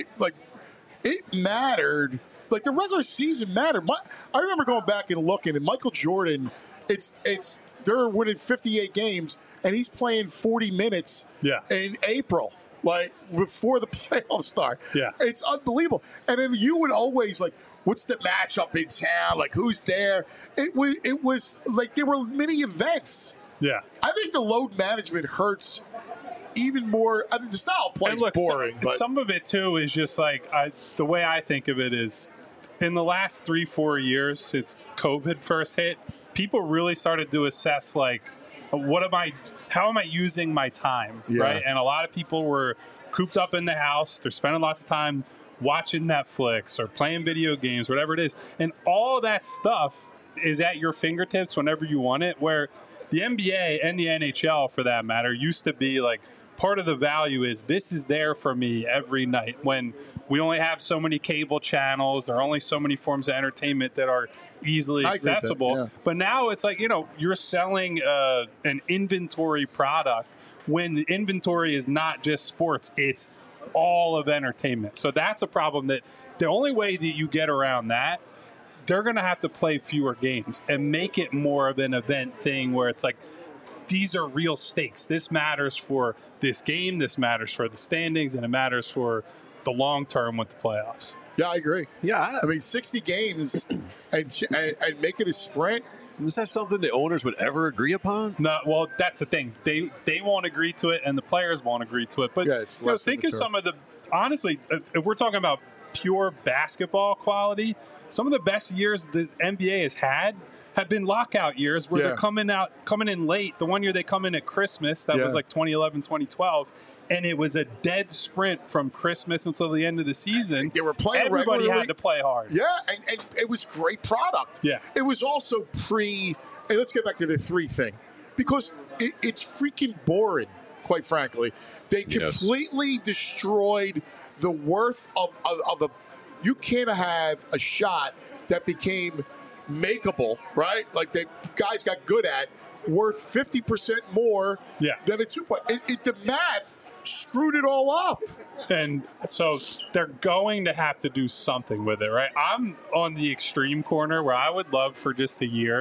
it mattered. Like the regular season mattered. I remember going back and looking, and Michael Jordan. They're winning 58 games, and he's playing 40 minutes in April, like before the playoffs start. Yeah, it's unbelievable. And then you would always like, what's the matchup in town? Like, who's there? It was like there were many events. Yeah, I think the load management hurts even more. I mean, the style of play is boring. But some of it too is just like the way I think of it is in the last 3-4 years since COVID first hit. People really started to assess like, how am I using my time, right? And a lot of people were cooped up in the house. They're spending lots of time watching Netflix or playing video games, whatever it is. And all that stuff is at your fingertips whenever you want it, where the NBA and the NHL, for that matter, used to be like, part of the value is this is there for me every night when we only have so many cable channels. There are only so many forms of entertainment that are easily accessible. But now it's like, you know, you're selling an inventory product when the inventory is not just sports. It's all of entertainment. So that's a problem that the only way that you get around that, they're going to have to play fewer games and make it more of an event thing where it's like, these are real stakes. This matters for this game. This matters for the standings, and it matters for the long term with the playoffs. Yeah, I agree. Yeah, I mean, 60 games and make it a sprint. Is that something the owners would ever agree upon? No, well, that's the thing. They won't agree to it, and the players won't agree to it. But think of some of the, honestly, if we're talking about pure basketball quality, some of the best years the NBA has had have been lockout years where they're coming in late. The one year they come in at Christmas, that was like 2011, 2012. And it was a dead sprint from Christmas until the end of the season. They were playing Everybody regularly. had to play hard. Yeah, and it was great product. Yeah. It was also and let's get back to the 3 thing. Because it's freaking boring, quite frankly. They completely destroyed the worth of a... You can't have a shot that became makeable, right? Like the guys got good at, worth 50% more than a 2-point. The math screwed it all up. And so they're going to have to do something with it, right? I'm on the extreme corner where I would love for just a year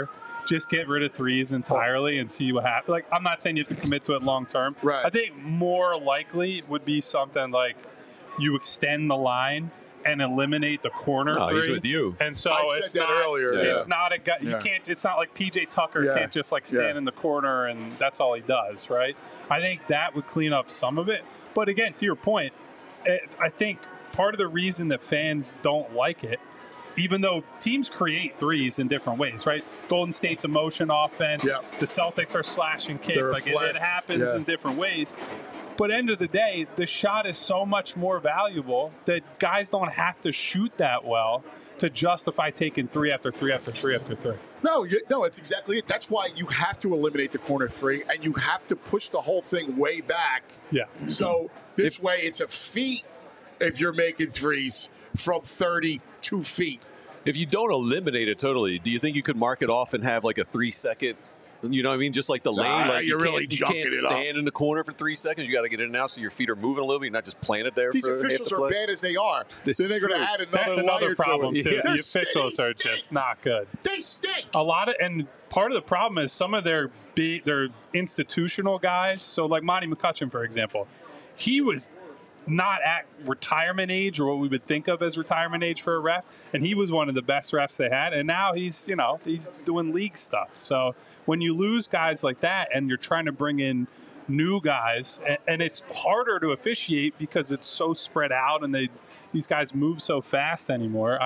just get rid of threes entirely and see what happens. Like, I'm not saying you have to commit to it long term. Right. I think more likely would be something like you extend the line and eliminate the corner three. He's with you. And so I it's said that not, earlier. It's not a guy. You Yeah. can't. It's not like PJ Tucker Yeah. can't just like stand Yeah. in the corner and that's all he does, right? I think that would clean up some of it. But again, to your point, I think part of the reason that fans don't like it, even though teams create threes in different ways, right? Golden State's a motion offense. Yeah. The Celtics are slash and kick. They're a Like it flex. happens Yeah. in different ways. But end of the day, the shot is so much more valuable that guys don't have to shoot that well to justify taking three after three after three after three. No, it's exactly it. That's why you have to eliminate the corner three, and you have to push the whole thing way back. Yeah. So this way, it's a feat if you're making threes from 32 feet. If you don't eliminate it totally, do you think you could mark it off and have like a 3-second? You know what I mean? Just like the lane. Like you're really you junking can't it up. stand in the corner for 3 seconds. You got to get in and out so your feet are moving a little bit. You're not just playing it there. These for half officials the are play. bad as they are. This then they're is going to true. add another That's another layer problem to it. too. Yeah. The officials are just not good. They stink. A lot of, and part of the problem is some of their institutional guys. So like Monty McCutcheon, for example, he was not at retirement age or what we would think of as retirement age for a ref, and he was one of the best refs they had. And now he's doing league stuff. So when you lose guys like that, and you're trying to bring in new guys, and it's harder to officiate because it's so spread out, and these guys move so fast anymore.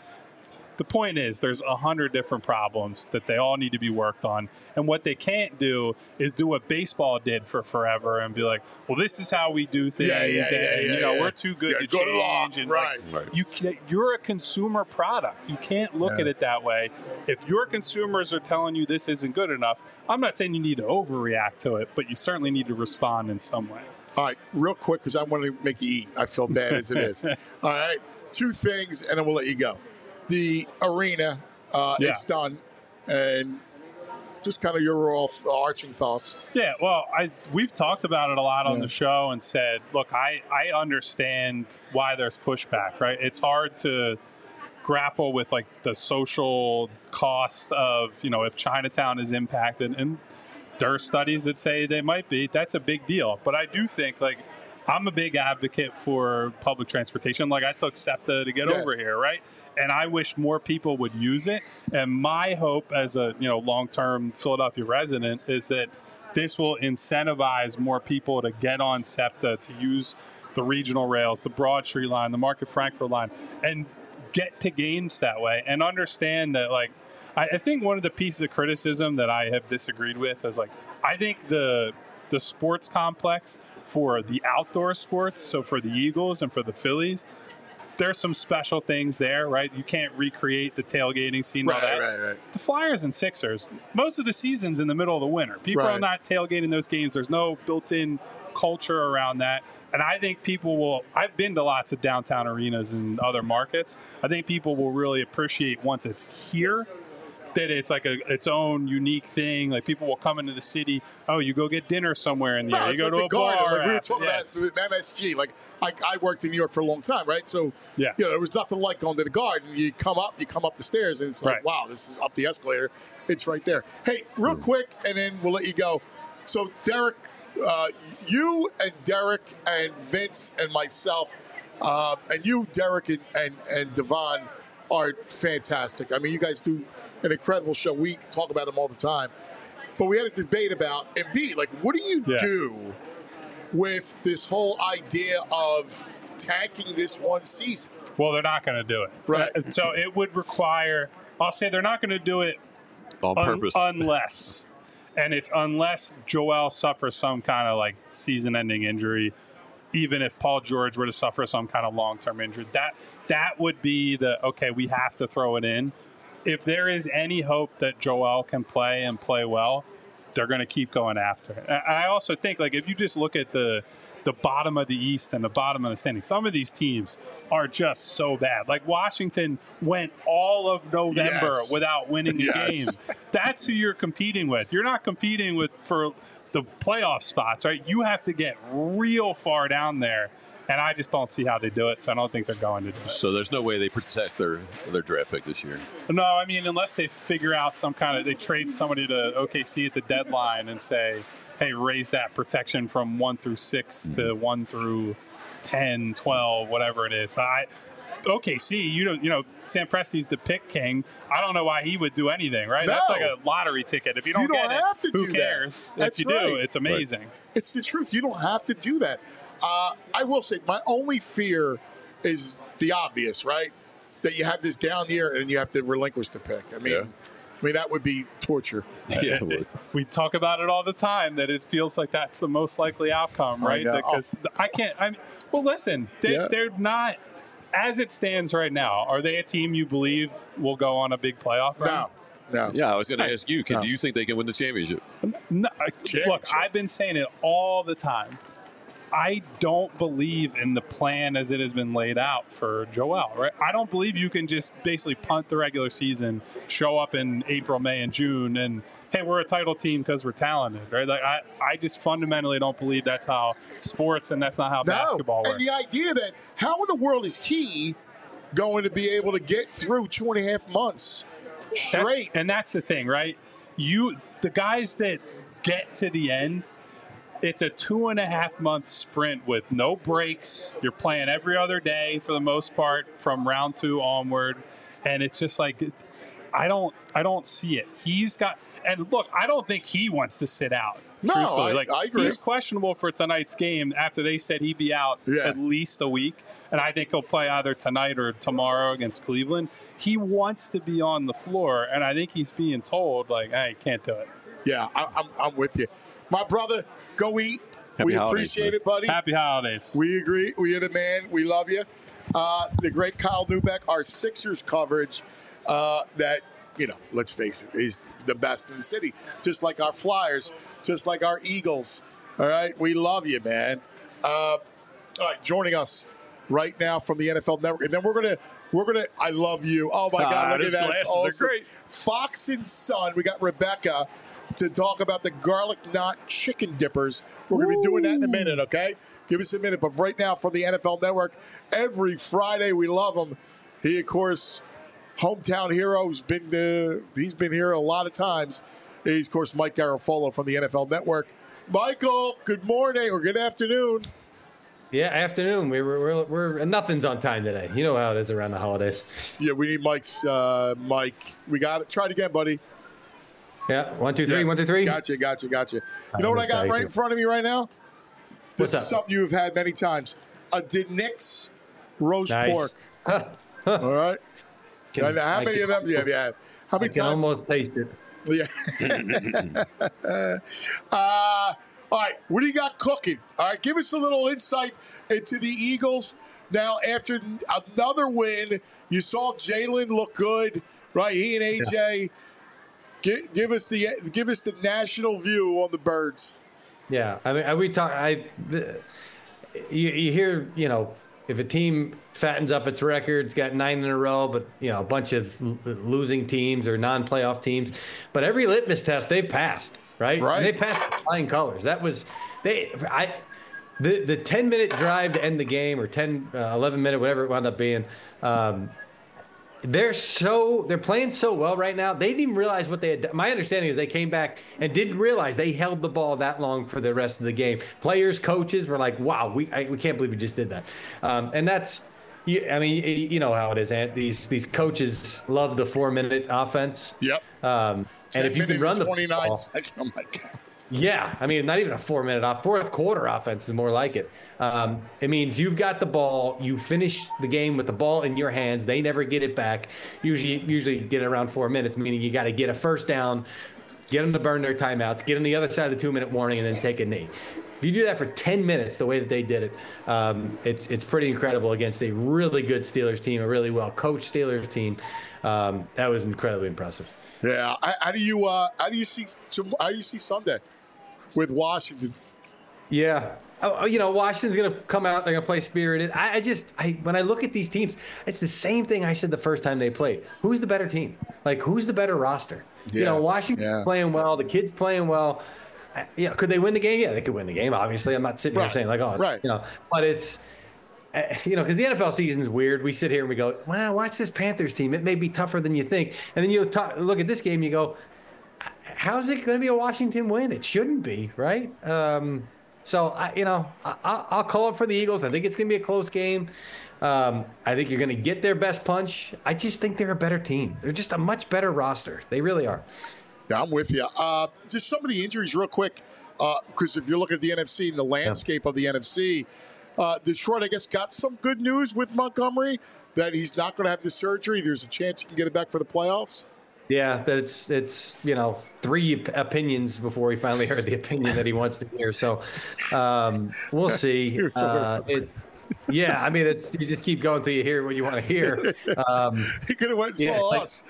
The point is, there's 100 different problems that they all need to be worked on. And what they can't do is do what baseball did for forever and be like, well, this is how we do things. We're too good to change. And right. You're a consumer product. You can't look at it that way. If your consumers are telling you this isn't good enough, I'm not saying you need to overreact to it, but you certainly need to respond in some way. All right, real quick, because I want to make you eat. I feel bad as it is. All right, 2 things, and then we'll let you go. The arena, it's done, and just kind of your overarching thoughts. Yeah, well, we've talked about it a lot on the show and said, look, I understand why there's pushback, right? It's hard to grapple with like the social cost of, if Chinatown is impacted, and there are studies that say they might be. That's a big deal. But I do think like I'm a big advocate for public transportation. Like I took SEPTA to get over here, right? And I wish more people would use it. And my hope as a long-term Philadelphia resident is that this will incentivize more people to get on SEPTA, to use the regional rails, the Broad Street line, the Market Frankfurt line, and get to games that way. And understand that, like, I think one of the pieces of criticism that I have disagreed with is, like, I think the sports complex for the outdoor sports, so for the Eagles and for the Phillies, there's some special things there, right? You can't recreate the tailgating scene. Right. The Flyers and Sixers, most of the season's in the middle of the winter. People are not tailgating those games. There's no built-in culture around that. And I think people will, I've been to lots of downtown arenas in other markets. I think people will really appreciate once it's here that it's like its own unique thing. Like people will come into the city. Oh, you go get dinner somewhere in the area. You go to a bar. Like we were talking about MSG. Like I worked in New York for a long time, right? So there was nothing like going to the Garden. You come up the stairs, and it's like, wow, this is up the escalator. It's right there. Hey, real quick, and then we'll let you go. So Derek, you and Derek and Vince and myself, and you, Derek and Devon are fantastic. I mean, you guys do an incredible show. We talk about them all the time. But we had a debate about Embiid. Like, what do you do with this whole idea of tanking this one season? Well, they're not going to do it. Right. So it would require, I'll say they're not going to do it on purpose. Unless Joel suffers some kind of like season-ending injury, even if Paul George were to suffer some kind of long-term injury. That would be we have to throw it in. If there is any hope that Joel can play and play well, they're going to keep going after it. I also think, like, if you just look at the bottom of the East and the bottom of the standing, some of these teams are just so bad. Like Washington went all of November without winning a game. That's who you're competing with. You're not competing for the playoff spots, right? You have to get real far down there. And I just don't see how they do it, so I don't think they're going to do it. So there's no way they protect their draft pick this year. No, I mean, unless they figure out they trade somebody to OKC at the deadline and say, hey, raise that protection from 1 through 6 to 1 through 10, 12, whatever it is. But OKC, Sam Presti's the pick king. I don't know why he would do anything, right? No. That's like a lottery ticket. If you don't get have it, to who do cares? That. That's if you right. do, it's amazing. It's the truth. You don't have to do that. I will say my only fear is the obvious, right? That you have this down year and you have to relinquish the pick. I mean, that would be torture. Yeah, we talk about it all the time that it feels like that's the most likely outcome, right? Because well, listen, they're not. As it stands right now, are they a team you believe will go on a big playoff run? No. Yeah, I was going to ask you. Do you think they can win the championship? No, look, I've been saying it all the time. I don't believe in the plan as it has been laid out for Joel. Right? I don't believe you can just basically punt the regular season, show up in April, May, and June, and hey, we're a title team because we're talented. Right? Like I just fundamentally don't believe that's how sports and that's not how basketball works. And the idea that how in the world is he going to be able to get through 2.5 months straight? That's the thing, right? The guys that get to the end. It's a 2.5 month sprint with no breaks. You're playing every other day for the most part from round 2 onward, and it's just like I don't see it. And look, I don't think he wants to sit out. No, truthfully. I agree. He's questionable for tonight's game after they said he'd be out at least a week, and I think he'll play either tonight or tomorrow against Cleveland. He wants to be on the floor, and I think he's being told like, "Hey, can't do it." Yeah, I'm with you, my brother. Go eat. We appreciate it, buddy. Happy holidays. We agree. We are the man. We love you. The great Kyle Neubeck, our Sixers coverage, that, let's face it, is the best in the city. Just like our Flyers, just like our Eagles. All right? We love you, man. All right, joining us right now from the NFL Network. And then we're gonna I love you. Oh my God, look at that. Glasses Awesome. are great. Fox and Son. We got Rebecca to talk about the garlic knot chicken dippers. We're going to be doing that in a minute, okay? Give us a minute. But right now from the NFL Network, every Friday, we love him. He, of course, hometown hero. He's been here a lot of times. He's, of course, Mike Garafolo from the NFL Network. Michael, good morning or good afternoon. Yeah, afternoon. We're nothing's on time today. You know how it is around the holidays. Yeah, we need Mike's Mike. We got it. Try it again, buddy. Yeah, 1, 2, 3, yeah. 1, 2, 3. Gotcha. You know what I got right in front of me right now? This is something you've had many times. A Denix roast pork. All right. How many of them do you have? How many times? I can almost taste it. Yeah. All right. What do you got cooking? All right. Give us a little insight into the Eagles. Now, after another win, you saw Jalen look good, right? He and AJ. Give us the national view on the Birds. Yeah, I mean, we talk. You hear, if a team fattens up its record, it's got 9 in a row, but a bunch of losing teams or non-playoff teams. But every litmus test they've passed, right? And they passed with flying colors. That was the 10-minute drive to end the game, or 11-minute, whatever it wound up being. They're playing so well right now. They didn't even realize what they had done. My understanding is they came back and didn't realize they held the ball that long for the rest of the game. Players, coaches were like, "Wow, we can't believe we just did that." And that's, I mean, you know how it is. Ant. These coaches love the 4-minute offense. Yep. And if you can run the 29 seconds, oh my God. Yeah, I mean, not even a 4-minute fourth quarter offense is more like it. It means you've got the ball, you finish the game with the ball in your hands. They never get it back. Usually get it around 4 minutes, meaning you got to get a first down, get them to burn their timeouts, get on the other side of the 2-minute warning, and then take a knee. If you do that for 10 minutes, the way that they did it, it's pretty incredible against a really good Steelers team, a really well-coached Steelers team. That was incredibly impressive. Yeah, how do you see Sunday with Washington? Yeah. Washington's going to come out. They're going to play spirited. When I look at these teams, it's the same thing I said the first time they played. Who's the better team? Like, who's the better roster? Yeah. Washington's playing well. The kids playing well. Could they win the game? Yeah, they could win the game. Obviously, I'm not sitting here saying like, but because the NFL season is weird. We sit here and we go, "Wow, watch this Panthers team. It may be tougher than you think." And then you look at this game, and you go, "How's it going to be a Washington win? It shouldn't be, right?" So I'll call it for the Eagles. I think it's going to be a close game. I think you're going to get their best punch. I just think they're a better team. They're just a much better roster. They really are. Yeah, I'm with you. Just some of the injuries real quick, because if you're looking at the NFC and the landscape of the NFC, Detroit, I guess, got some good news with Montgomery that he's not going to have the surgery. There's a chance he can get it back for the playoffs. Yeah, that it's 3 opinions before he finally heard the opinion that he wants to hear. So we'll see. Yeah, I mean, you just keep going till you hear what you want to hear. He could have went and saw us.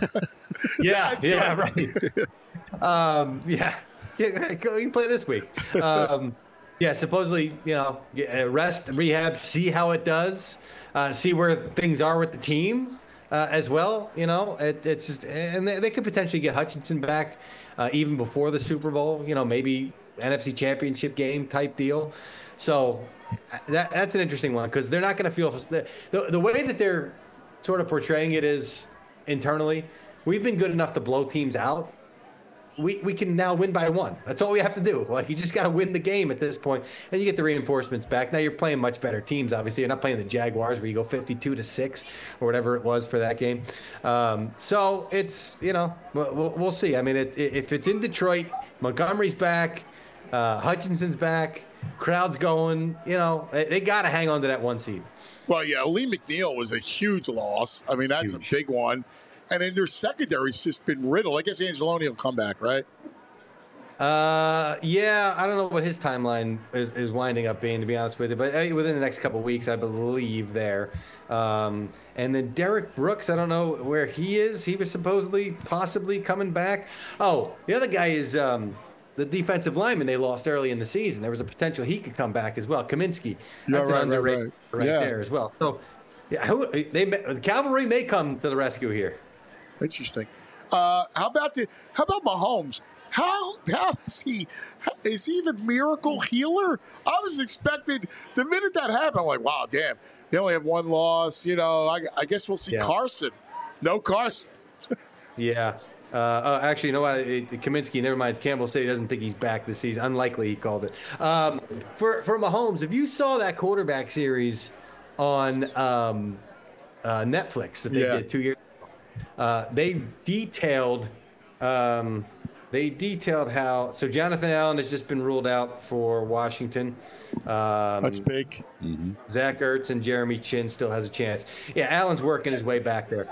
Right. Yeah, you can play this week. Supposedly, rest, rehab, see how it does, see where things are with the team as well. It's just, and they could potentially get Hutchinson back even before the Super Bowl. Maybe NFC Championship game type deal. So that's an interesting one because they're not going to feel the way that they're sort of portraying it is internally. We've been good enough to blow teams out. We can now win by 1. That's all we have to do. Like, you just got to win the game at this point, and you get the reinforcements back. Now you're playing much better teams. Obviously, you're not playing the Jaguars where you go 52-6 or whatever it was for that game. So it's we'll see. I mean, if it's in Detroit, Montgomery's back, Hutchinson's back, crowd's going. They got to hang on to that 1 seed. Well, yeah, Lee McNeil was a huge loss. I mean, that's a big one. And then their secondary's just been riddled. I guess Angeloni will come back, right? Yeah, I don't know what his timeline is winding up being, to be honest with you. But within the next couple of weeks, I believe there. And then Derek Brooks, I don't know where he is. He was possibly coming back. Oh, the other guy is the defensive lineman they lost early in the season. There was a potential he could come back as well. Kaminsky. That's an underrated right there as well. So, yeah, the cavalry may come to the rescue here. Interesting. How about Mahomes? How is he the miracle healer? I was expecting the minute that happened, I'm like, wow, damn, they only have 1 loss. I guess we'll see Carson. No Carson. Yeah. Actually, you know what? Kaminsky, never mind. Campbell said he doesn't think he's back this season. Unlikely, he called it. For Mahomes, if you saw that quarterback series on Netflix that they did 2 years ago, they detailed how. So Jonathan Allen has just been ruled out for Washington. That's big. Mm-hmm. Zach Ertz and Jeremy Chin still has a chance. Yeah, Allen's working his way back there.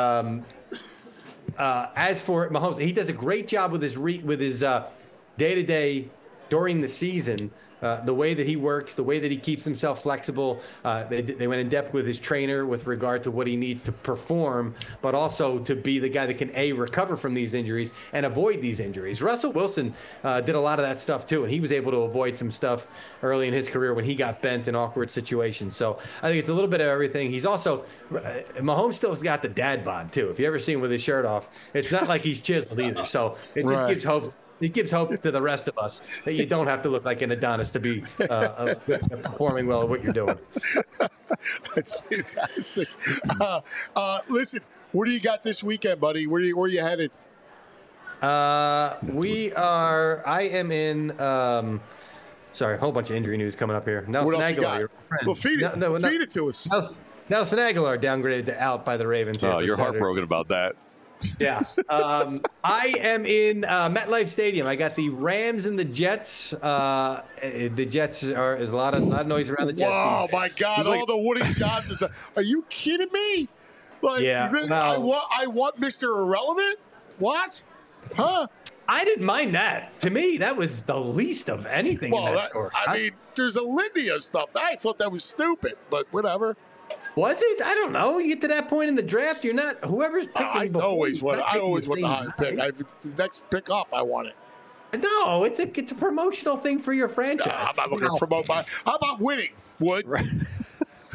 As for Mahomes, he does a great job with his day-to-day during the season. The way that he works, the way that he keeps himself flexible. They went in depth with his trainer with regard to what he needs to perform, but also to be the guy that can, recover from these injuries and avoid these injuries. Russell Wilson did a lot of that stuff too, and he was able to avoid some stuff early in his career when he got bent in awkward situations. So I think it's a little bit of everything. He's also, Mahomes still's got the dad bod too. If you ever see him with his shirt off, it's not like he's chiseled either. So it just gives hope. It gives hope to the rest of us that you don't have to look like an Adonis to be performing well at what you're doing. That's fantastic. Listen, what do you got this weekend, buddy? Where are you headed? I am in. Sorry, a whole bunch of injury news coming up here. Nelson Aguilar, your friend. Well, feed it to us. Nelson Aguilar downgraded to out by the Ravens. Oh, you're heartbroken about that. Yeah. I am in MetLife Stadium. I got the Rams and the Jets. The Jets there's a lot of noise around the Jets. Oh, my God. All the Woody Johnsons. Are you kidding me? Like, I want Mr. Irrelevant? What? Huh? I didn't mind that. To me, that was the least of anything in that score. I mean, there's a litany of stuff. I thought that was stupid, but whatever. Was it? I don't know. You get to that point in the draft, you're not whoever's picking. I always want the high pick. The next pick up, I want it. No, it's a promotional thing for your franchise. I'm not looking to promote my. How about winning, Wood?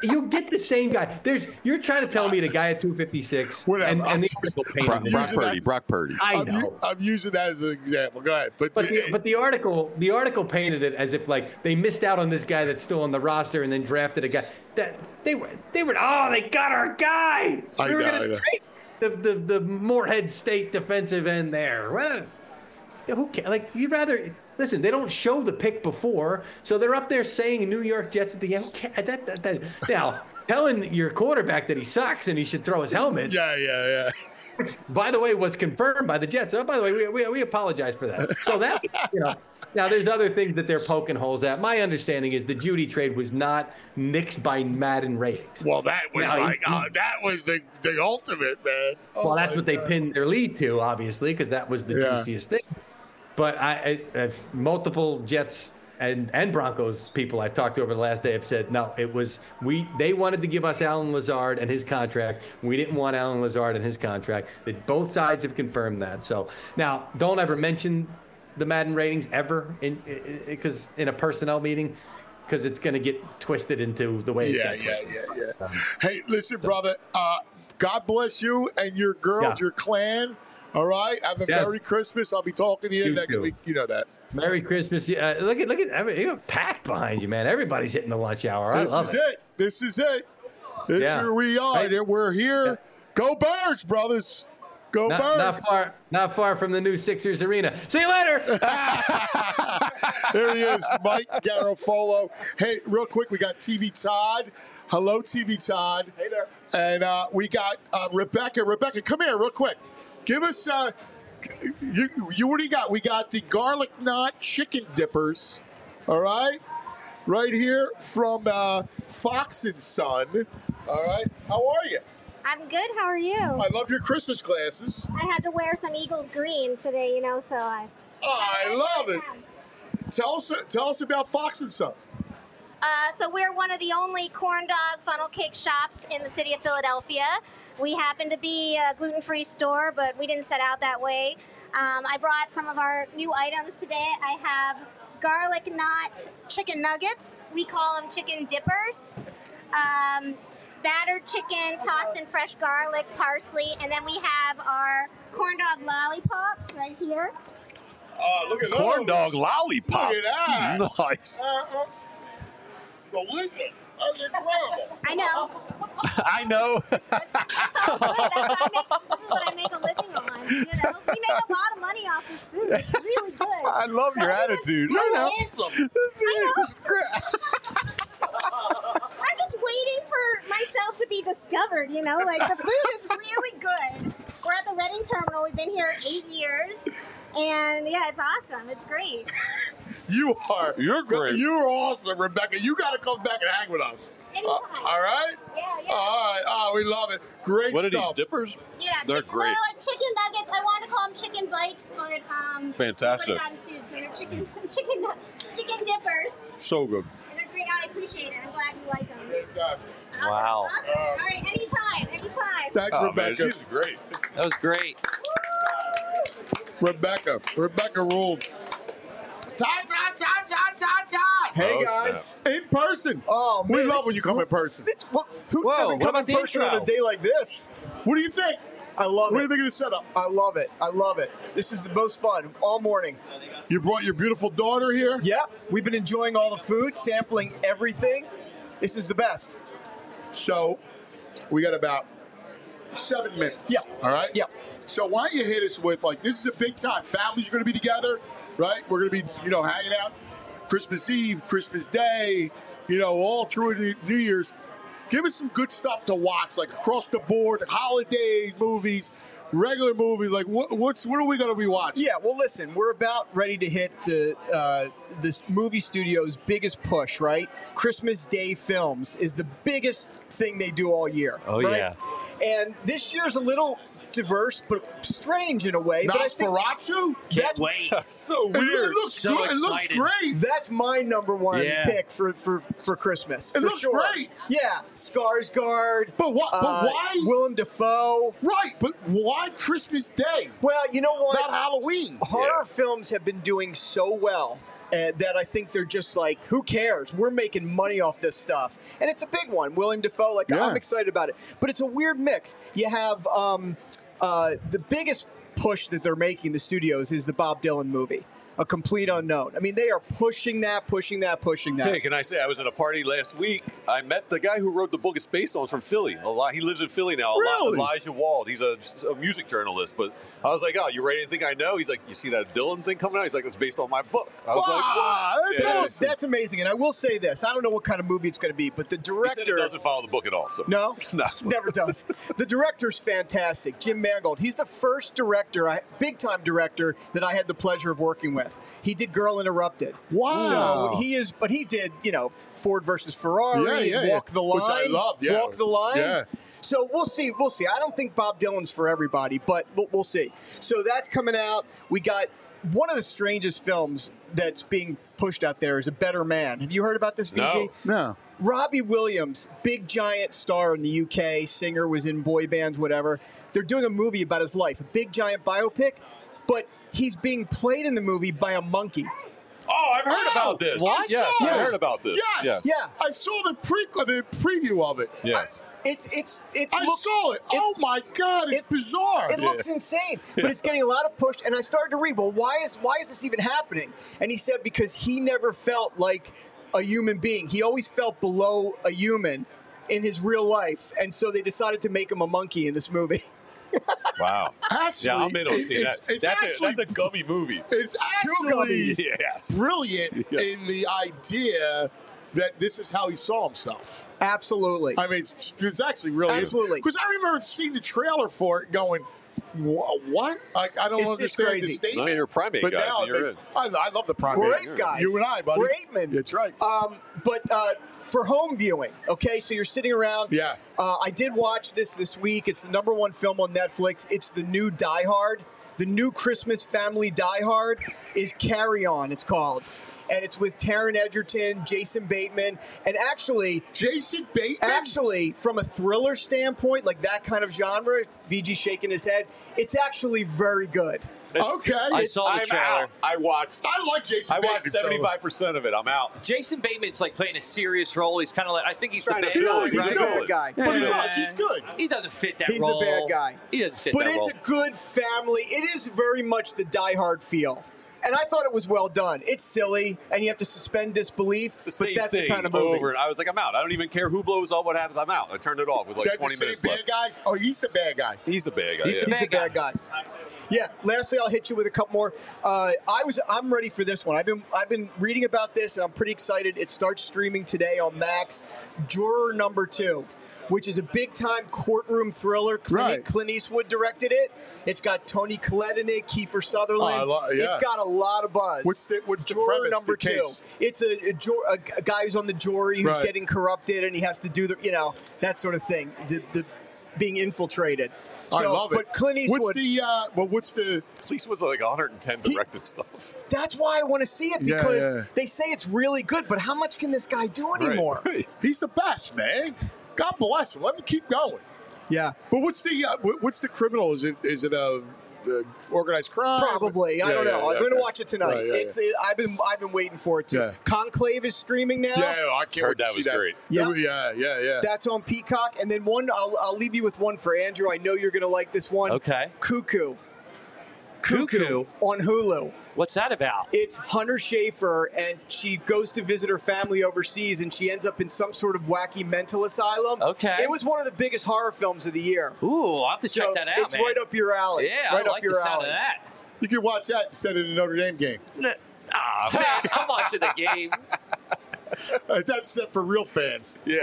you'll get the same guy. You're trying to tell me the guy at 256 and the article painted Brock Purdy. I know. I'm using that as an example. Go ahead. But the article painted it as if like they missed out on this guy that's still on the roster and then drafted a guy that they got our guy. We were going to trade the Moorhead State defensive end there. Well, who cares? Like you'd rather. Listen, they don't show the pick before, so they're up there saying New York Jets at the end. Now, telling your quarterback that he sucks and he should throw his helmet. Yeah. Which, by the way, was confirmed by the Jets. Oh, by the way, we apologize for that. So that, now there's other things that they're poking holes at. My understanding is the Judy trade was not nixed by Madden ratings. Well, that was that was the ultimate, man. Well, that's what they pinned their lead to, obviously, because that was the juiciest thing. But multiple Jets and Broncos people I've talked to over the last day have said, no, it was they wanted to give us Allen Lazard and his contract. We didn't want Allen Lazard and his contract. Both sides have confirmed that. So now don't ever mention the Madden ratings ever because in a personnel meeting, because it's going to get twisted into the way it's twisted. Hey, listen, brother, God bless you and your girls, your clan. All right. Have a Merry Christmas. I'll be talking to you next week. You know that. Merry Christmas. Look at I mean, you got packed behind you, man. Everybody's hitting the lunch hour. I love it. This is it. Here we are. Right. We're here. Yeah. Go Birds, brothers. Go Birds. Not far from the new Sixers arena. See you later. There he is, Mike Garafolo. Hey, real quick, we got TV Todd. Hello, TV Todd. Hey there. And we got Rebecca. Rebecca, come here real quick. Give us, you what do you got? We got the garlic knot chicken dippers, all right? Right here from Fox & Son, all right? How are you? I'm good. How are you? I love your Christmas glasses. I had to wear some Eagles green today, so I... Oh, I love it. Tell us about Fox & Son. So we're one of the only corn dog funnel cake shops in the city of Philadelphia. We happen to be a gluten-free store, but we didn't set out that way. I brought some of our new items today. I have garlic knot chicken nuggets. We call them chicken dippers. Battered chicken tossed in fresh garlic, parsley, and then we have our corn dog lollipops right here. Look at those. Corn dog lollipops. Look at that. Nice. Delicious. That's incredible. I know. I know. That's all good. This is what I make a living on. We make a lot of money off this food. It's really good. I love your attitude. Awesome. I'm just waiting for myself to be discovered, Like, the food is really good. We're at the Reading Terminal. We've been here 8 years. And, yeah, it's awesome. It's great. You're great. You're awesome, Rebecca. You got to come back and hang with us. All right? Yeah. All right. Oh, we love it. Great what stuff. What are these dippers? Yeah. They're great. They're like chicken nuggets. I wanted to call them chicken bites, but fantastic. They would have gotten sued, so they're chicken dippers. So good. And they're great. I appreciate it. I'm glad you like them. Awesome. Wow. Awesome. All right. Anytime. Thanks, Rebecca. Man, she was great. That was great. Rebecca ruled. Todd. Hey, guys. In person. Oh, man. We love when you come in person. Who doesn't come in person on a day like this? What do you think? I love it. What do you think of the setup? I love it. This is the most fun all morning. You brought your beautiful daughter here? Yeah. We've been enjoying all the food, sampling everything. This is the best. So, we got about 7 minutes. Yeah. All right? Yeah. So why don't you hit us with, this is a big time. Families are going to be together, right? We're going to be, hanging out Christmas Eve, Christmas Day, all through New Year's. Give us some good stuff to watch, like across the board, holidays, movies, regular movies. Like, what are we going to be watching? Yeah, well, listen, we're about ready to hit this movie studio's biggest push, right? Christmas Day films is the biggest thing they do all year. Oh, right? yeah. And this year's a little diverse, but strange in a way. Nosferatu? That's wait. So weird. It looks good. It looks great. That's my number one pick for Christmas. It looks great. Yeah, Skarsgård. But why? Willem Dafoe. Right, but why Christmas Day? Well, you know what? Not Halloween. Horror films have been doing so well that I think they're just like, who cares? We're making money off this stuff. And it's a big one. Willem Dafoe, I'm excited about it. But it's a weird mix. You have the biggest push that they're making, the studios, is the Bob Dylan movie. A Complete Unknown. I mean, they are pushing that. Hey, can I say, I was at a party last week. I met the guy who wrote the book it's based on from Philly. He lives in Philly now. Really? Elijah Wald. He's a music journalist. But I was like, oh, you write anything I know? He's like, you see that Dylan thing coming out? He's like, it's based on my book. I was like, wow. That's amazing. And I will say this. I don't know what kind of movie it's going to be, but the director... He said it doesn't follow the book at all. So. No? No. Never does. The director's fantastic. Jim Mangold. He's the first director, big-time director, that I had the pleasure of working with. He did Girl Interrupted. Wow. So he did, Ford versus Ferrari, Walk the Line. Which I loved, yeah. Walk the Line. Yeah. So we'll see. I don't think Bob Dylan's for everybody, but we'll see. So that's coming out. We got one of the strangest films that's being pushed out there is A Better Man. Have you heard about this, VG? No. Robbie Williams, big giant star in the UK, singer, was in boy bands, whatever. They're doing a movie about his life, a big giant biopic, but he's being played in the movie by a monkey. Oh, I've heard about this. What? Yes, I heard about this. Yes. Yeah. I saw the preview of it. Yes. I saw it. Oh my God, it's bizarre. It looks insane, but it's getting a lot of push. And I started to read, well, why is this even happening? And he said because he never felt like a human being. He always felt below a human in his real life, and so they decided to make him a monkey in this movie. Wow. Actually, yeah, I'm in on seeing that. That's a gummy movie. It's actually brilliant in the idea that this is how he saw himself. Absolutely. I mean, it's actually really absolutely. Because I remember seeing the trailer for it, going, "What? I don't understand the statement." No, you're a primate but guy, now so you're in. I love the primate. We're ape guys. You and I, buddy. We're ape men. That's right. But for home viewing, okay, so you're sitting around. Yeah. I did watch this week. It's the #1 film on Netflix. It's the new Die Hard. The new Christmas family Die Hard is Carry On, it's called. And it's with Taron Egerton, Jason Bateman, and actually... Jason Bateman? Actually, from a thriller standpoint, like that kind of genre, VG shaking his head, it's actually very good. Okay. I saw the trailer. Out. I watched Jason Bateman. I watched 75% of it. I'm out. Jason Bateman's like playing a serious role. He's kind of like, I think he's the Trying bad to fill guy. it. He's the bad guy. But he does. He's good. He doesn't fit that He's role. the bad guy. He doesn't fit but that role. it's a good family. It is very much the Die Hard feel. And I thought it was well done. It's silly, and you have to suspend disbelief, It's the same but that's thing the kind of movie. over. I was like, I'm out. I don't even care who blows up, what happens. I'm out. I turned it off with like They're 20 the same minutes bad left. guys? Oh, he's the bad guy. He's the bad guy. He's yeah. the bad guy. Yeah. Lastly, I'll hit you with a couple more. I'm ready for this one. I've been reading about this, and I'm pretty excited. It starts streaming today on Max. Juror Number 2, which is a big-time courtroom thriller. Clint Eastwood directed it. It's got Toni Collette in it, Kiefer Sutherland. It's got a lot of buzz. What's the Juror premise, Number the 2. case? It's a guy who's on the jury who's Right. getting corrupted, and he has to do that sort of thing. The being infiltrated. I love it. But Clint Eastwood. What's the Clint Eastwood's like 110 directed stuff. That's why I want to see it, because they say it's really good, but how much can this guy do anymore? Right. He's the best, man. God bless him. Let him keep going. Yeah. But what's the criminal? Is it a organized crime? Probably. I don't know. I'm going to watch it tonight. Right, I've been waiting for it too. Yeah. Conclave is streaming now. Yeah, I can't wait to see that. Great. Yeah. That's on Peacock. And then one, I'll leave you with one for Andrew. I know you're going to like this one. Okay. Cuckoo Cuckoo on Hulu. What's that about? It's Hunter Schafer, and she goes to visit her family overseas, and she ends up in some sort of wacky mental asylum. Okay. It was one of the biggest horror films of the year. Ooh, I'll have to check that out, It's right up your alley. Yeah, right I up like your the sound alley. of that. You can watch that instead of the Notre Dame game. Man, I'm watching the game. That's set for real fans. Yeah.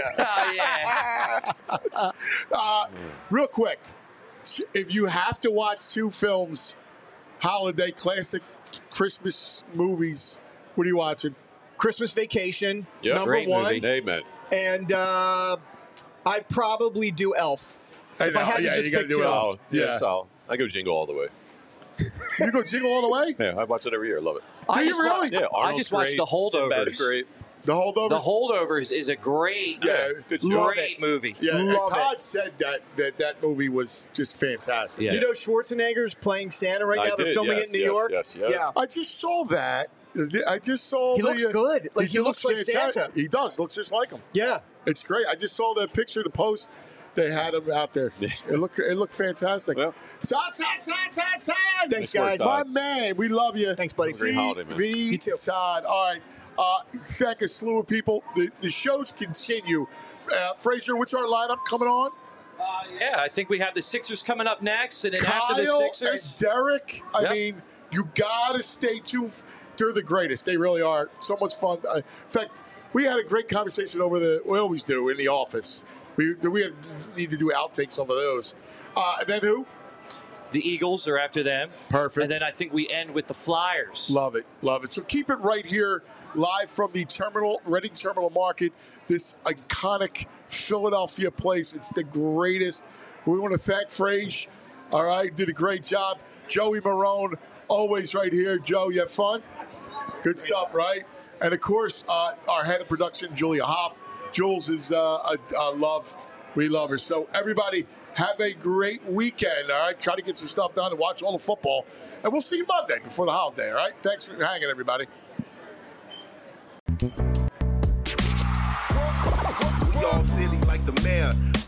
Oh, yeah. Real quick, if you have to watch two films, holiday classic Christmas movies, what are you watching? Christmas Vacation, Yep. number Great one. movie. Amen. And I'd probably do Elf. If I had to just you gotta pick do two. Elf. Yeah, so I go Jingle all the way. You go Jingle all the way? Yeah, I watch it every year. I love it. I just really? Yeah, I Arnold's just watched great. The Holdovers. Sinbad's great. The Holdovers? The Holdovers is a great, good show. great movie. Yeah, Love Todd it. said that movie was just fantastic. Yeah. You know Schwarzenegger's playing Santa right I now? They're did, filming yes, it in New yes, York. yes. Yeah. I just saw that, I just saw. He looks good. Like he looks like fantastic. Santa. He does. Looks just like him. Yeah, it's great. I just saw the picture, the post. They had him out there. It looked fantastic. Todd. Thanks, guys. My man, we love you. Thanks, buddy. Great holiday, man. You too. Todd. All right. Thank a slew of people. The shows continue. Frazier, what's our lineup coming on? Yeah, I think we have the Sixers coming up next, and then Kyle after the Sixers, and Derek. I mean, you gotta stay tuned. They're the greatest. They really are. So much fun. In fact, we had a great conversation we always do in the office. We need to do outtakes of those. And then who? The Eagles are after them. Perfect. And then I think we end with the Flyers. Love it. Love it. So keep it right here, live from the Reading Terminal Market, this iconic Philadelphia place. It's the greatest. We want to thank Frage. All right, did a great job. Joey Marone, always right here. Joe, you have fun? Good stuff, right? And, of course, our head of production, Julia Hoff. Jules is a love. We love her. So, everybody, have a great weekend, all right? Try to get some stuff done and watch all the football. And we'll see you Monday before the holiday, all right? Thanks for hanging, everybody. We all silly like the mayor.